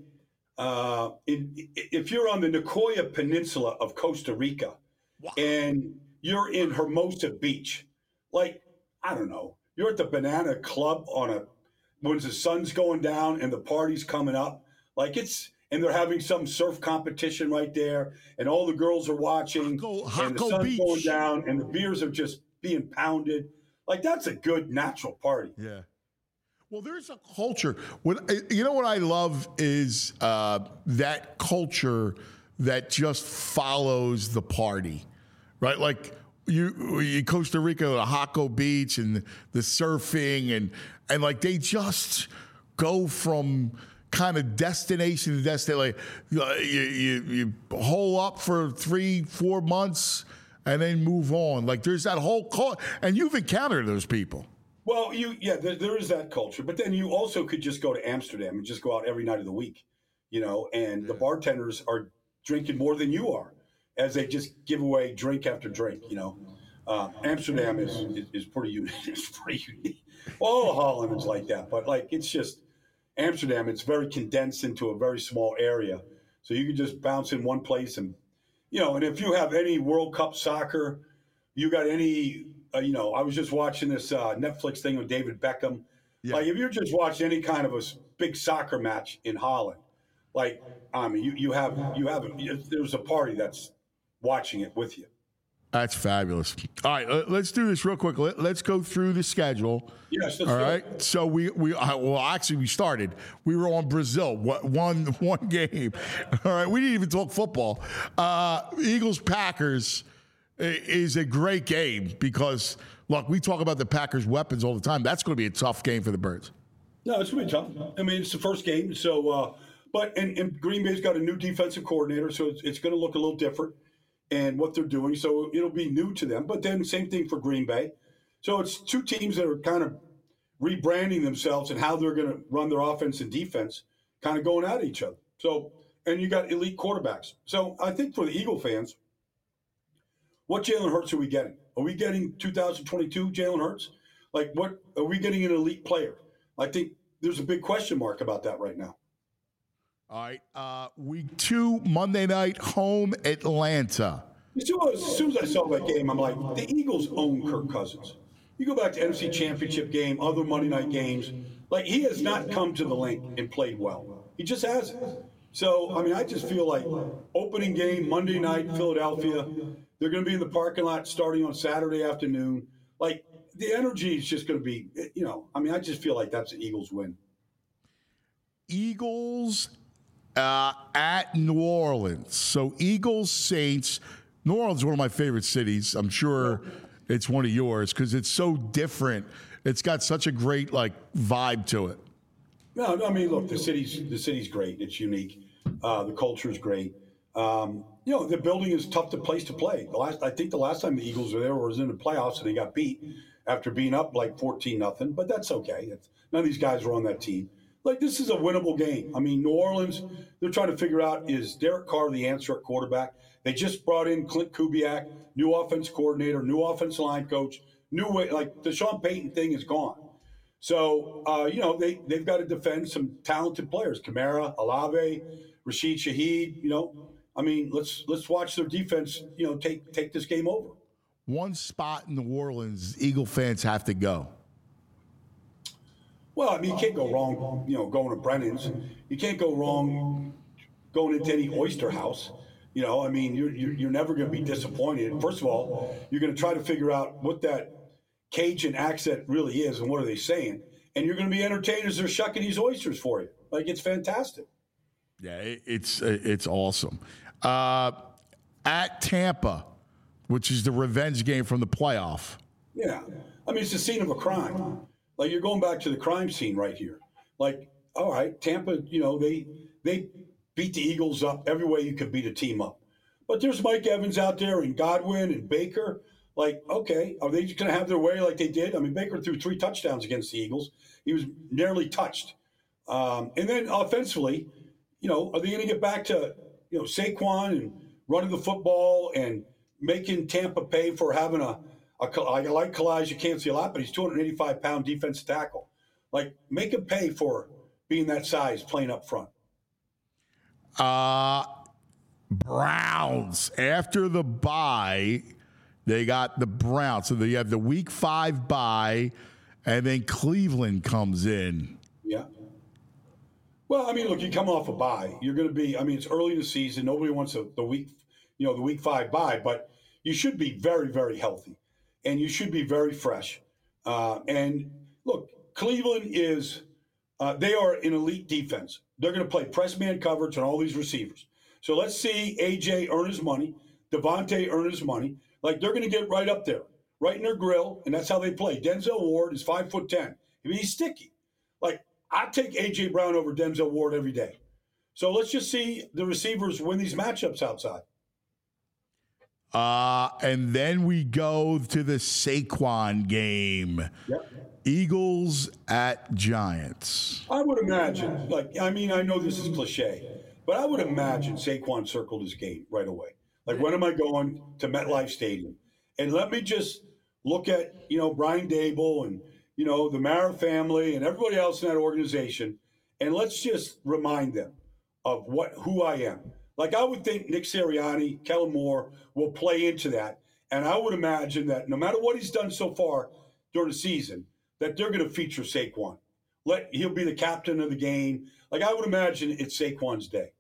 you're on the Nicoya Peninsula of Costa Rica. Wow. And you're in Hermosa Beach. Like, I don't know, you're at the Banana Club when the sun's going down and the party's coming up. Like and they're having some surf competition right there, and all the girls are watching, and the sun's Beach. Going down, and the beers are just being pounded. Like, that's a good natural party. Yeah. Well, there's a culture. You know what I love is that culture that just follows the party, right? Like you Costa Rica, the Jaco Beach, and the surfing, and like they just go from kind of destination to destination. Like you hole up for 3-4 months and then move on. Like there's that whole culture, and you've encountered those people. Well, there is that culture, but then you also could just go to Amsterdam and just go out every night of the week, you know, and the bartenders are drinking more than you are as they just give away drink after drink, you know. Amsterdam is pretty unique. It's pretty unique. All of Holland is like that, but like it's just Amsterdam. It's very condensed into a very small area, so you can just bounce in one place, and you know. And if you have any World Cup soccer, you got any. You know, I was just watching this Netflix thing with David Beckham. Yeah. Like, if you're just watching any kind of a big soccer match in Holland, like, I mean, there's a party that's watching it with you. That's fabulous. All right, let's do this real quick. Let's go through the schedule. Yes. All right. So we started. We were on Brazil. One game. All right. We didn't even talk football. Eagles Packers is a great game because, look, we talk about the Packers' weapons all the time. That's going to be a tough game for the Birds. No, it's going to be tough. I mean, it's the first game. So, but Green Bay's got a new defensive coordinator, so it's going to look a little different in what they're doing. So it'll be new to them. But then same thing for Green Bay. So it's two teams that are kind of rebranding themselves and how they're going to run their offense and defense, kind of going at each other. So, and you got elite quarterbacks. So I think for the Eagle fans, what Jalen Hurts are we getting? Are we getting 2022 Jalen Hurts? Like, what are we getting an elite player? I think there's a big question mark about that right now. All right. Week 2, Monday night, home Atlanta. As soon as I saw that game, I'm like, the Eagles own Kirk Cousins. You go back to NFC Championship game, other Monday night games. Like, he has not come to the link and played well. He just hasn't. So, I mean, I just feel like opening game, Monday night, Philadelphia. They're going to be in the parking lot starting on Saturday afternoon. Like, the energy is just going to be, I mean, I just feel like that's the Eagles win. Eagles at New Orleans. So, Eagles, Saints. New Orleans is one of my favorite cities. I'm sure it's one of yours because it's so different. It's got such a great, vibe to it. No, I mean, look, the city's great. It's unique. The culture is great. The building is tough place to play. I think the last time the Eagles were there was in the playoffs and they got beat after being up like 14-0. But that's okay. None of these guys were on that team. Like, this is a winnable game. I mean, New Orleans, they're trying to figure out, is Derek Carr the answer at quarterback? They just brought in Clint Kubiak, new offense coordinator, new offensive line coach, new way. Like, the Sean Payton thing is gone. So, they've got to defend some talented players. Kamara, Olave, Rashid Shaheed, I mean, let's watch their defense, take this game over. One spot in New Orleans, Eagle fans have to go. Well, I mean, you can't go wrong, going to Brennan's. You can't go wrong going into any oyster house. I mean, you're never going to be disappointed. First of all, you're going to try to figure out what that Cajun accent really is and what are they saying. And you're going to be entertained as they're shucking these oysters for you. Like, it's fantastic. Yeah, it's awesome. At Tampa, which is the revenge game from the playoff. Yeah. I mean, it's the scene of a crime. Like, you're going back to the crime scene right here. Like, all right, Tampa, they beat the Eagles up every way you could beat a team up. But there's Mike Evans out there and Godwin and Baker. Like, okay, are they just going to have their way like they did? I mean, Baker threw 3 touchdowns against the Eagles. He was nearly touched. And then offensively, are they going to get back to, Saquon and running the football and making Tampa pay for having I like Kalaj, you can't see a lot, but he's 285-pound defensive tackle. Like, make him pay for being that size playing up front. Browns. After the bye, they got the Browns. So they have the Week 5 bye, and then Cleveland comes in. Yeah. Well, I mean, look, you come off a bye. You're going to be, I mean, it's early in the season. Nobody wants the Week 5 bye, but you should be very, very healthy. And you should be very fresh. And look, Cleveland is, they are an elite defense. They're going to play press man coverage on all these receivers. So let's see AJ earn his money, Devontae earn his money. Like, they're going to get right up there, right in their grill, and that's how they play. Denzel Ward is 5'10". I mean, he's sticky. Like, I take AJ Brown over Denzel Ward every day. So let's just see the receivers win these matchups outside. And then we go to the Saquon game. Yep. Eagles at Giants. I would imagine, I know this is cliche, but I would imagine Saquon circled his game right away. Like, when am I going to MetLife Stadium? And let me just look at, Brian Dable and, the Mara family and everybody else in that organization, and let's just remind them of who I am. Like, I would think Nick Sirianni, Kellen Moore will play into that. And I would imagine that no matter what he's done so far during the season, that they're going to feature Saquon. He'll be the captain of the game. Like, I would imagine it's Saquon's day.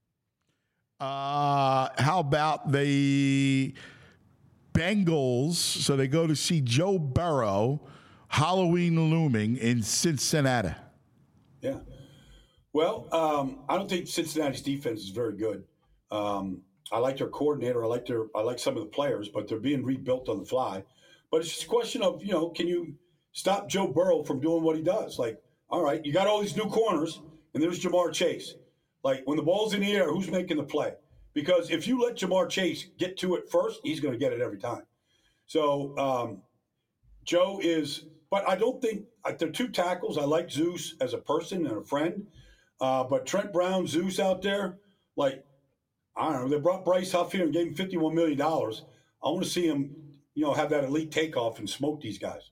How about the Bengals? So they go to see Joe Burrow, Halloween looming in Cincinnati. Yeah. Well, I don't think Cincinnati's defense is very good. I like their coordinator. I like some of the players, but they're being rebuilt on the fly. But it's just a question of, can you stop Joe Burrow from doing what he does? Like, all right, you got all these new corners, and there's Jamar Chase. Like, when the ball's in the air, who's making the play? Because if you let Jamar Chase get to it first, he's going to get it every time. So Joe is, but I don't think they're two tackles. I like Zeus as a person and a friend. But Trent Brown, Zeus out there, like, I don't know, they brought Bryce Huff here and gave him $51 million. I want to see him, have that elite takeoff and smoke these guys.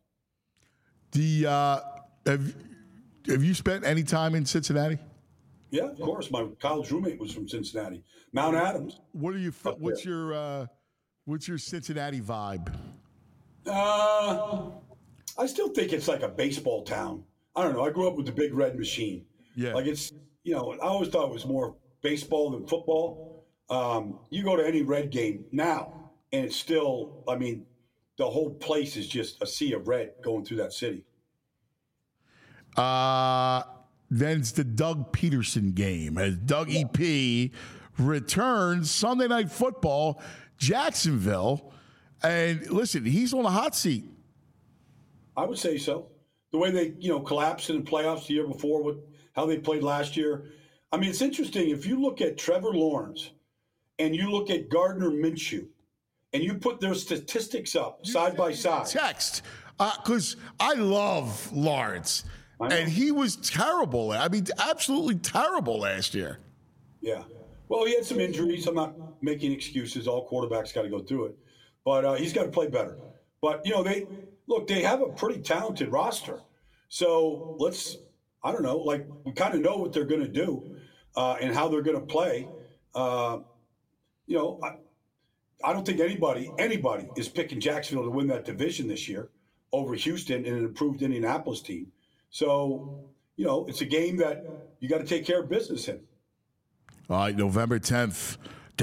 Have you spent any time in Cincinnati? Yeah, of course. My college roommate was from Cincinnati, Mount Adams. What's your Cincinnati vibe? I still think it's like a baseball town. I don't know. I grew up with the Big Red Machine. Yeah. Like it's, I always thought it was more baseball than football. You go to any Red game now, and it's still, the whole place is just a sea of red going through that city. Then it's the Doug Peterson game as Doug EP returns Sunday Night Football, Jacksonville. And listen, he's on a hot seat. I would say so. The way they, collapsed in the playoffs the year before, how they played last year. It's interesting. If you look at Trevor Lawrence and you look at Gardner Minshew and you put their statistics up side by side. Text, because I love Lawrence. And he was terrible. Absolutely terrible last year. Yeah. Well, he had some injuries. I'm not making excuses. All quarterbacks got to go through it. But he's got to play better. But, they have a pretty talented roster. So I don't know, we kind of know what they're going to do and how they're going to play. I don't think anybody is picking Jacksonville to win that division this year over Houston and an improved Indianapolis team. So, it's a game that you got to take care of business in. All right, November 10th.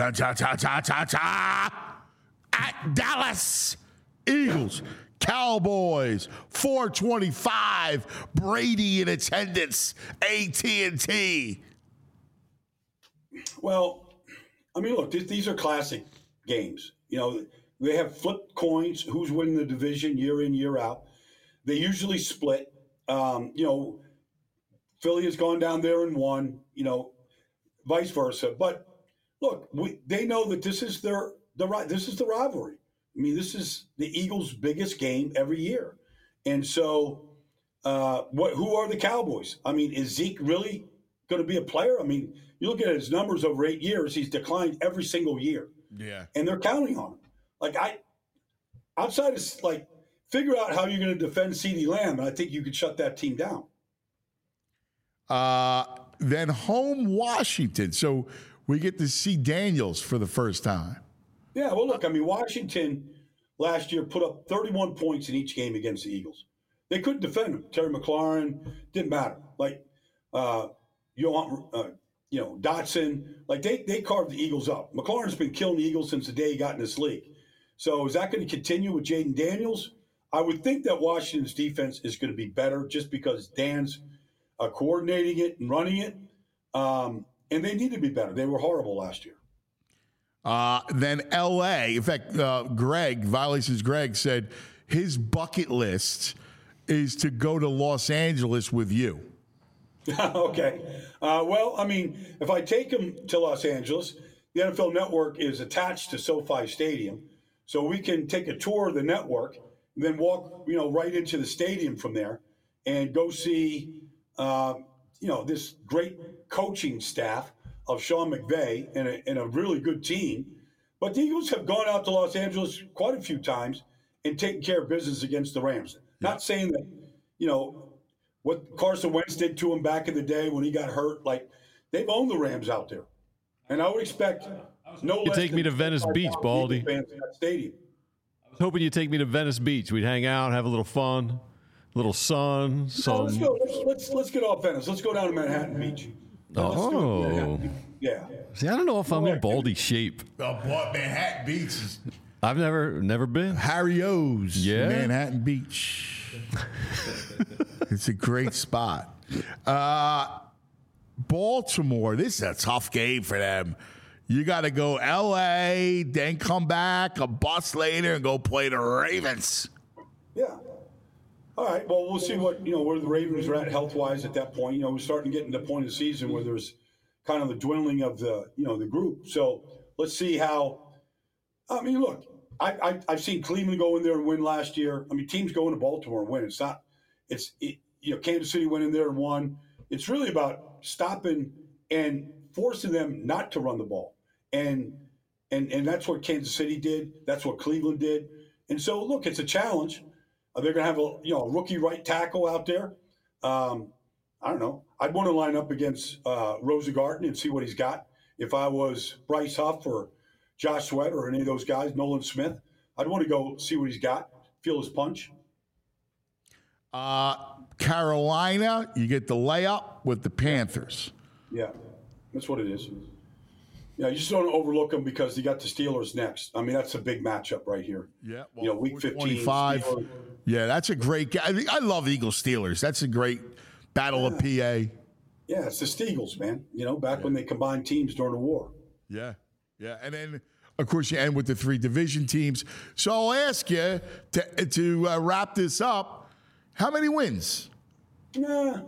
At Dallas. Eagles, Cowboys, 425. Brady in attendance. AT&T. Well, look, these are classic games. They have flipped coins. Who's winning the division year in, year out. They usually split. Philly has gone down there and won, vice versa. But look, they know that this is the rivalry. This is the Eagles' biggest game every year. And so who are the Cowboys? Is Zeke really going to be a player? You look at his numbers over 8 years, he's declined every single year. Yeah. And they're counting on him. Outside of figure out how you're going to defend CeeDee Lamb, and I think you could shut that team down. Then home Washington. So we get to see Daniels for the first time. Yeah, well, look, Washington last year put up 31 points in each game against the Eagles. They couldn't defend them. Terry McLaurin, didn't matter. Dotson, they carved the Eagles up. McLaurin's been killing the Eagles since the day he got in this league. So is that going to continue with Jaden Daniels? I would think that Washington's defense is going to be better just because Dan's coordinating it and running it. And they need to be better. They were horrible last year. Then L.A. In fact, Violations Greg said his bucket list is to go to Los Angeles with you. Okay. If I take him to Los Angeles, the NFL Network is attached to SoFi Stadium. So we can take a tour of the network and then walk, right into the stadium from there and go see, this great coaching staff of Sean McVay and a really good team. But the Eagles have gone out to Los Angeles quite a few times and taken care of business against the Rams. Not saying that, what Carson Wentz did to him back in the day when he got hurt, they've owned the Rams out there. And I would expect no less take me to Venice Beach, Baldy. Fans in that stadium. I was hoping you'd take me to Venice Beach. We'd hang out, have a little fun, a little sun. Let's go. Let's get off Venice. Let's go down to Manhattan Beach. Yeah. See, I don't know if I'm in Baldy shape. Manhattan Beach. I've never been. Harry O's. Yeah. Manhattan Beach. It's a great spot. Baltimore. This is a tough game for them. You got to go L.A., then come back a bus later and go play the Ravens. Yeah. All right. Well, we'll see what, where the Ravens are at health-wise at that point. We're starting to get into the point of the season where there's kind of the dwindling of the, the group. So let's see how – look, I've seen Cleveland go in there and win last year. I mean, teams go into Baltimore and win. Kansas City went in there and won. It's really about stopping and forcing them not to run the ball. And that's what Kansas City did. That's what Cleveland did. And so, look, it's a challenge. They're going to have a rookie right tackle out there. I don't know. I'd want to line up against Rosengarten and see what he's got. If I was Bryce Huff or Josh Sweat or any of those guys, Nolan Smith, I'd want to go see what he's got, feel his punch. Carolina, you get the layup with the Panthers. Yeah, that's what it is. Yeah, you just don't overlook them because you got the Steelers next. I mean, that's a big matchup right here. Yeah, well, week 15. 25. Steelers. Yeah, that's a great game. I love Eagles Steelers. That's a great battle of PA. Yeah, it's the Steagles, man. Back when they combined teams during the war. Yeah. Yeah, and then, of course, you end with the 3 division teams. So I'll ask you to wrap this up, how many wins? Yeah,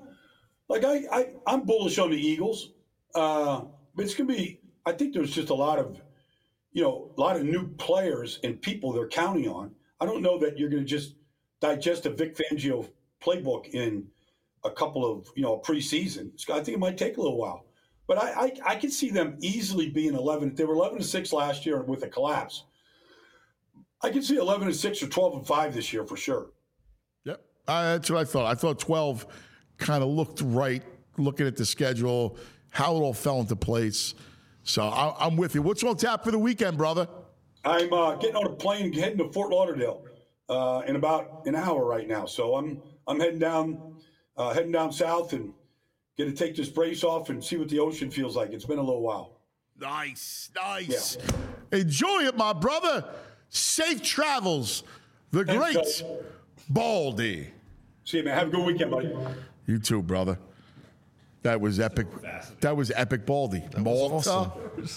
I'm bullish on the Eagles. But it's going to be – I think there's just a lot of new players and people they're counting on. I don't know that you're going to just digest a Vic Fangio playbook in a couple of, preseason. I think it might take a little while. But I can see them easily being 11. They were 11-6 last year with a collapse. I can see 11-6 or 12-5 this year for sure. Yep, that's what I thought. I thought 12 kind of looked right, looking at the schedule, how it all fell into place. So I'm with you. What's on tap for the weekend, brother? I'm getting on a plane and heading to Fort Lauderdale in about an hour right now. So I'm heading down south and going to take this brace off and see what the ocean feels like. It's been a little while. Nice. Yeah. Enjoy it, my brother. Safe travels. The great Baldy. See you, man. Have a good weekend, buddy. You too, brother. That was epic. That was epic, Baldy. Malta, awesome.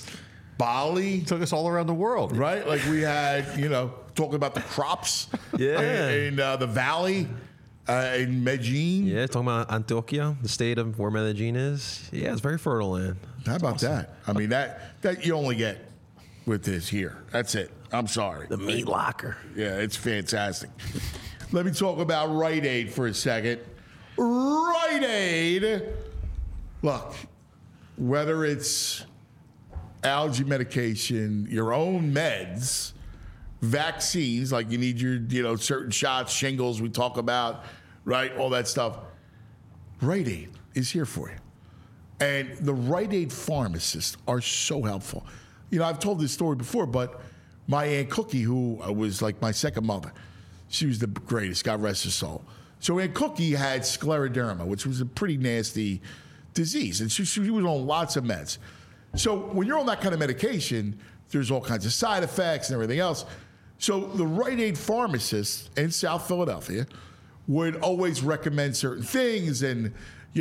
Bali. Took us all around the world. Right? Like we had, talking about the crops in the valley. In Medellin. Yeah, talking about Antioquia, the state of where Medellin is. Yeah, it's very fertile land. How about that? I mean, that you only get with this here. That's it. I'm sorry. The meat locker. Yeah, it's fantastic. Let me talk about Rite Aid for a second. Rite Aid. Look, whether it's allergy medication, your own meds, vaccines, like you need your, certain shots, shingles we talk about, right? All that stuff. Rite Aid is here for you. And the Rite Aid pharmacists are so helpful. I've told this story before, but my Aunt Cookie, who was like my second mother, she was the greatest, God rest her soul. So Aunt Cookie had scleroderma, which was a pretty nasty disease. And she was on lots of meds. So when you're on that kind of medication, there's all kinds of side effects and everything else. So the Rite Aid pharmacists in South Philadelphia would always recommend certain things and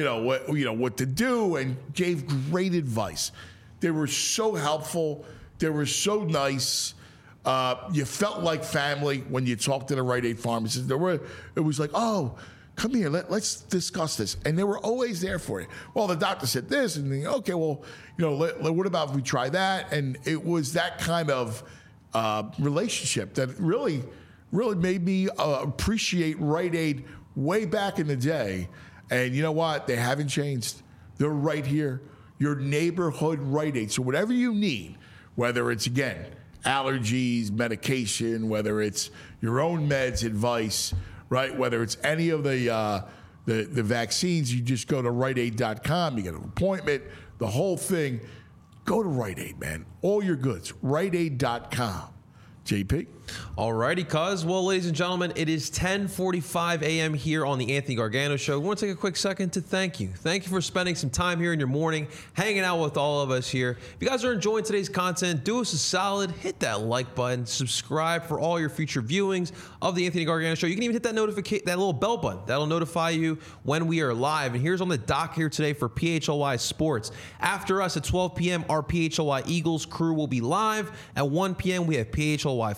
what to do, and gave great advice. They were so helpful. They were so nice. You felt like family when you talked to the Rite Aid pharmacist. It was like, oh, come here, let's discuss this. And they were always there for you. Well, the doctor said this, and okay, well, what about if we try that? And it was that kind of relationship that really made me appreciate Rite Aid way back in the day. And you know what? They haven't changed. They're right here. Your neighborhood Rite Aid. So whatever you need, whether it's, again, allergies, medication, whether it's your own meds, advice, right? Whether it's any of the vaccines, you just go to RiteAid.com. You get an appointment, the whole thing. Go to Rite Aid, man. All your goods. RiteAid.com. JP? All righty, cuz. Well, ladies and gentlemen, it is 10:45 a.m. here on the Anthony Gargano Show. We want to take a quick second to thank you. Thank you for spending some time here in your morning, hanging out with all of us here. If you guys are enjoying today's content, do us a solid, hit that like button, subscribe for all your future viewings of the Anthony Gargano Show. You can even hit that that little bell button. That'll notify you when we are live. And here's on the dock here today for PHLY Sports. After us at 12 p.m., our PHLY Eagles crew will be live. At 1 p.m., we have PHLY Fly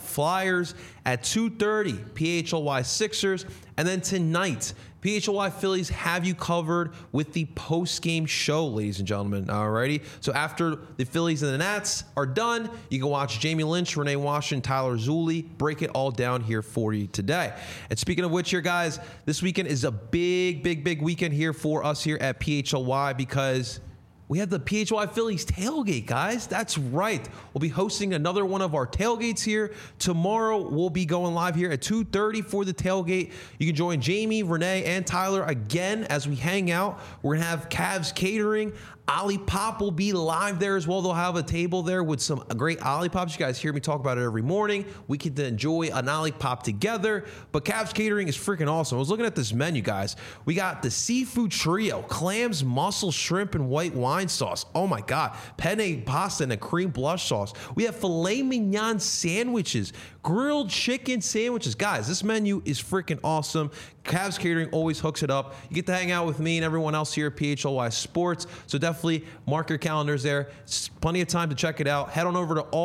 Flyers at 2:30. PHLY Sixers. And then tonight, PHLY Phillies have you covered with the post-game show, ladies and gentlemen. Alrighty. So after the Phillies and the Nats are done, you can watch Jamie Lynch, Renee Washington, Tyler Zulli break it all down here for you today. And speaking of which here, guys, this weekend is a big weekend here for us here at PHLY because we have the PHLY Phillies tailgate, guys. That's right. We'll be hosting another one of our tailgates here. Tomorrow, we'll be going live here at 2:30 for the tailgate. You can join Jamie, Renee, and Tyler again as we hang out. We're going to have Cavs Catering. Ollie Pop will be live there as well. They'll have a table there with some great Ollie Pops. You guys hear me talk about it every morning. We get to enjoy an Ollie Pop together. But Cavs Catering is freaking awesome. I was looking at this menu, guys. We got the seafood trio, clams, mussel, shrimp, and white wine sauce. Oh my God. Penne pasta and a cream blush sauce. We have filet mignon sandwiches, grilled chicken sandwiches. Guys, this menu is freaking awesome. Cavs Catering always hooks it up. You get to hang out with me and everyone else here at PHLY Sports. So definitely mark your calendars there. It's plenty of time to check it out. Head on over to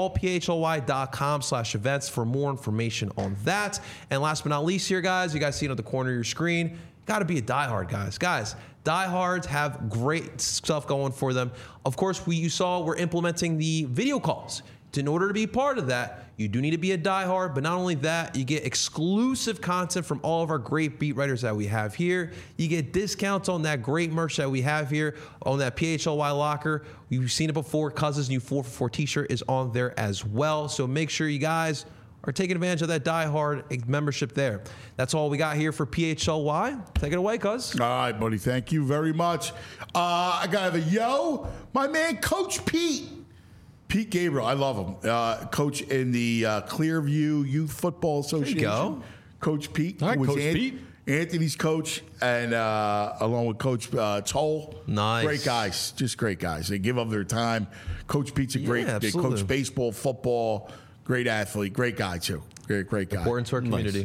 allphly.com/events for more information on that. And last but not least here, guys, you guys see it at the corner of your screen. Got to be a diehard, guys. Guys, diehards have great stuff going for them. Of course, you saw we're implementing the video calls. In order to be part of that, you do need to be a diehard, but not only that, you get exclusive content from all of our great beat writers that we have here. You get discounts on that great merch that we have here on that PHLY locker. You've seen it before. Cuz's new 4for4 t-shirt is on there as well. So make sure you guys are taking advantage of that diehard membership there. That's all we got here for PHLY. Take it away, Cuz. All right, buddy. Thank you very much. I got my man, Coach Pete. Pete Gabriel, I love him. Coach in the Clearview Youth Football Association. There you go. Coach Pete. All right, Coach Pete. Anthony's coach, and along with Coach Toll. Nice. Great guys. Just great guys. They give up their time. Coach Pete's a great. They coach baseball, football. Great athlete. Great guy, too. Great guy. Important to our community.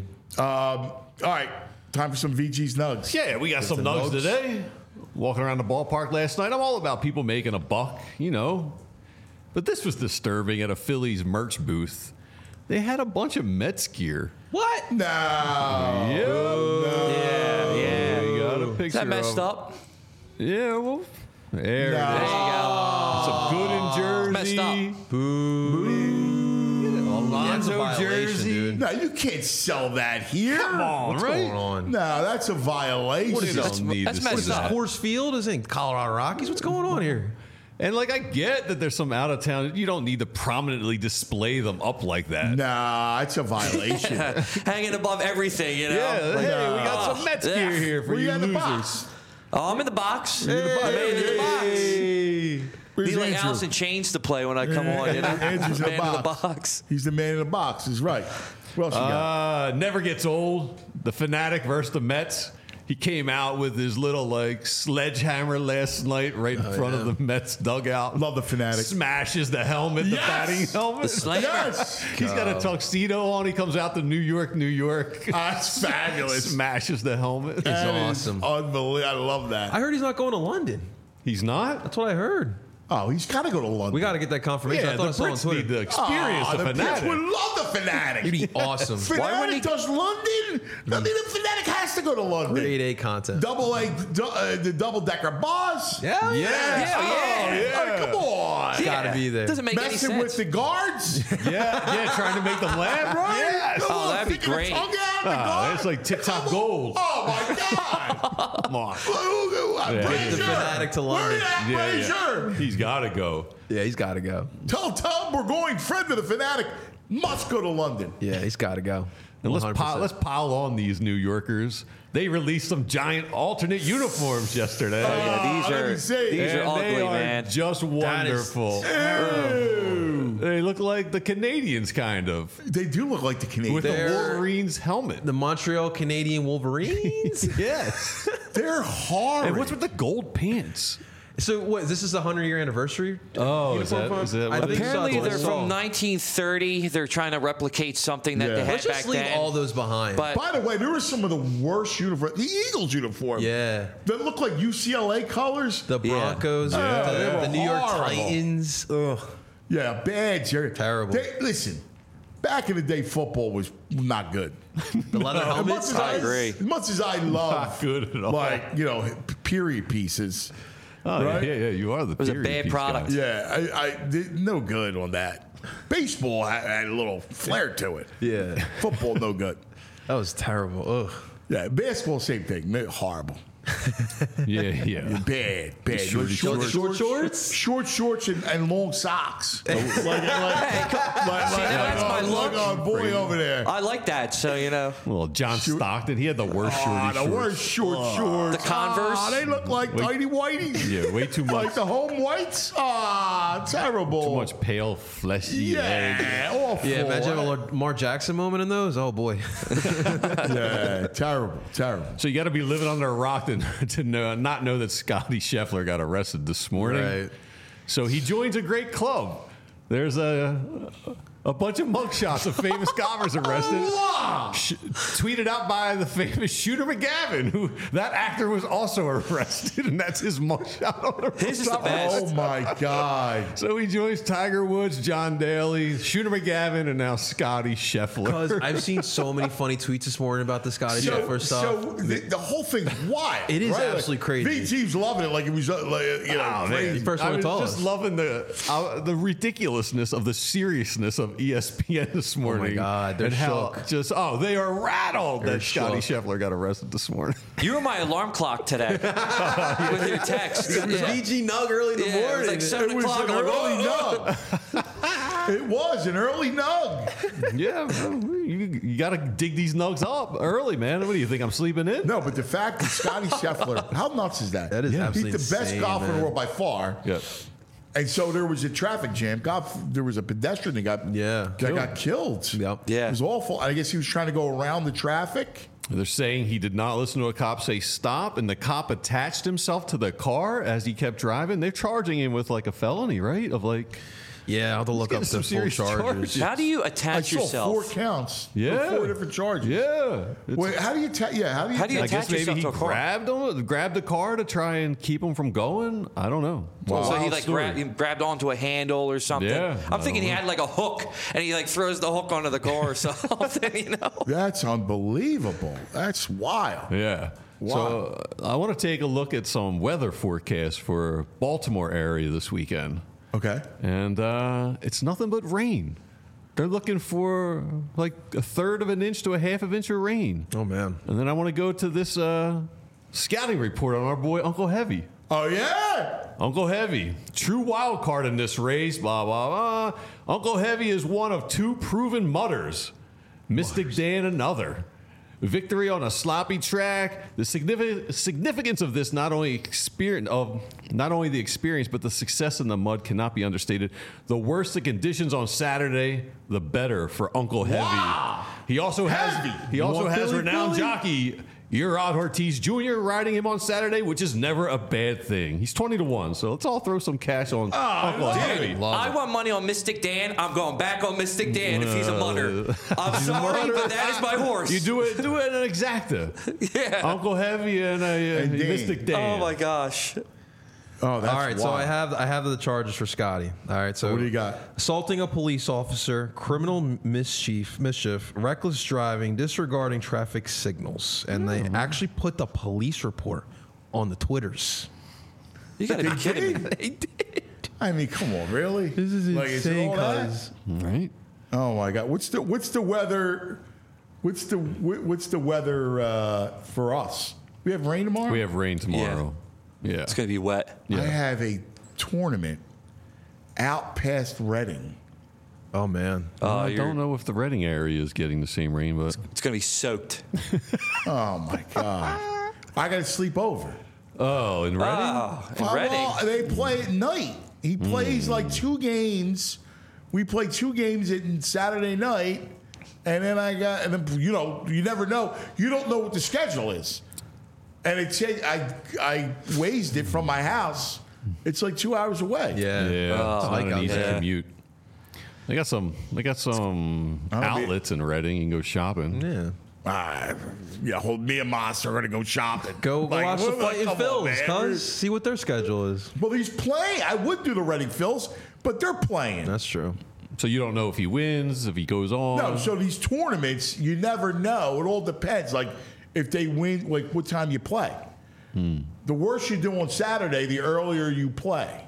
All right. Time for some VG's Nugs. Yeah, we got some nugs today. Walking around the ballpark last night. I'm all about people making a buck, you know. But this was disturbing at a Phillies merch booth. They had a bunch of Mets gear. What? No. Yeah. You got a picture Is that messed of, up? Yeah, well, there it is. There you go. Some good in Jersey. Messed up. Alonzo jersey. Dude. No, you can't sell that here. Come on, What's right? going on? No, that's a violation. What is That's messed What is this, up. Coors Field? Is it Colorado Rockies? What's going on here? And like, I get that there's some out of town. You don't need to prominently display them up like that. Nah, it's a violation. Hanging above everything, you know? Yeah, hey, we got some Mets gear here for Where you you in the losers. box? Oh, I'm in the box. You're in the box. I'm in the box. Where's Need like Andrew? Alice in Chains to play when I come on. You know? Andrew's in the Man box. He's the man in the box. He's right. What else you got? Never gets old. The Fanatic versus the Mets. He came out with his little like sledgehammer last night right in front of the Mets dugout. Love the Fanatic. Smashes the helmet, the Yes! batting helmet. The slammer. Yes. He's got a tuxedo on. He comes out to New York. That's fabulous. Smashes the helmet. That is awesome. Unbelievable. I love that. I heard he's not going to London. He's not? That's what I heard. Oh, he's got to go to London. We got to get that confirmation. Yeah, I the thought I saw it on Brits Twitter. need to experience the the Brits Fanatic. would love the Fanatic. It'd be awesome. Fanatic does London. I mean, the Fanatic has to go to London. Grade A content. The double-decker bus. Yeah. Yeah. Come on. It's got to be there. Doesn't make any Messing sense. with the guards. Yeah, trying to make them laugh, right? Yes. Oh, that'd be Sticking a great. tongue out the guard. It's like tip-top gold. Oh, my God. Come on. Brazier. Get the Fanatic to London. Where at, Brazier? He's got to go. Yeah, he's got to go. Tell him we're going. Friend of the Fanatic must go to London. Yeah, he's got to go. And let's 100%. pile on these New Yorkers. They released some giant alternate uniforms yesterday. Yeah, let me see. these are And ugly, they are man. just wonderful. They look like the Canadians, kind of, They do look like the Canadians. with the Wolverines helmet. The Montreal Canadian Wolverines. Yes. They're hard. And what's with the gold pants? So what? This is the 100-year anniversary. Oh, is uniform that from? I what it think is? so. Apparently, That's they're what I from saw. 1930. They're trying to replicate something that Yeah. they had Let's back just leave then. all those behind. But By the way, there were some of the worst uniforms. The Eagles uniform. yeah. That look like UCLA colors. The Broncos, Yeah, they the were New York horrible. Titans. Ugh. Yeah, bad, Jerry. Terrible. Listen, back in the day, football was not good. The leather helmets. I agree. As much as I love, Not good at all. like, period pieces. Oh, Right? yeah. You are the. It was a period bad piece product. guy. Yeah, I did no good on that. Baseball had a little flair to it. Yeah, Football, no good. that was terrible. Ugh. Yeah, basketball, same thing. Horrible. Yeah. Bad. Short Shorts and long socks. that's my look. Look on boy over there. I like that. So, Well, John Stockton, he had the worst shorty The shorts. worst shorts. The Converse. They look like tidy whities. Yeah, way too much. Like the home whites. Terrible. Too much pale, fleshy leg. Yeah, awful. Yeah, imagine a Lamar Jackson moment in those. Oh boy. Yeah, terrible. So you got to be living under a rock to not know that Scotty Scheffler got arrested this morning. Right. So he joins a great club. There's a bunch of mugshots of famous golfers arrested. Tweeted out by the famous Shooter McGavin, who that actor was also arrested, and that's his mugshot on the His is the best. Oh my God. So he joins Tiger Woods, John Daly, Shooter McGavin, and now Scotty Scheffler. Because I've seen so many funny tweets this morning about the Scotty Scheffler stuff. So the whole thing's wild. It is right? absolutely crazy. VT's loving it like it was crazy. First I one was to tell just us. loving the ridiculousness of the seriousness of ESPN this morning. God, they're and how shook. they are rattled They're that Scotty shook. Scheffler got arrested this morning. You were my alarm clock today with your text. It was VG Nug early in the Yeah, it was morning. like 7 It was o'clock. an I'm like, early oh. nug. It was an early nug. Yeah, bro, you got to dig these nugs up early, man. What do you think? I'm sleeping in? No, but the fact that Scotty Scheffler, how nuts is that? That is absolutely He's the best insane, golfer in man. the world by far. Yeah. And so there was a traffic jam. There was a pedestrian that got killed. Yep. Yeah. It was awful. I guess he was trying to go around the traffic. They're saying he did not listen to a cop say stop, and the cop attached himself to the car as he kept driving. They're charging him with like a felony, right? Of like, Yeah, I'll have to look getting up some the full serious charges. charges. How do you I attach saw yourself? 4 counts. Yeah. 4 different charges. yeah. Wait, how do you How do you I attach guess maybe yourself he to a car? grabbed the car to try and keep him from going. I don't know. It's a So he wild like story. grabbed onto a handle or something. Yeah, I'm thinking I he don't had like a hook and he like throws the hook onto the car or something, That's unbelievable. That's wild. Yeah. Wow. So I want to take a look at some weather forecasts for Baltimore area this weekend. Okay. And it's nothing but rain. They're looking for like a third of an inch to a half of an inch of rain. Oh, man. And then I want to go to this scouting report on our boy Uncle Heavy. Oh, yeah. Uncle Heavy, true wild card in this race, blah, blah, blah. Uncle Heavy is one of 2 proven mutters. Mystic Dan another. Victory on a sloppy track. The significance of this, not only the experience, but the success in the mud cannot be understated. The worse the conditions on Saturday, the better for Uncle Heavy. Wow. He also Heavy. has Billy renowned Billy? jockey Urod Ortiz Jr. riding him on Saturday, which is never a bad thing. He's 20-1, so let's all throw some cash on Uncle Heavy. I want money on Mystic Dan. I'm going back on Mystic Dan if he's a mutter. I'm sorry, but that is my horse. You do it an exacta. Yeah. Uncle Heavy and Dan. Mystic Dan. Oh my gosh. Oh, that's All right, so wild. I have the charges for Scotty. All right, so What do you got? Assaulting a police officer, criminal mischief, reckless driving, disregarding traffic signals, and they actually put the police report on the Twitters. You gotta be kidding me. They did. I mean, come on, really? This is Like, is it insane, all that? cuz. Right? Oh my God! What's the weather? What's the weather for us? We have rain tomorrow. We have rain tomorrow. Yeah. It's gonna be wet. I have a tournament out past Reading. Oh man. I don't know if the Reading area is getting the same rain, but It's gonna be soaked. Oh my God! I got to sleep over. oh, in Reading? Oh, in Reading. Well, they play at night. He plays like 2 games. We play 2 games in Saturday night, and then you never know. You don't know what the schedule is. And it said I wazed it from my house. It's like 2 hours away. Yeah. Yeah, it's like not an out easy there. commute. They got some outlets in Reading. You can go shopping. Yeah. Me and Moss are going to go shopping. Go Like, watch the come fight in on, Phil's, man. cuz. See what their schedule is. Well, he's playing. I would do the Reading Phils, but they're playing. That's true. So you don't know if he wins, if he goes on. No, so these tournaments, you never know. It all depends. Like, if they win, like, what time you play. The worse you do on Saturday, the earlier you play.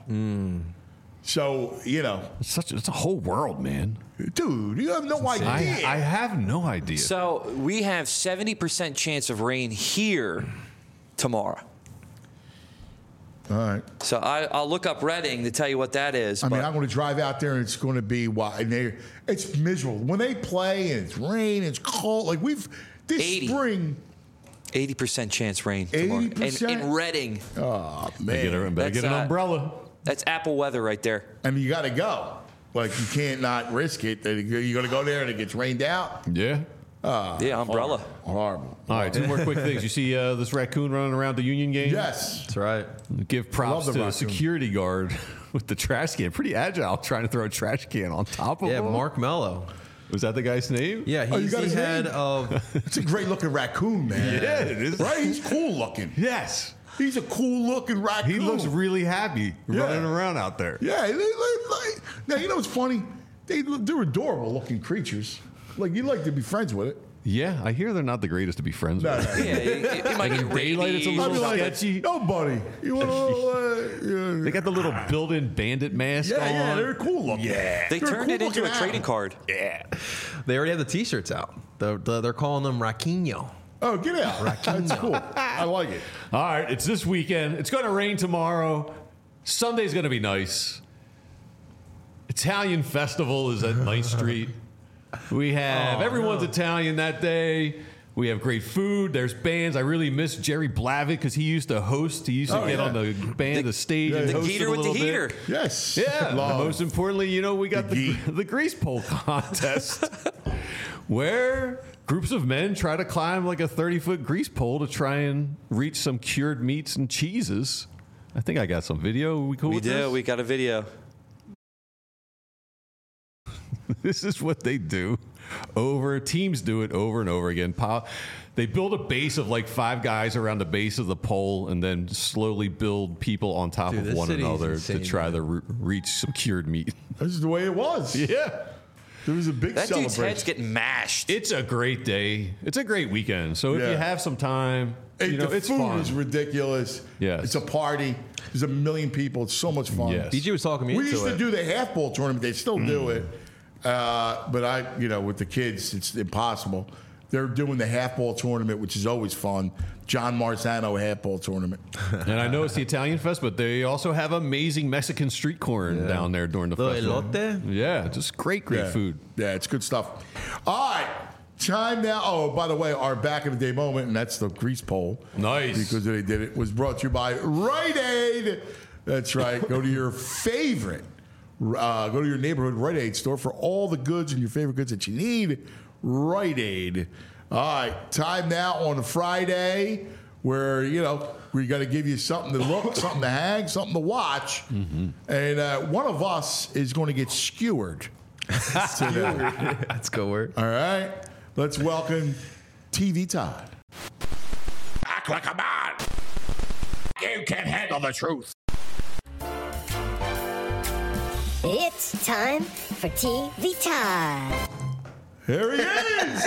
So, you know. It's a whole world, man. Dude, you have no idea. I have no idea. So we have 70% chance of rain here tomorrow. All right. So I'll look up Reading to tell you what that is. I mean, I'm going to drive out there, and it's going to be it's miserable. When they play, and it's rain, it's cold. Like, spring. 80% chance rain tomorrow. 80%? In Reading. Oh, man. Better get an umbrella. That's Apple weather right there. And you got to go. Like, you can't not risk it. You're going to go there and it gets rained out. Yeah. Yeah, umbrella. Horrible. All right, 2 more quick things. You see this raccoon running around the Union game? Yes. That's right. Give props to the raccoon. security guard with the trash can. Pretty agile, trying to throw a trash can on top of him. Yeah, Mark Mello. Was that the guy's name? Yeah, you he's got the his head name? of. It's a great looking raccoon, man. Yeah, it is. Right? He's cool looking. Yes. He's a cool looking raccoon. He looks really happy running around out there. Yeah. Now, you know what's funny? They're adorable looking creatures. Like, you'd like to be friends with it. Yeah, I hear they're not the greatest to be friends with. Yeah, you might get Daylight, it's a rabies. little I'd be like, sketchy. no, buddy. You want to? They got the little built-in bandit mask on. Yeah, they're cool looking. Yeah. They They're turned it into a cool-looking trading animal. card. Yeah. They already have the T-shirts out. They're calling them Raquinho. Oh, get out. That's cool. I like it. All right, it's this weekend. It's going to rain tomorrow. Sunday's going to be nice. Italian Festival is at 9th Street. We have everyone's Italian that day. We have great food. There's bands. I really miss Jerry Blavitt because he used to host. He used to get on the stage and The host Geeter it a with the little bit. heater. Yes. Yeah. And Love. most importantly, we got the grease pole contest where groups of men try to climb like a 30-foot grease pole to try and reach some cured meats and cheeses. I think I got some video. Are we cool We with do. this? We got a video. This is what they do. Teams do it over and over again. They build a base of like 5 guys around the base of the pole and then slowly build people on top of one another to try to reach some cured meat. This is the way it was. Yeah. There was a big That dude's celebration. head's getting mashed. It's a great day. It's a great weekend. So if you have some time, the it's food fun. is ridiculous. Yes. It's a party. There's a million people. It's so much fun. Yes. DJ was talking me We into used to it. do the half ball tournament. They still do it. But with the kids, it's impossible. They're doing the half ball tournament, which is always fun. John Marzano half ball tournament. And I know it's the Italian Fest, but they also have amazing Mexican street corn down there during the festival. Elote? Yeah, just great food. Yeah, it's good stuff. All right. Time now. Oh, by the way, our back of the day moment, and that's the grease pole. Nice. Because they did it, was brought to you by Rite Aid. That's right. Go to your favorite. Go to your neighborhood Rite Aid store for all the goods and your favorite goods that you need. Rite Aid. All right, time now on a Friday where, we got to give you something to look, something to hang, something to watch. Mm-hmm. And one of us is going to get skewered today. That's good word. All right, let's welcome TV Todd. Act like a man. You can handle the truth. It's time for TV Todd. Here he is.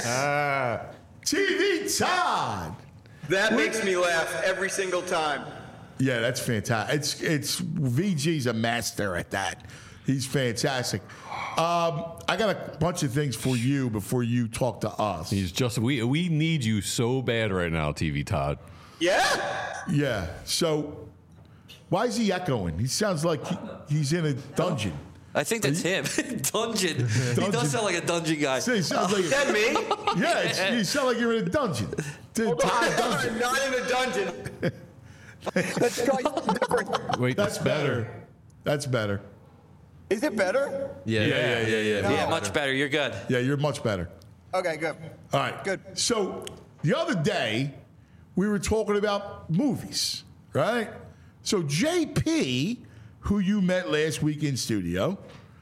TV Todd. That makes me laugh every single time. Yeah, that's fantastic. It's VG's a master at that. He's fantastic. I got a bunch of things for you before you talk to us. We need you so bad right now, TV Todd. Yeah? Yeah. So why is he echoing? He sounds like he's in a dungeon. I think that's him. Dungeon. He does sound like a dungeon guy. So he sounds like Is that me? Yeah, you sound like you're in a dungeon. I'm not in a dungeon. That's different. Wait, That's better. That's better. Is it better? Yeah. Yeah, much better. You're good. Yeah, you're much better. Okay, good. All right. Good. So the other day, we were talking about movies, right? So JP, who you met last week in studio,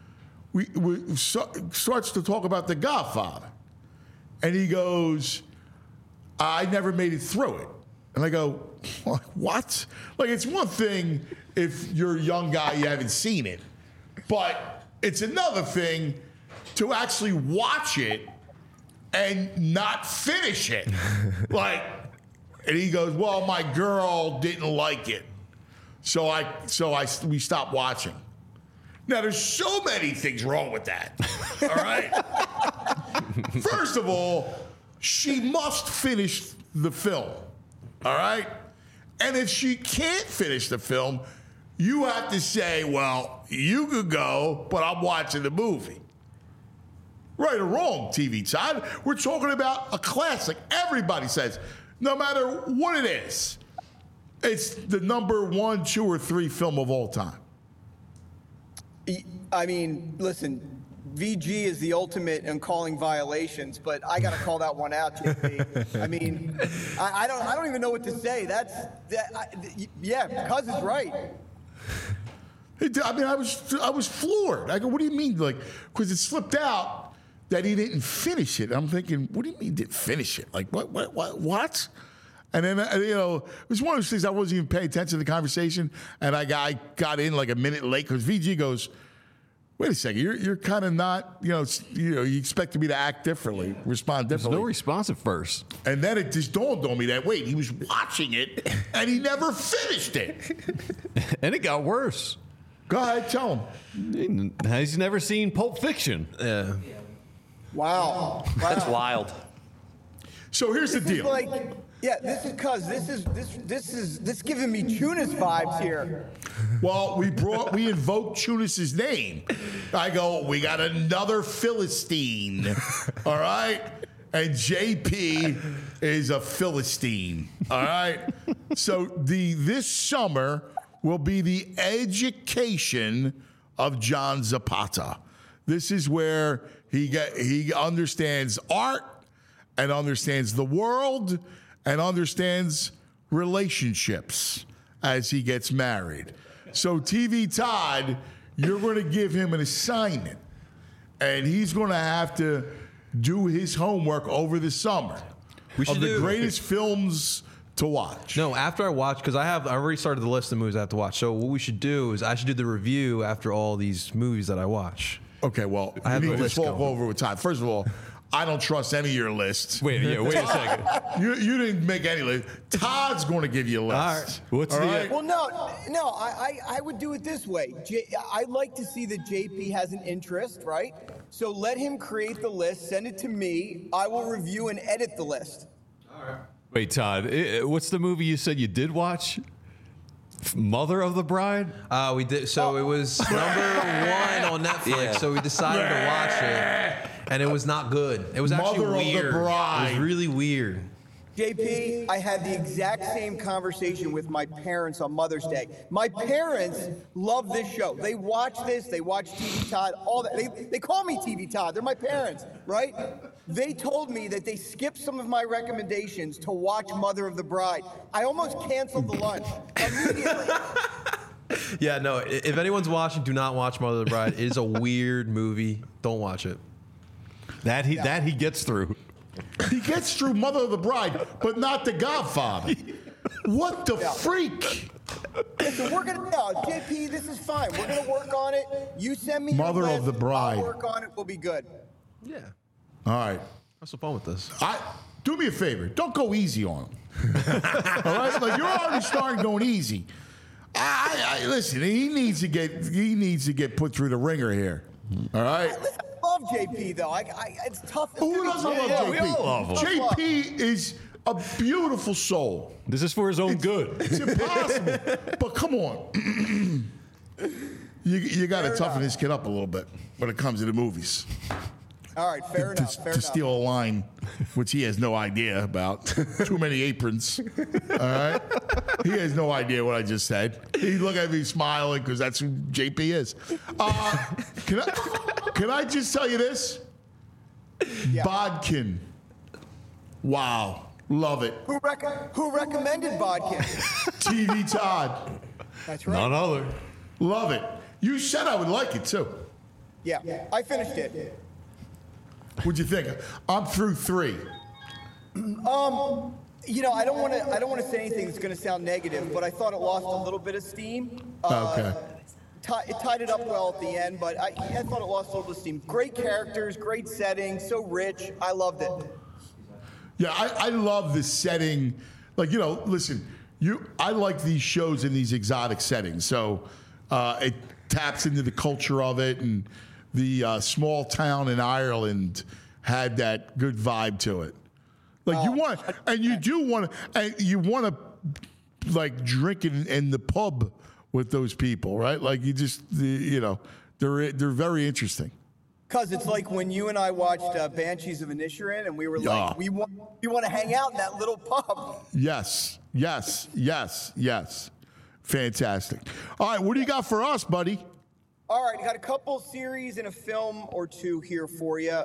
starts to talk about The Godfather. And he goes, I never made it through it. And I go, what? Like, it's one thing if you're a young guy, you haven't seen it. But it's another thing to actually watch it and not finish it. And he goes, well, my girl didn't like it. So we stopped watching. Now, there's so many things wrong with that. All right? First of all, she must finish the film. All right? And if she can't finish the film, you have to say, well, you could go, but I'm watching the movie. Right or wrong, TV Todd. We're talking about a classic. Everybody says, no matter what it is, it's the number 1, 2, or 3 film of all time. I mean, listen, VG is the ultimate in calling violations, but I got to call that one out, JP. I mean, I don't even know what to say. Cuz is right. I mean, I was floored. I go, what do you mean? Like, because it slipped out that he didn't finish it. I'm thinking, what do you mean he didn't finish it? Like, what? And then, it was one of those things I wasn't even paying attention to the conversation, and I got in like a minute late because VG goes, wait a second, you're kind of not, you expect me to act differently, respond differently. There's no response at first. And then it just dawned on me that, wait, he was watching it, and he never finished it. And it got worse. Go ahead, tell him. He's never seen Pulp Fiction. Yeah. Wow. That's wild. So here's the deal. This is cuz this is giving me Tunis vibes here. Well, we invoked Tunis's name. I go, we got another Philistine. All right? And JP is a Philistine. All right? So this summer will be the education of John Zapata. This is where he understands art and understands the world and understands relationships as he gets married. So TV Todd, you're going to give him an assignment, and he's going to have to do his homework over the summer of the greatest films to watch. No, after I watch, because I already started the list of movies I have to watch. So what we should do is I should do the review after all these movies that I watch. Okay, well, I need to talk over with time. First of all, I don't trust any of your lists. Wait a second. You didn't make any list. Todd's going to give you a list. All right. What's all the? Right? Well, no. I would do it this way. I'd like to see that JP has an interest, right? So let him create the list. Send it to me. I will review and edit the list. All right. Wait, Todd. What's the movie you said you did watch? Mother of the Bride? We did. So it was number 1 on Netflix. Yeah. So we decided to watch it, and it was not good. It was actually Mother weird. Of the Bride. It was really weird. JP, I had the exact same conversation with my parents on Mother's Day. My parents love this show. They watch this. They watch TV Todd. All that. They call me TV Todd. They're my parents, right? They told me that they skipped some of my recommendations to watch Mother of the Bride. I almost canceled the lunch immediately. Yeah, no. If anyone's watching, do not watch Mother of the Bride. It is a weird movie. Don't watch it. That he gets through. He gets through Mother of the Bride, but not The Godfather. What the freak? Listen, JP, this is fine. We're gonna work on it. You send me Mother your of the list, Bride. I'll work on it. We'll be good. Yeah. All right. Have some fun with this. Do me a favor. Don't go easy on him. All right? Like, you're already starting going easy. Listen, he needs to get put through the ringer here. All right? I love JP, though. It's tough. Who doesn't love JP? We all love him. JP is a beautiful soul. This is for his own good. It's impossible. But come on. You got to toughen this kid up a little bit when it comes to the movies. All right, fair enough. To steal a line, which he has no idea about. Too many aprons. All right? He has no idea what I just said. He look at me smiling because that's who JP is. Can I just tell you this? Yeah. Bodkin. Wow. Love it. Who recommended Bodkin? TV Todd. That's right. None other. Love it. You said I would like it too. Yeah, I finished it. What'd you think? I'm through 3. I don't want to say anything that's going to sound negative, but I thought it lost a little bit of steam. Okay. It tied it up well at the end, but I thought it lost a little steam. Great characters, great setting, so rich. I loved it. Yeah, I love the setting. Like, listen, I like these shows in these exotic settings. So it taps into the culture of it, and the small town in Ireland had that good vibe to it. Like you want to like drink in the pub with those people, right? Like they're very interesting. Because it's like when you and I watched Banshees of Inisherin, and we were like, we want to hang out in that little pub. Yes. Fantastic. All right, what do you got for us, buddy? All right, got a couple series and a film or two here for you.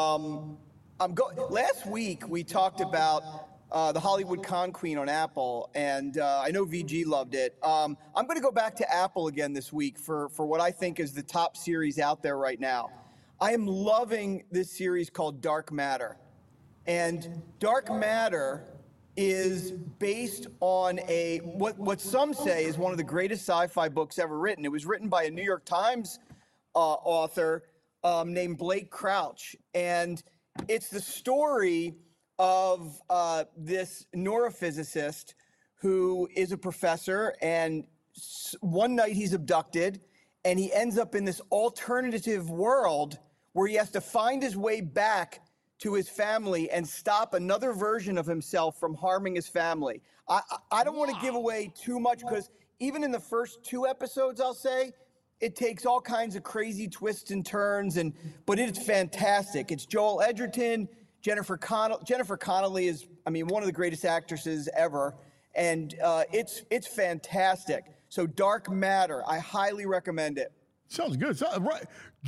Last week we talked about the Hollywood Con Queen on Apple, and I know VG loved it. I'm going to go back to Apple again this week for what I think is the top series out there right now. I am loving this series called Dark Matter. And Dark Matter is based on what some say is one of the greatest sci-fi books ever written. It was written by a New York Times author named Blake Crouch. And it's the story of this neurophysicist who is a professor, and one night he's abducted, and he ends up in this alternative world where he has to find his way back to his family and stop another version of himself from harming his family. I don't want to give away too much, because even in the first 2 episodes, I'll say, it takes all kinds of crazy twists and turns, but it's fantastic. It's Joel Edgerton, Jennifer Connelly is, one of the greatest actresses ever, and it's fantastic. So Dark Matter, I highly recommend it. Sounds good. Right.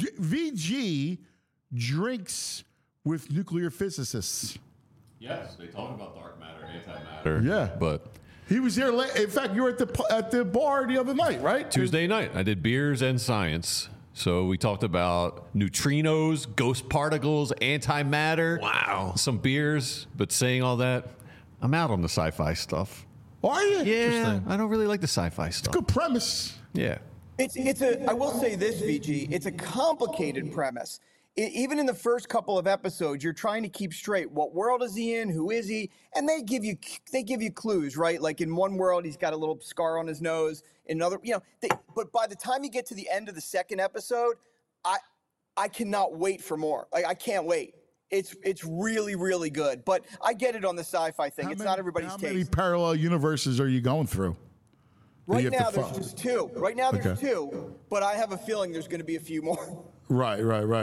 VG drinks with nuclear physicists. Yes, they talk about dark matter, antimatter. Yeah, but he was there. In fact, you were at the bar the other night, right? Tuesday night. I did beers and science. So we talked about neutrinos, ghost particles, antimatter. Wow. Some beers, but saying all that, I'm out on the sci-fi stuff. Are you? Yeah, I don't really like the sci-fi stuff. Good premise. Yeah. I will say this, VG, it's a complicated premise. Even in the first couple of episodes, you're trying to keep straight. What world is he in? Who is he? And they give you clues, right? Like in one world, he's got a little scar on his nose. In another, but by the time you get to the end of the second episode, I cannot wait for more. Like, I can't wait. It's really, really good. But I get it on the sci-fi thing. Not everybody's taste. How many parallel universes are you going through? Right now, there's just 2. Right now, there's 2. But I have a feeling there's going to be a few more. Right.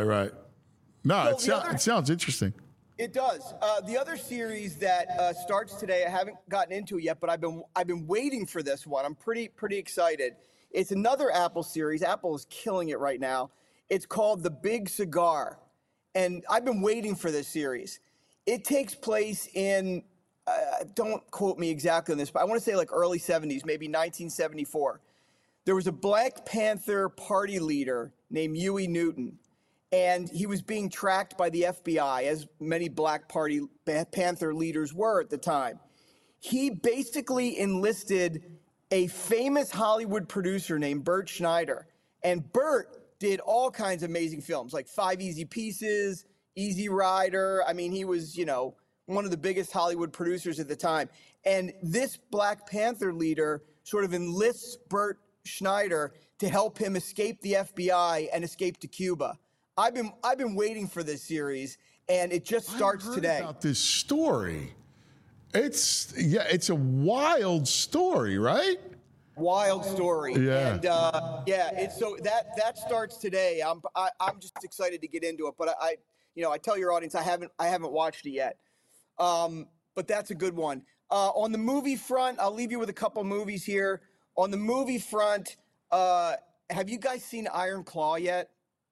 No, so it sounds interesting. It does. The other series that starts today, I haven't gotten into it yet, but I've been waiting for this one. I'm pretty excited. It's another Apple series. Apple is killing it right now. It's called The Big Cigar, and I've been waiting for this series. It takes place in don't quote me exactly on this, but I want to say like early 70s, maybe 1974. There was a Black Panther party leader named Huey Newton, and he was being tracked by the FBI, as many Black Panther leaders were at the time. He basically enlisted a famous Hollywood producer named Bert Schneider, and Bert did all kinds of amazing films, like 5 Easy Pieces, Easy Rider. He was, one of the biggest Hollywood producers at the time. And this Black Panther leader sort of enlists Bert Schneider to help him escape the FBI and escape to Cuba. I've been waiting for this series, and it just starts today. About this story, it's a wild story, right? Wild story. Yeah. And it's so that starts today. I'm just excited to get into it, but I tell your audience I haven't watched it yet. But that's a good one. On the movie front, I'll leave you with a couple movies here. On the movie front, have you guys seen Iron Claw yet?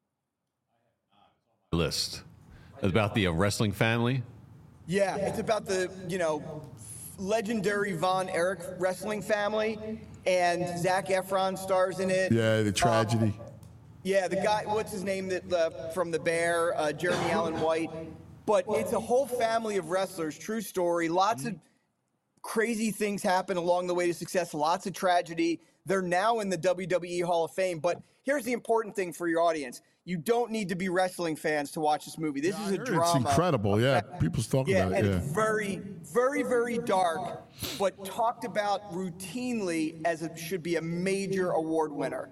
List about the wrestling family. Yeah, it's about the legendary Von Erich wrestling family, and Zac Efron stars in it. Yeah, the tragedy. The guy, what's his name from The Bear, Jeremy Allen White. But it's a whole family of wrestlers, true story, lots of crazy things happen along the way to success, lots of tragedy. They're now in the WWE Hall of Fame. But here's the important thing for your audience. You don't need to be wrestling fans to watch this movie. This is a drama. It's incredible, yeah. People's talking about it, and it's very, very, very dark, but talked about routinely as it should be a major award winner.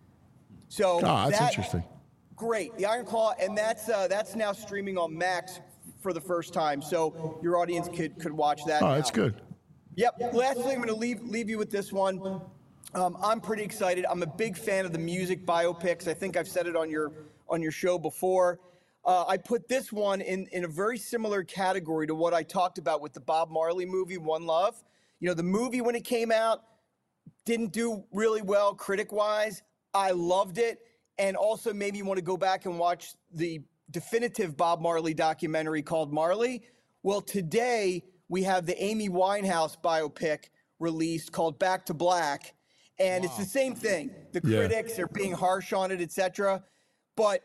So that's interesting. Great, the Iron Claw, and that's now streaming on Max for the first time, so your audience could watch that. Oh, that's good. Yep. Lastly, I'm going to leave you with this one. I'm pretty excited. I'm a big fan of the music biopics. I think I've said it on your show before. I put this one in a very similar category to what I talked about with the Bob Marley movie, One Love. You know, the movie when it came out didn't do really well critic-wise. I loved it, and also maybe you want to go back and watch the definitive Bob Marley documentary called Marley. Well, today we have the Amy Winehouse biopic released called Back to Black. And it's the same thing. The critics are being harsh on it, etc. But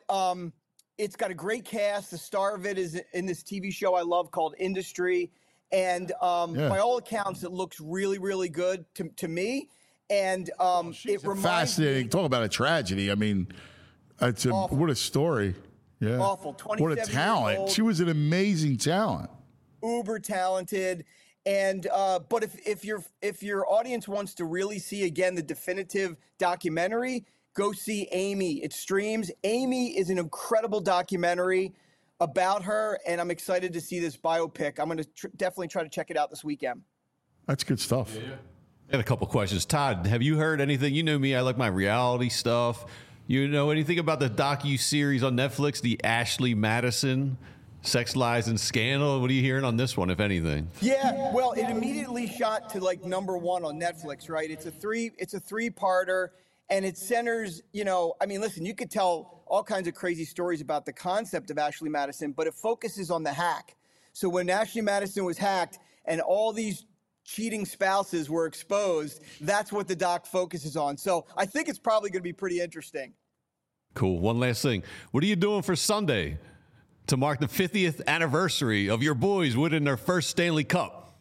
it's got a great cast. The star of it is in this TV show I love called Industry. And by all accounts, it looks really, really good to me. And it reminds fascinating. me. Talk about a tragedy. I mean, what a story. Yeah. Awful. 27 what a talent. years old. She was an amazing talent. Uber talented. And but if your audience wants to really see again the definitive documentary, go see Amy. It streams. Amy is an incredible documentary about her, and I'm excited to see this biopic. I'm going to definitely try to check it out this weekend. That's good stuff. Yeah. I got a couple questions. Todd, have you heard anything? You know me, I like my reality stuff. You know anything about the docu-series on Netflix, the Ashley Madison Sex, Lies, and Scandal? What are you hearing on this one, if anything? Yeah, well, it immediately shot to like #1 on Netflix, right? It's a three-parter, and it centers, I mean, listen, you could tell all kinds of crazy stories about the concept of Ashley Madison, but it focuses on the hack. So when Ashley Madison was hacked and all these cheating spouses were exposed, that's what the doc focuses on. So I think it's probably going to be pretty interesting. Cool. One last thing. What are you doing for Sunday to mark the 50th anniversary of your boys winning their first Stanley Cup?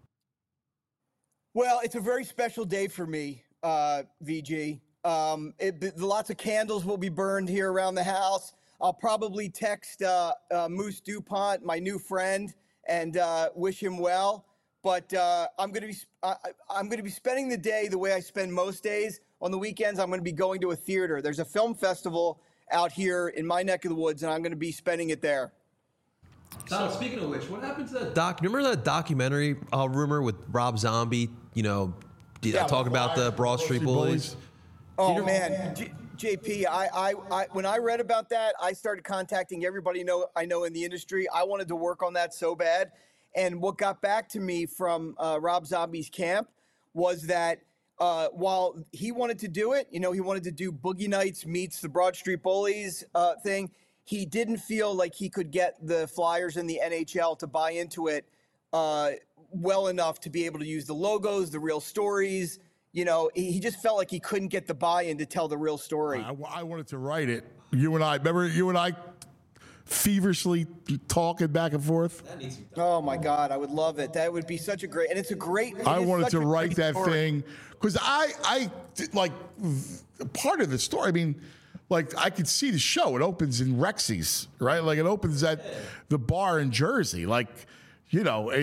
Well, it's a very special day for me, VG. Lots of candles will be burned here around the house. I'll probably text Moose DuPont, my new friend, and wish him well. But I'm going to be spending the day the way I spend most days. On the weekends, I'm going to be going to a theater. There's a film festival out here in my neck of the woods, and I'm going to be spending it there. Don, speaking of which, what happened to that doc? Remember that documentary rumor with Rob Zombie? Talk about the Broad Street Bullies. Oh man, JP, I when I read about that, I started contacting everybody I know in the industry. I wanted to work on that so bad, and what got back to me from Rob Zombie's camp was that while he wanted to do it, he wanted to do Boogie Nights meets the Broad Street Bullies thing. He didn't feel like he could get the Flyers and the NHL to buy into it well enough to be able to use the logos, the real stories. He just felt like he couldn't get the buy-in to tell the real story. I wanted to write it. You and I feverishly talking back and forth. Oh my God, I would love it. That would be such a great, and it's a great. I wanted to write that thing because I like part of the story. I mean, like I could see the show. It opens in Rexy's, right? Like it opens at the bar in Jersey. Like, you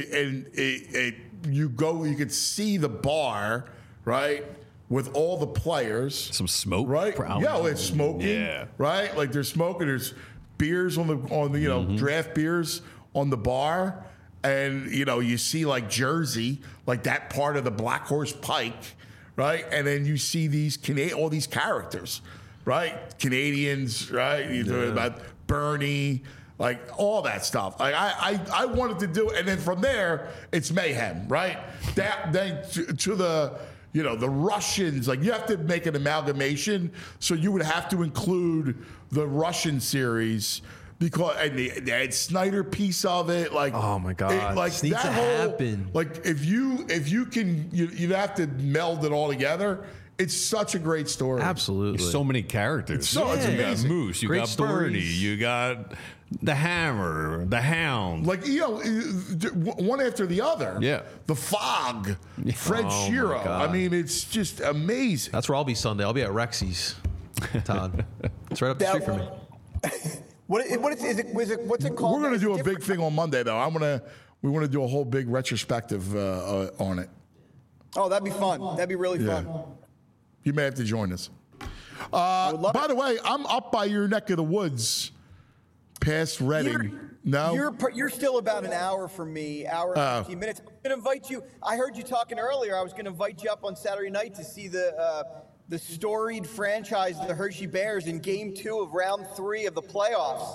could see the bar, right? With all the players. Some smoke. Right? Yeah, it's smoking. Yeah. Right? Like they're smoking. There's beers on the draft beers on the bar. And, you see like Jersey, like that part of the Black Horse Pike, right? And then you see all these characters, right? Canadians, right? You're talking about Bernie, like all that stuff. Like I wanted to do it. And then from there, it's mayhem, right? Then to the, the Russians, like you have to make an amalgamation. So you would have to include the Russian series because and the Ed Snyder piece of it, like oh my God, it happen. Like if you can, you'd have to meld it all together. It's such a great story. Absolutely. There's so many characters. It's you got amazing. Moose, you Great got Bernie, stories. you got the Hammer, the Hound. Like, one after the other. Yeah. The Fog, Fred Oh, my Shiro. God. I mean, it's just amazing. That's where I'll be Sunday. I'll be at Rexy's, Todd. It's right up the street from me. What's it called? We're going to It's do a different. big thing on Monday, though. We want to do a whole big retrospective on it. Oh, that'd be fun. That'd be really fun. You may have to join us. would love By the way, I'm up by your neck of the woods, past Reading. You're still about an hour from me, hour and 15 minutes. I'm going to invite you. I heard you talking earlier. I was going to invite you up on Saturday night to see the storied franchise of the Hershey Bears in Game 2 of Round 3 of the playoffs.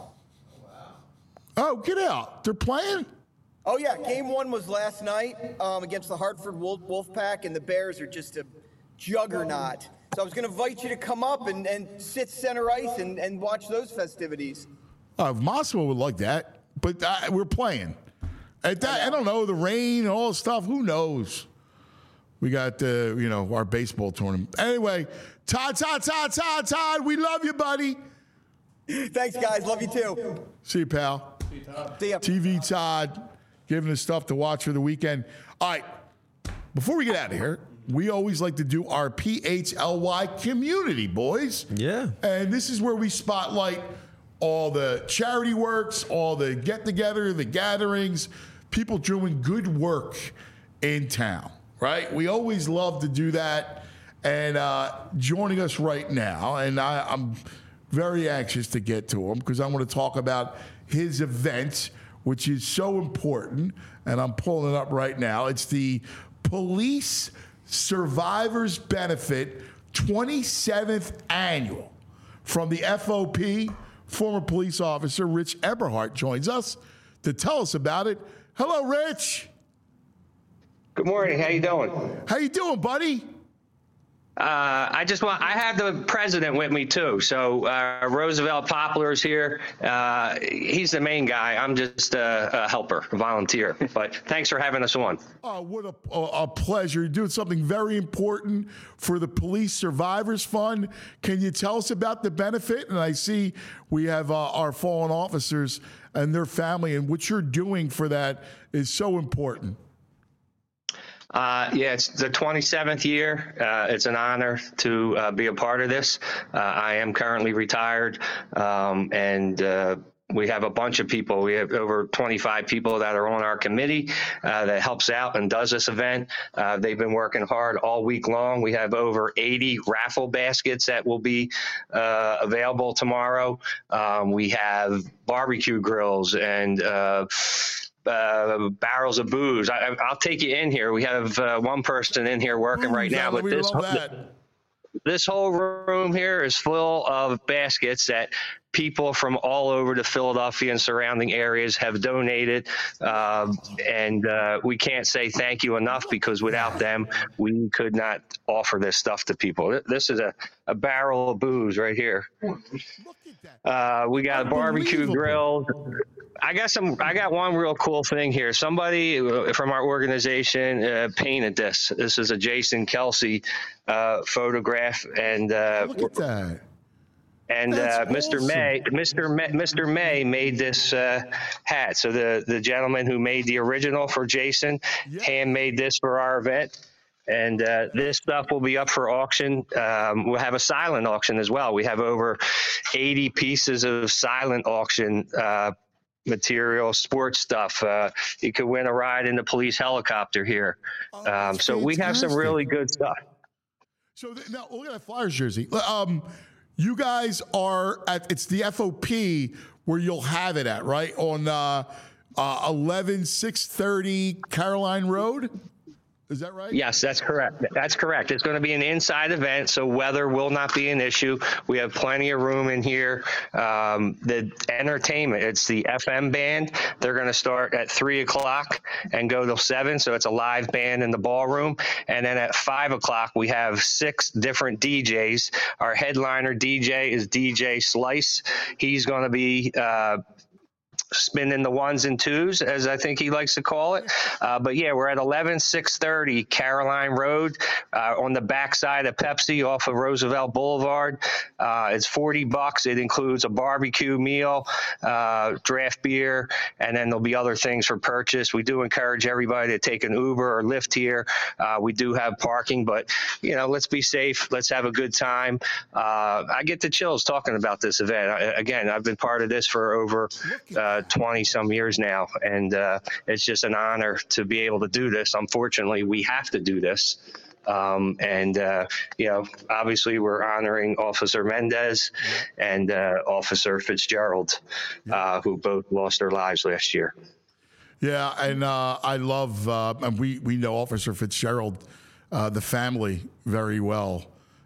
Oh, get out. They're playing? Oh, yeah. Game 1 was last night against the Hartford Wolfpack, and the Bears are just a juggernaut. So I was going to invite you to come up and sit center ice and watch those festivities. Moscow would like that, but we're playing. At that, I don't know, the rain and all the stuff, who knows? We got, our baseball tournament. Anyway, Todd, we love you, buddy. Thanks, guys. Love you, too. See you, pal. See ya. TV Todd, giving us stuff to watch for the weekend. All right, before we get out of here, we always like to do our PHLY community, boys. Yeah. And this is where we spotlight all the charity works, all the get-together, the gatherings, people doing good work in town, right? We always love to do that. And joining us right now, and I'm very anxious to get to him because I want to talk about his event, which is so important, and I'm pulling it up right now. It's the Police Survivors Benefit 27th Annual. From the FOP, former police officer Rich Eberhardt joins us to tell us about it. Hello, Rich. Good morning. How you doing? How you doing, buddy? I have the president with me too. So Roosevelt Poplar's here. He's the main guy. I'm just a helper, a volunteer. But thanks for having us on. Oh, what a pleasure. You're doing something very important for the Police Survivors Fund. Can you tell us about the benefit? And I see we have our fallen officers and their family, and what you're doing for that is so important. It's the 27th year. It's an honor to be a part of this. I am currently retired, and we have a bunch of people. We have over 25 people that are on our committee that helps out and does this event. They've been working hard all week long. We have over 80 raffle baskets that will be available tomorrow. We have barbecue grills and barrels of booze. I'll take you in here. We have one person in here working right now, but this whole room here is full of baskets that people from all over the Philadelphia and surrounding areas have donated. And we can't say thank you enough, because without them, we could not offer this stuff to people. This is a barrel of booze right here. We got a barbecue grill. I got one real cool thing here. Somebody from our organization painted this. This is a Jason Kelsey photograph, and look at that. And Mr. May made this hat. So the gentleman who made the original for Jason handmade this for our event. And this stuff will be up for auction. We'll have a silent auction as well. We have over 80 pieces of silent auction material, sports stuff. You could win a ride in the police helicopter here. So we have some really good stuff. So now look at that Flyers jersey. You guys are it's the FOP where you'll have it at, right? On 11630 Caroline Road. Is that right? Yes, that's correct. That's correct. It's going to be an inside event, so weather will not be an issue. We have plenty of room in here. The entertainment, it's the FM band. They're going to start at 3 o'clock and go till 7, so it's a live band in the ballroom. And then at 5 o'clock, we have 6 different DJs. Our headliner DJ is DJ Slice. He's going to be spinning the ones and twos, as I think he likes to call it. But yeah, we're at 11630 Caroline Road on the backside of Pepsi off of Roosevelt Boulevard. It's $40. It includes a barbecue meal, draft beer, and then there'll be other things for purchase. We do encourage everybody to take an Uber or Lyft here. We do have parking, but let's be safe. Let's have a good time. I get the chills talking about this event. Again, I've been part of this for over 20 some years now, and it's just an honor to be able to do this. Unfortunately, we have to do this. Obviously we're honoring Officer Mendez and Officer Fitzgerald, who both lost their lives last year. Yeah, and I love, and we know Officer Fitzgerald, the family, very well.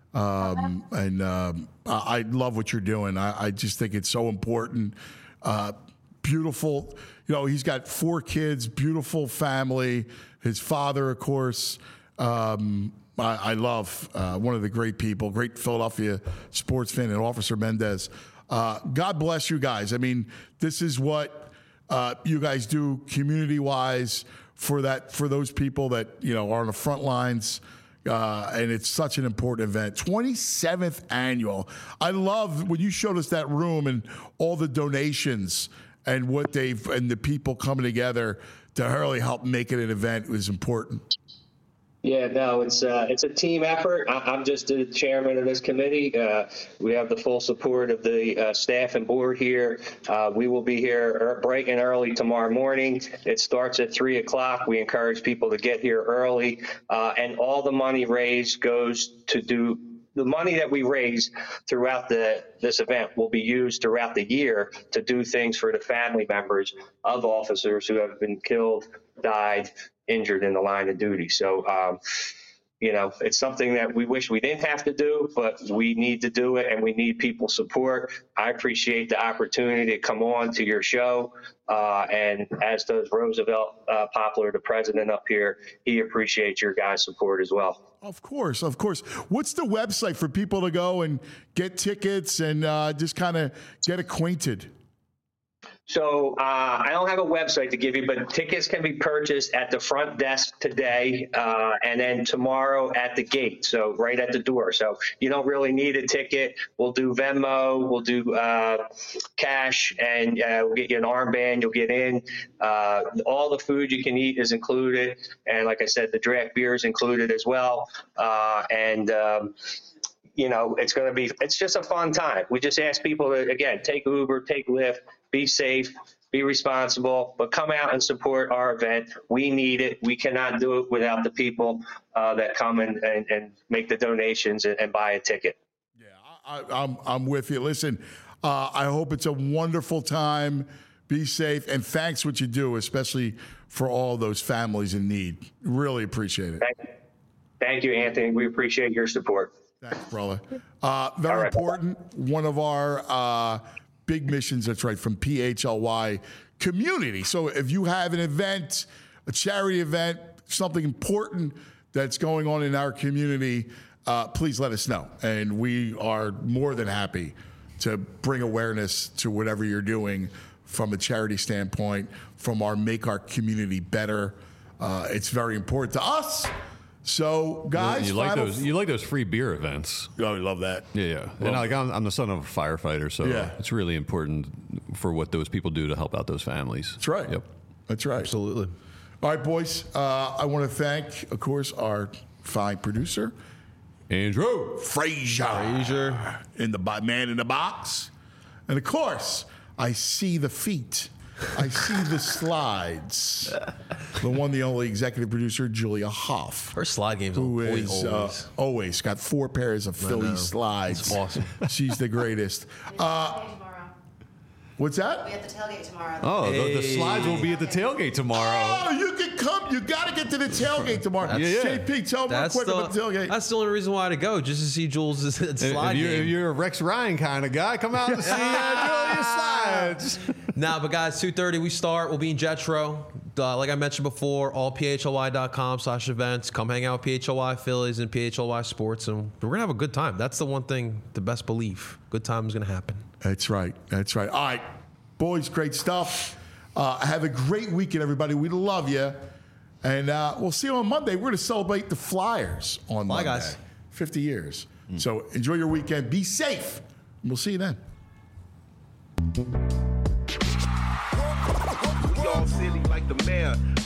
I love what you're doing. I just think it's so important. Beautiful. He's got 4 kids, beautiful family. His father, of course. I love one of the great people, great Philadelphia sports fan, and Officer Mendez. God bless you guys. I mean, this is what you guys do community-wise for those people that are on the front lines. And it's such an important event. 27th annual. I love when you showed us that room and all the donations and and the people coming together to really help make it an event was important. Yeah, no, it's a team effort. I'm just the chairman of this committee. We have the full support of the staff and board here. We will be here bright and early tomorrow morning. It starts at 3 o'clock. We encourage people to get here early, and all the money raised goes to the money that we raise throughout this event will be used throughout the year to do things for the family members of officers who have been killed, died, injured in the line of duty. So, it's something that we wish we didn't have to do, but we need to do it, and we need people's support. I appreciate the opportunity to come on to your show, and as does Roosevelt Poplar, the president up here. He appreciates your guys' support as well. Of course. What's the website for people to go and get tickets and just kind of get acquainted? So I don't have a website to give you, but tickets can be purchased at the front desk today and then tomorrow at the gate, so right at the door. So you don't really need a ticket. We'll do Venmo, we'll do cash, and we'll get you an armband. You'll get in. All the food you can eat is included. And like I said, the draft beer is included as well. It's just a fun time. We just ask people to, again, take Uber, take Lyft, be safe, be responsible, but come out and support our event. We need it. We cannot do it without the people that come and make the donations and buy a ticket. Yeah, I'm with you. Listen, I hope it's a wonderful time. Be safe, and thanks what you do, especially for all those families in need. Really appreciate it. Thank you, Anthony. We appreciate your support. Thanks, brother. Very important. One of our big missions, that's right, from PHLY community. So if you have an event, a charity event, something important that's going on in our community, please let us know. And we are more than happy to bring awareness to whatever you're doing from a charity standpoint, from our Make Our Community Better. It's very important to us. So, guys, you like those free beer events. Oh, I love that. Yeah. And I'm the son of a firefighter, so it's really important for what those people do to help out those families. That's right. Yep. That's right. Absolutely. All right, boys. I want to thank, of course, our fine producer, Andrew Frazier, in the man in the box, and of course, I see the feet. I see the slides. The one, the only executive producer, Julia Hoff. Her slide game's who is always got 4 pairs of Philly slides. That's awesome. She's the greatest. What's that? We'll be at the tailgate tomorrow. Oh, the slides will be at the tailgate tomorrow. Oh, you can come. You got to get to the tailgate tomorrow. JP, tell them real quick about the tailgate. That's the only reason why to go, just to see Jules' slide game. If you're a Rex Ryan kind of guy, come out and see Julia's slides. But guys, 2:30 we start. We'll be in Jetro. Like I mentioned before, all phly.com/events. Come hang out with PHLY Phillies and PHLY Sports, and we're going to have a good time. That's the one thing, the best belief. Good time is going to happen. That's right. All right. Boys, great stuff. Have a great weekend, everybody. We love you. And we'll see you on Monday. We're going to celebrate the Flyers on Monday. Bye, guys. 50 years. So enjoy your weekend. Be safe. We'll see you then. We all silly like the mayor.